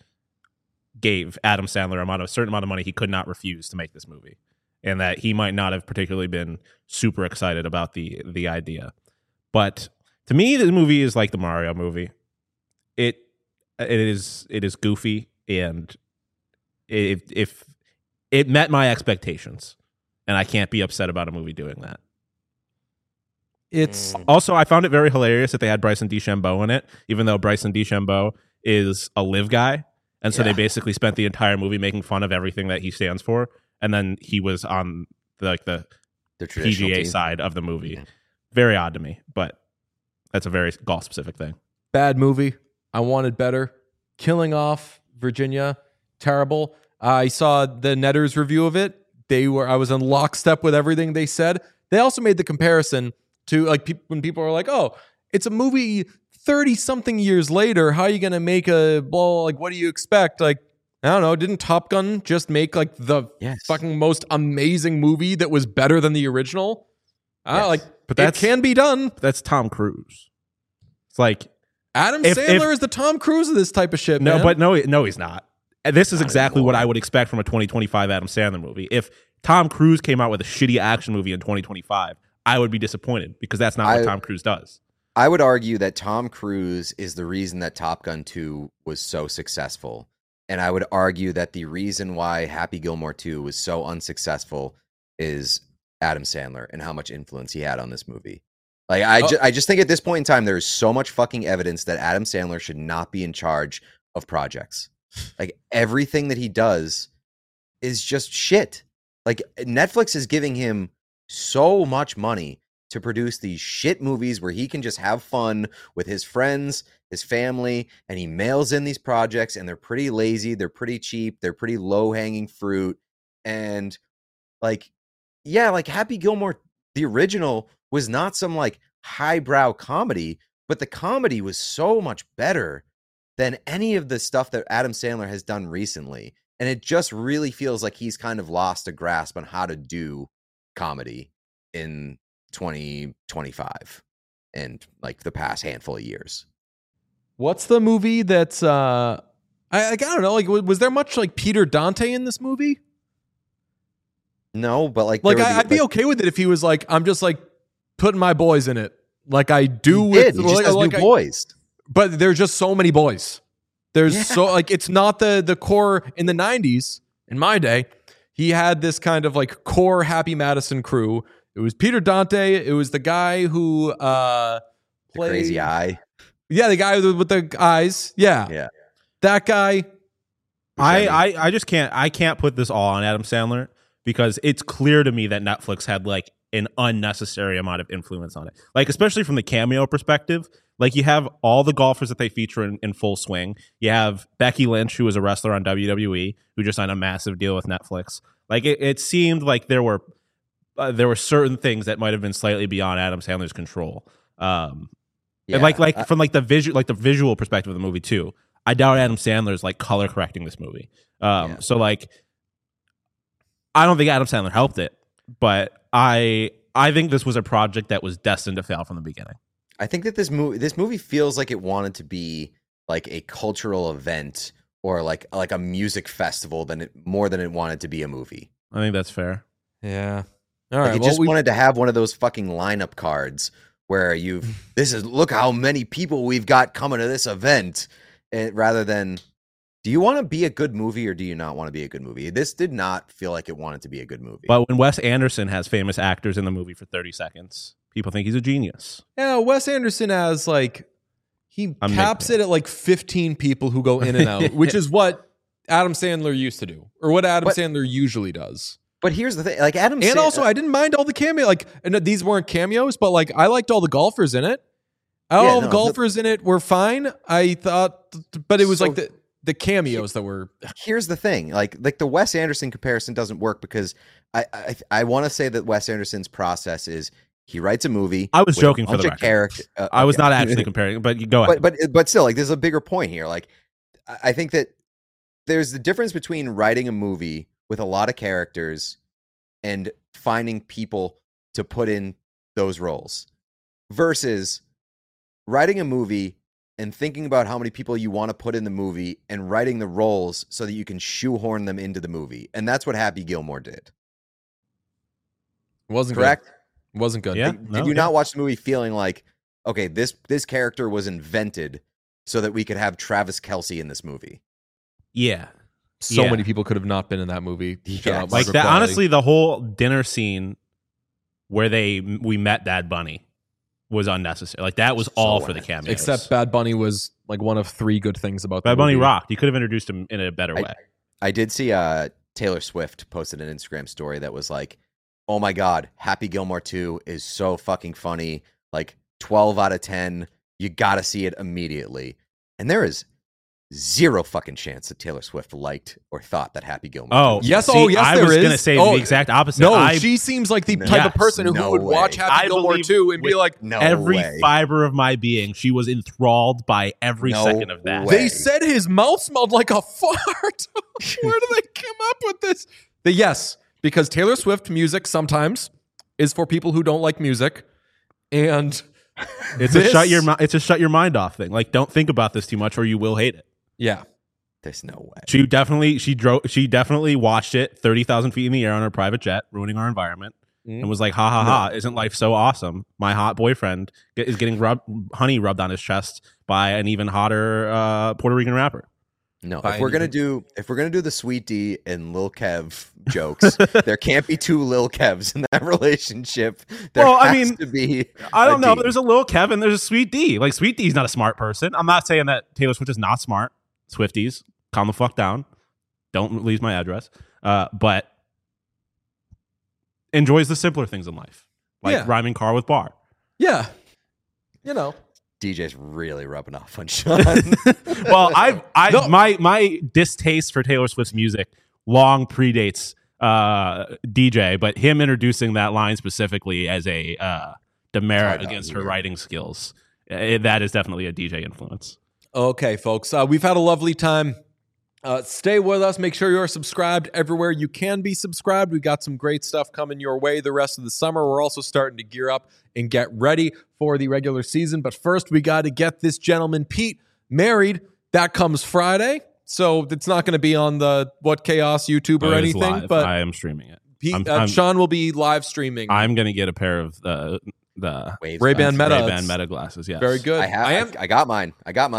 gave Adam Sandler amount of, a certain amount of money he could not refuse to make this movie. And that he might not have particularly been super excited about the the idea. But to me, the movie is like the Mario movie. It it is it is goofy, and if if it met my expectations, and I can't be upset about a movie doing that. it's Mm. Also, I found it very hilarious that they had Bryson DeChambeau in it, even though Bryson DeChambeau is a live guy, and so Yeah. they basically spent the entire movie making fun of everything that he stands for, and then he was on the, like the The traditional P G A team. side of the movie. Yeah. Very odd to me, but that's a very golf specific thing. bad movie. I wanted better. Killing Off Virginia, terrible. I saw the Netters review of it. They were I was in lockstep with everything they said. They also made the comparison to like peop when people are like, "Oh, it's a movie thirty something years later. How are you going to make a ball? Like, what do you expect?" Like, I don't know. Didn't Top Gun just make like the Yes. fucking most amazing movie that was better than the original? I Yes. like, But it that's- can be done. That's Tom Cruise. It's like Adam If- Sandler if- is the Tom Cruise of this type of shit, no, man. but no, no, he's not. And this is Not exactly what anymore. I would expect from a twenty twenty-five Adam Sandler movie. If Tom Cruise came out with a shitty action movie in twenty twenty-five, I would be disappointed because that's not I- what Tom Cruise does. I would argue that Tom Cruise is the reason that Top Gun two was so successful. And I would argue that the reason why Happy Gilmore two was so unsuccessful is Adam Sandler and how much influence he had on this movie. Like I, Oh. ju- I just think at this point in time, there is so much fucking evidence that Adam Sandler should not be in charge of projects. Like everything that he does is just shit. Like Netflix is giving him so much money to produce these shit movies where he can just have fun with his friends, his family, and he mails in these projects and they're pretty lazy, they're pretty cheap, they're pretty low-hanging fruit. And like, yeah, like Happy Gilmore, the original, was not some like highbrow comedy, but the comedy was so much better than any of the stuff that Adam Sandler has done recently. And it just really feels like he's kind of lost a grasp on how to do comedy in twenty twenty-five and like the past handful of years. What's the movie that's uh I, I don't know, like was, was there much like Peter Dante in this movie? No, but like, Like there were I, the- I'd be like, okay with it if he was like, I'm just like putting my boys in it. Like I do he with did. He just like, has like new I- boys. but there's just so many boys. There's Yeah. so like it's not the the core in the nineties. In my day, he had this kind of like core Happy Madison crew. It was Peter Dante. It was the guy who uh, The played crazy eye. Yeah, the guy with, with the eyes. Yeah, Yeah. that guy. I, I I just can't I can't put this all on Adam Sandler because it's clear to me that Netflix had like an unnecessary amount of influence on it. Like especially from the cameo perspective, like you have all the golfers that they feature in, in full swing. You have Becky Lynch, who was a wrestler on W W E, who just signed a massive deal with Netflix. Like it, it seemed like there were uh, there were certain things that might have been slightly beyond Adam Sandler's control. Um, Yeah. and like like I- from like the visual like the visual perspective of the movie too. I doubt Adam Sandler's like color correcting this movie. Um, Yeah. So like, I don't think Adam Sandler helped it, but I I think this was a project that was destined to fail from the beginning. I think that this movie this movie feels like it wanted to be like a cultural event or like like a music festival than it more than it wanted to be a movie. I think that's fair. Yeah. All Like right. it Well, just we, wanted to have one of those fucking lineup cards where you've this is look how many people we've got coming to this event, and rather than do you want to be a good movie or do you not want to be a good movie? This did not feel like it wanted to be a good movie. But when Wes Anderson has famous actors in the movie for thirty seconds, people think he's a genius. yeah, Wes Anderson has like he I'm caps making it at like fifteen people who go in and out, which is what Adam Sandler used to do, or what Adam But- Sandler usually does. But here's the thing, like Adam, And Sa- also, I didn't mind all the cameo. Like, and these weren't cameos, but like, I liked all the golfers in it. All Yeah, the no, golfers in it were fine. I thought, but it was So- like the the cameos that were. here's the thing, like like the Wes Anderson comparison doesn't work because I I, I want to say that Wes Anderson's process is he writes a movie. I was with a joking for bunch the of record. character- uh, I was okay. not actually comparing, but you go ahead. but but but still, like there's a bigger point here. Like I I think that there's the difference between writing a movie with a lot of characters and finding people to put in those roles versus writing a movie and thinking about how many people you want to put in the movie and writing the roles so that you can shoehorn them into the movie. And that's what Happy Gilmore did. Wasn't Correct? Good. Wasn't good. Yeah. Did, no, did you yeah. not watch the movie feeling like, okay, this this character was invented so that we could have Travis Kelce in this movie? yeah. So Yeah. many people could have not been in that movie. Shout Yeah, out Like Margaret that, Qualley. honestly, the whole dinner scene where they we met Bad Bunny was unnecessary. Like that was So all for the unnecessary. cameos. Except Bad Bunny was like one of three good things about the Bad Bunny movie. rocked. You could have introduced him in a better I- way. I did see uh, Taylor Swift posted an Instagram story that was like, oh my God, Happy Gilmore two is so fucking funny. Like twelve out of ten. You got to see it immediately. And there is zero fucking chance that Taylor Swift liked or thought that Happy Gilmore Oh, two was Yes, see, oh, yes, I there was is. gonna say Oh, the exact opposite. No, I, she seems like the No. type of Yes, person who no would way. watch Happy I Gilmore believe two and be with like, no every way. fiber of my being, she was enthralled by every No second of that. way. they said his mouth smelled like a fart. Where do they come up with this? The yes, because Taylor Swift music sometimes is for people who don't like music, and It's a this- shut your mi- it's a shut your mind off thing. Like, don't think about this too much, or you will hate it. yeah, There's no way. She definitely she drove she definitely watched it thirty thousand feet in the air on her private jet, ruining our environment, Mm. and was like, "Ha ha ha! Isn't life so awesome? My hot boyfriend get, is getting rub, honey rubbed on his chest by an even hotter uh, Puerto Rican rapper." No, By if we're gonna anything. do if we're gonna do the Sweet D and Lil Kev jokes, there can't be two Lil Kevs in that relationship. There Well, I has mean, to be. I don't a know. D. There's a little Kevin. There's a Sweet D. Like Sweet D's not a smart person. I'm not saying that Taylor Swift is not smart. Swifties, calm the fuck down. Don't lose my address. Uh, but enjoys the simpler things in life, like Yeah. rhyming car with bar. yeah, you know, D J's really rubbing off on Sean. Well, I, I, No. my, my distaste for Taylor Swift's music long predates uh, D J, but him introducing that line specifically as a uh, demerit Oh, no, against her weird. writing skills, eh, that is definitely a D J influence. Okay, folks, uh, we've had a lovely time. Uh, stay with us. Make sure you're subscribed everywhere you can be subscribed. We got some great stuff coming your way the rest of the summer. We're also starting to gear up and get ready for the regular season. But first, we got to get this gentleman, Pete, married. That comes Friday. So it's not going to be on the What Chaos YouTube or It is anything. live. But I am streaming it. Pete, I'm- uh, I'm- Sean will be live streaming. I'm gonna get a pair of the the Waves Ray-Ban glasses. Meta. Ray-Ban Meta glasses. Yes, Very good. I have. I I, am. I got mine. I got mine.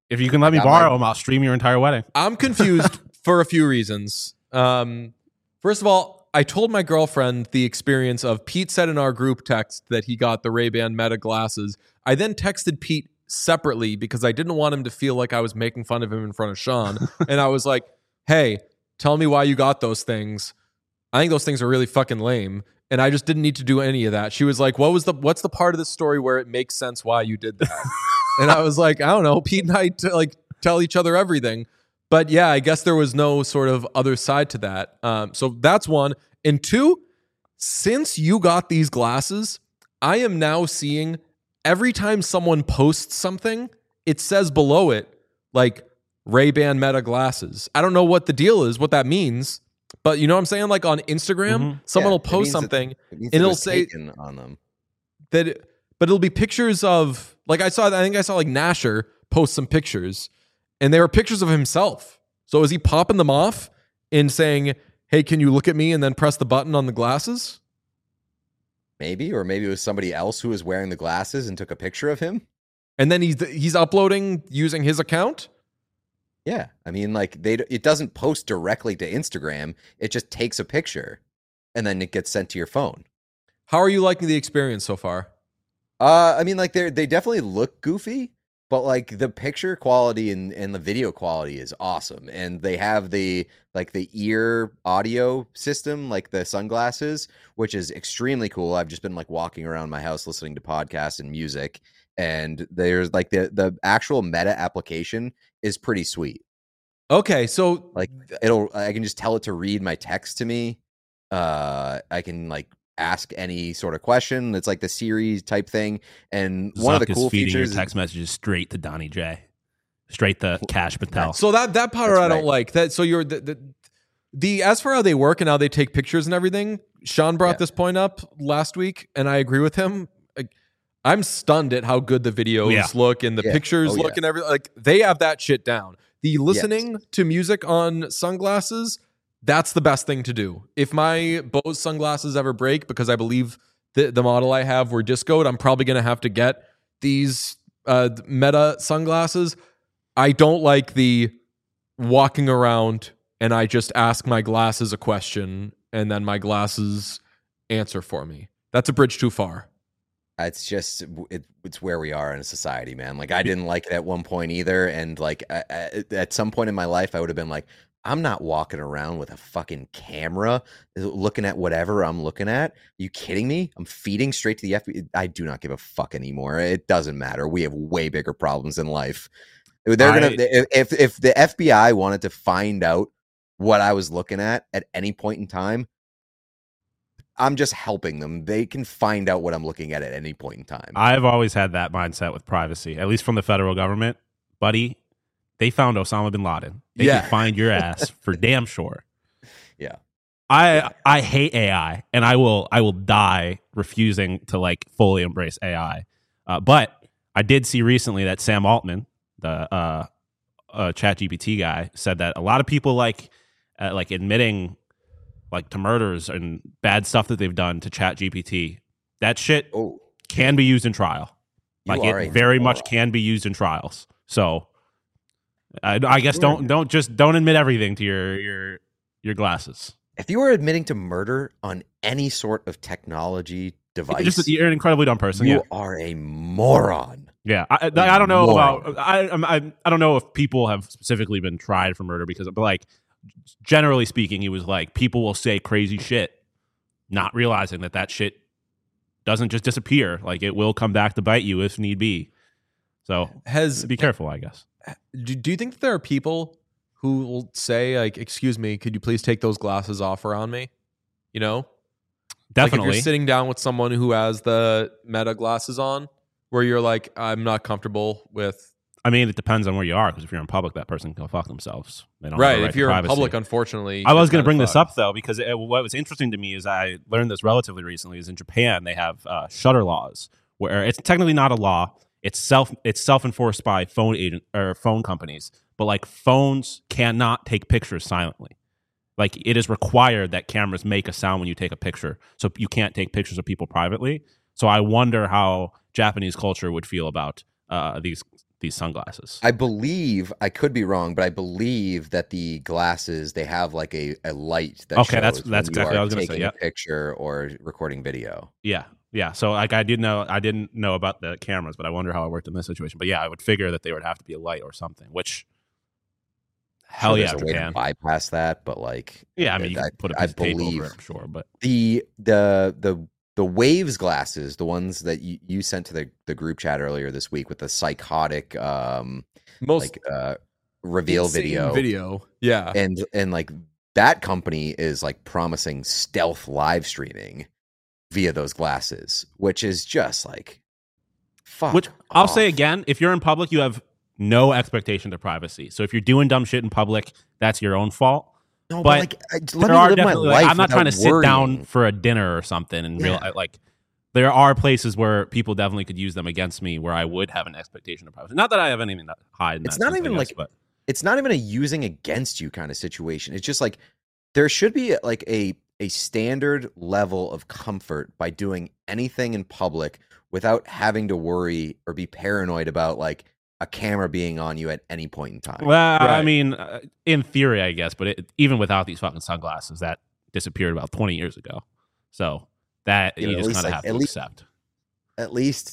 If you can let me got borrow my- them, I'll stream your entire wedding. I'm confused for a few reasons. Um, first of all, I told my girlfriend the experience of Pete said in our group text that he got the Ray-Ban Meta glasses. I then texted Pete separately because I didn't want him to feel like I was making fun of him in front of Sean. And I was like, hey, tell me why you got those things. I think those things are really fucking lame. And I just didn't need to do any of that. She was like, what was the, what's the part of the story where it makes sense why you did that? And I was like, I don't know. Pete and I t- like tell each other everything. But yeah, I guess there was no sort of other side to that. Um, so that's one. And two, since you got these glasses, I am now seeing every time someone posts something, it says below it, like Ray-Ban Meta glasses. I don't know what the deal is, what that means. But you know what I'm saying? Like on Instagram, Mm-hmm. someone Yeah, will it post means that- something It means and it it'll was say taken on them. that, it, but it'll be pictures of, like I saw, I think I saw like Nasher post some pictures and they were pictures of himself. So is he popping them off and saying, hey, can you look at me and then press the button on the glasses? Maybe, or maybe it was somebody else who was wearing the glasses and took a picture of him. And then he's he's uploading using his account? Yeah, I mean, like they it doesn't post directly to Instagram. It just takes a picture, and then it gets sent to your phone. How are you liking the experience so far? Uh, I mean, like they they definitely look goofy, but like the picture quality and, and the video quality is awesome, and they have the like the ear audio system, like the sunglasses, which is extremely cool. I've just been like walking around my house listening to podcasts and music, and there's like the the actual Meta application is pretty sweet. Okay, so Like it'll I can just tell it to read my text to me. Uh, I can like ask any sort of question. It's like the Siri type thing. And one of the Zuck is cool feeding features your text messages straight to Donnie J, straight to Cash Patel. So that that part That's I don't right. like. That so you're the, the the as for how they work and how they take pictures and everything. Sean brought Yeah. this point up last week, and I agree with him. Like, I'm stunned at how good the videos Yeah. look and the Yeah. pictures Oh, look yeah. and everything. Like they have that shit down. The listening to music on sunglasses, that's the best thing to do. If my Bose sunglasses ever break, because I believe the the model I have were discoed, I'm probably gonna have to get these uh, Meta sunglasses. I don't like the walking around and I just ask my glasses a question and then my glasses answer for me. That's a bridge too far. It's just it, it's where we are in a society, man. Like I didn't like it at one point either, and like I, I, at some point in my life, I would have been like, I'm not walking around with a fucking camera looking at whatever I'm looking at. Are you kidding me? I'm feeding straight to the F B I. I do not give a fuck anymore. It doesn't matter. We have way bigger problems in life. They're gonna I- if if the F B I wanted to find out what I was looking at at any point in time, I'm just helping them. They can find out what I'm looking at at any point in time. I've always had that mindset with privacy, at least from the federal government. Buddy, they found Osama bin Laden. They Yeah. can find your ass for damn sure. Yeah. I I hate A I, and I will I will die refusing to like fully embrace A I. Uh, but I did see recently that Sam Altman, the uh, uh, ChatGPT guy, said that a lot of people like uh, like admitting like to murders and bad stuff that they've done to ChatGPT. That shit Oh, can be used in trial. You Like are it a very much moron. can be used in trials. So I, I guess don't don't just don't admit everything to your your your glasses. if you are admitting to murder on any sort of technology device, Just you're an incredibly dumb person. you Yeah, are a moron. yeah. I, I, I don't know Moron. about I, I'm- I I don't know if people have specifically been tried for murder because, but like generally speaking, he was like people will say crazy shit, not realizing that that shit doesn't just disappear. Like it will come back to bite you if need be. So Has be careful, I guess. do, do you think that there are people who will say like, excuse me, could you please take those glasses off around me? You know? Like if Definitely. you're sitting down with someone who has the Meta glasses on, where you're like, I'm not comfortable with. I mean, it depends on where you are because if you're in public, that person can go fuck themselves. They don't have Right. a right If to you're in privacy. public, unfortunately. I was going to bring this up though because it, what was interesting to me is I learned this relatively recently. Is in Japan they have uh, shutter laws where it's technically not a law. It's self it's self enforced by phone agent or phone companies, but like phones cannot take pictures silently. Like it is required that cameras make a sound when you take a picture, so you can't take pictures of people privately. So I wonder how Japanese culture would feel about uh, these these sunglasses. I believe, I could be wrong, but I believe that the glasses, they have like a, a light that Okay, shows that's- when that's you exactly are what I was gonna say, taking yep. a picture or recording video. Yeah, yeah. So like I did know, I didn't know about the cameras, but I wonder how it worked in this situation. But yeah, I would figure that they would have to be a light or something. Which, hell Sure, yeah, there's a way to Japan. bypass that, but like, Yeah, I mean, you I, can put a I piece of tape believe over it, I'm sure. But the the the the Waves glasses, the ones that you, you sent to the, the group chat earlier this week with the psychotic um Most like uh reveal insane video video. Yeah. and and like that company is like promising stealth live streaming via those glasses, which is just like fuck which I'll say off. again, if you're in public, you have no expectation to privacy. So if you're doing dumb shit in public, that's your own fault. No, but but, like I, let there me are live my definitely. life Like, I'm not trying to without sit down worrying. for a dinner or something and real Yeah. like. There are places where people definitely could use them against me, where I would have an expectation of privacy. Not that I have anything to hide. In It's that not sense, I even guess, like- but It's not even a using against you kind of situation. It's just like there should be like a a standard level of comfort by doing anything in public without having to worry or be paranoid about like a camera being on you at any point in time. well, I Right. mean, uh, in theory, I guess, but it, even without these fucking sunglasses, that disappeared about twenty years ago. So that You you, know, at just least, kind of like, have at to least- accept. At least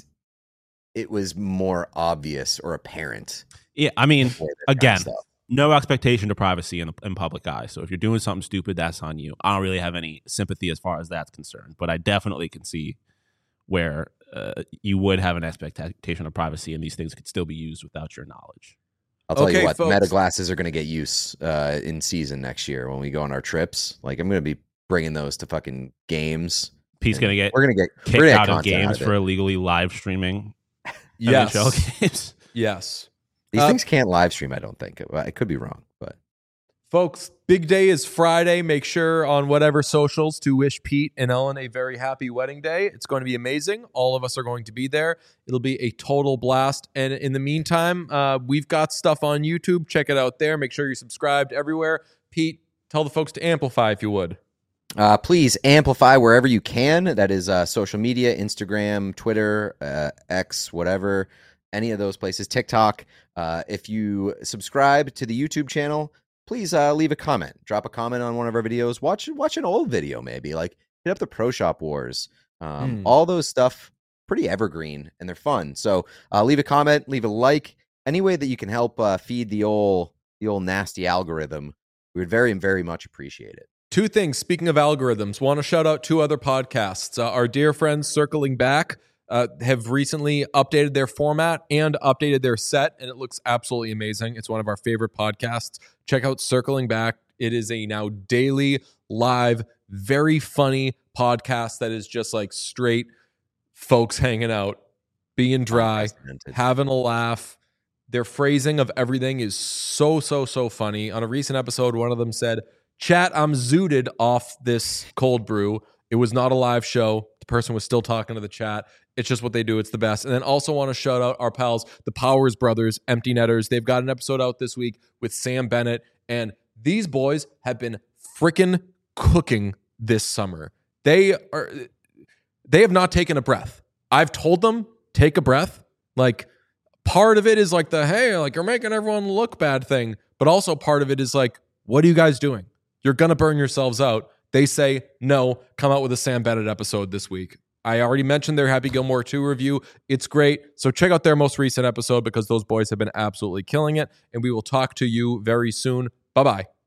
it was more obvious or apparent. Yeah, I mean, before this kind of again, stuff. no expectation to privacy in, in public eye. So if you're doing something stupid, that's on you. I don't really have any sympathy as far as that's concerned, but I definitely can see where uh, you would have an expectation of privacy, and these things could still be used without your knowledge. I'll tell Okay, you what, folks. Meta glasses are going to get use uh, in season next year when we go on our trips. Like I'm going to be bringing those to fucking games. Pete's and gonna get we're going to get kicked we're gonna get out of content games of for it. illegally live streaming Yes. N H L games. Yes. These Uh, things can't live stream. I don't think. I could be wrong, but Folks, big day is Friday. Make sure on whatever socials to wish Pete and Ellen a very happy wedding day. It's going to be amazing. All of us are going to be there. It'll be a total blast. And in the meantime, uh, we've got stuff on YouTube. Check it out there. Make sure you're subscribed everywhere. Pete, tell the folks to amplify if you would. Uh, please amplify wherever you can. That is uh, social media, Instagram, Twitter, uh, X, whatever, any of those places, TikTok. Uh, if you subscribe to the YouTube channel, please uh, leave a comment. Drop a comment on one of our videos. Watch watch an old video maybe. Like hit up the Pro Shop Wars. Um, Hmm. All those stuff, pretty evergreen, and they're fun. So uh, leave a comment, leave a like. Any way that you can help uh, feed the old the old nasty algorithm, we would very, very much appreciate it. Two things. Speaking of algorithms, want to shout out two other podcasts. Uh, our dear friends Circling Back uh, have recently updated their format and updated their set, and it looks absolutely amazing. It's one of our favorite podcasts. Check out Circling Back. It is a now daily, live, very funny podcast that is just like straight folks hanging out, being dry, Unprecedented. having a laugh. Their phrasing of everything is so, so, so funny. On a recent episode, one of them said, "Chat, I'm zooted off this cold brew. It was not a live show. The person was still talking to the chat. It's just what they do. It's the best." And then also want to shout out our pals, the Powers Brothers, Empty Netters. They've got an episode out this week with Sam Bennett. And these boys have been freaking cooking this summer. They are, they have not taken a breath. I've told them, take a breath. Like, part of it is like the, hey, like you're making everyone look bad thing. But also part of it is like, what are you guys doing? You're going to burn yourselves out. They say, no, come out with a Sam Bennett episode this week. I already mentioned their Happy Gilmore two review. It's great. So check out their most recent episode because those boys have been absolutely killing it. And we will talk to you very soon. Bye-bye.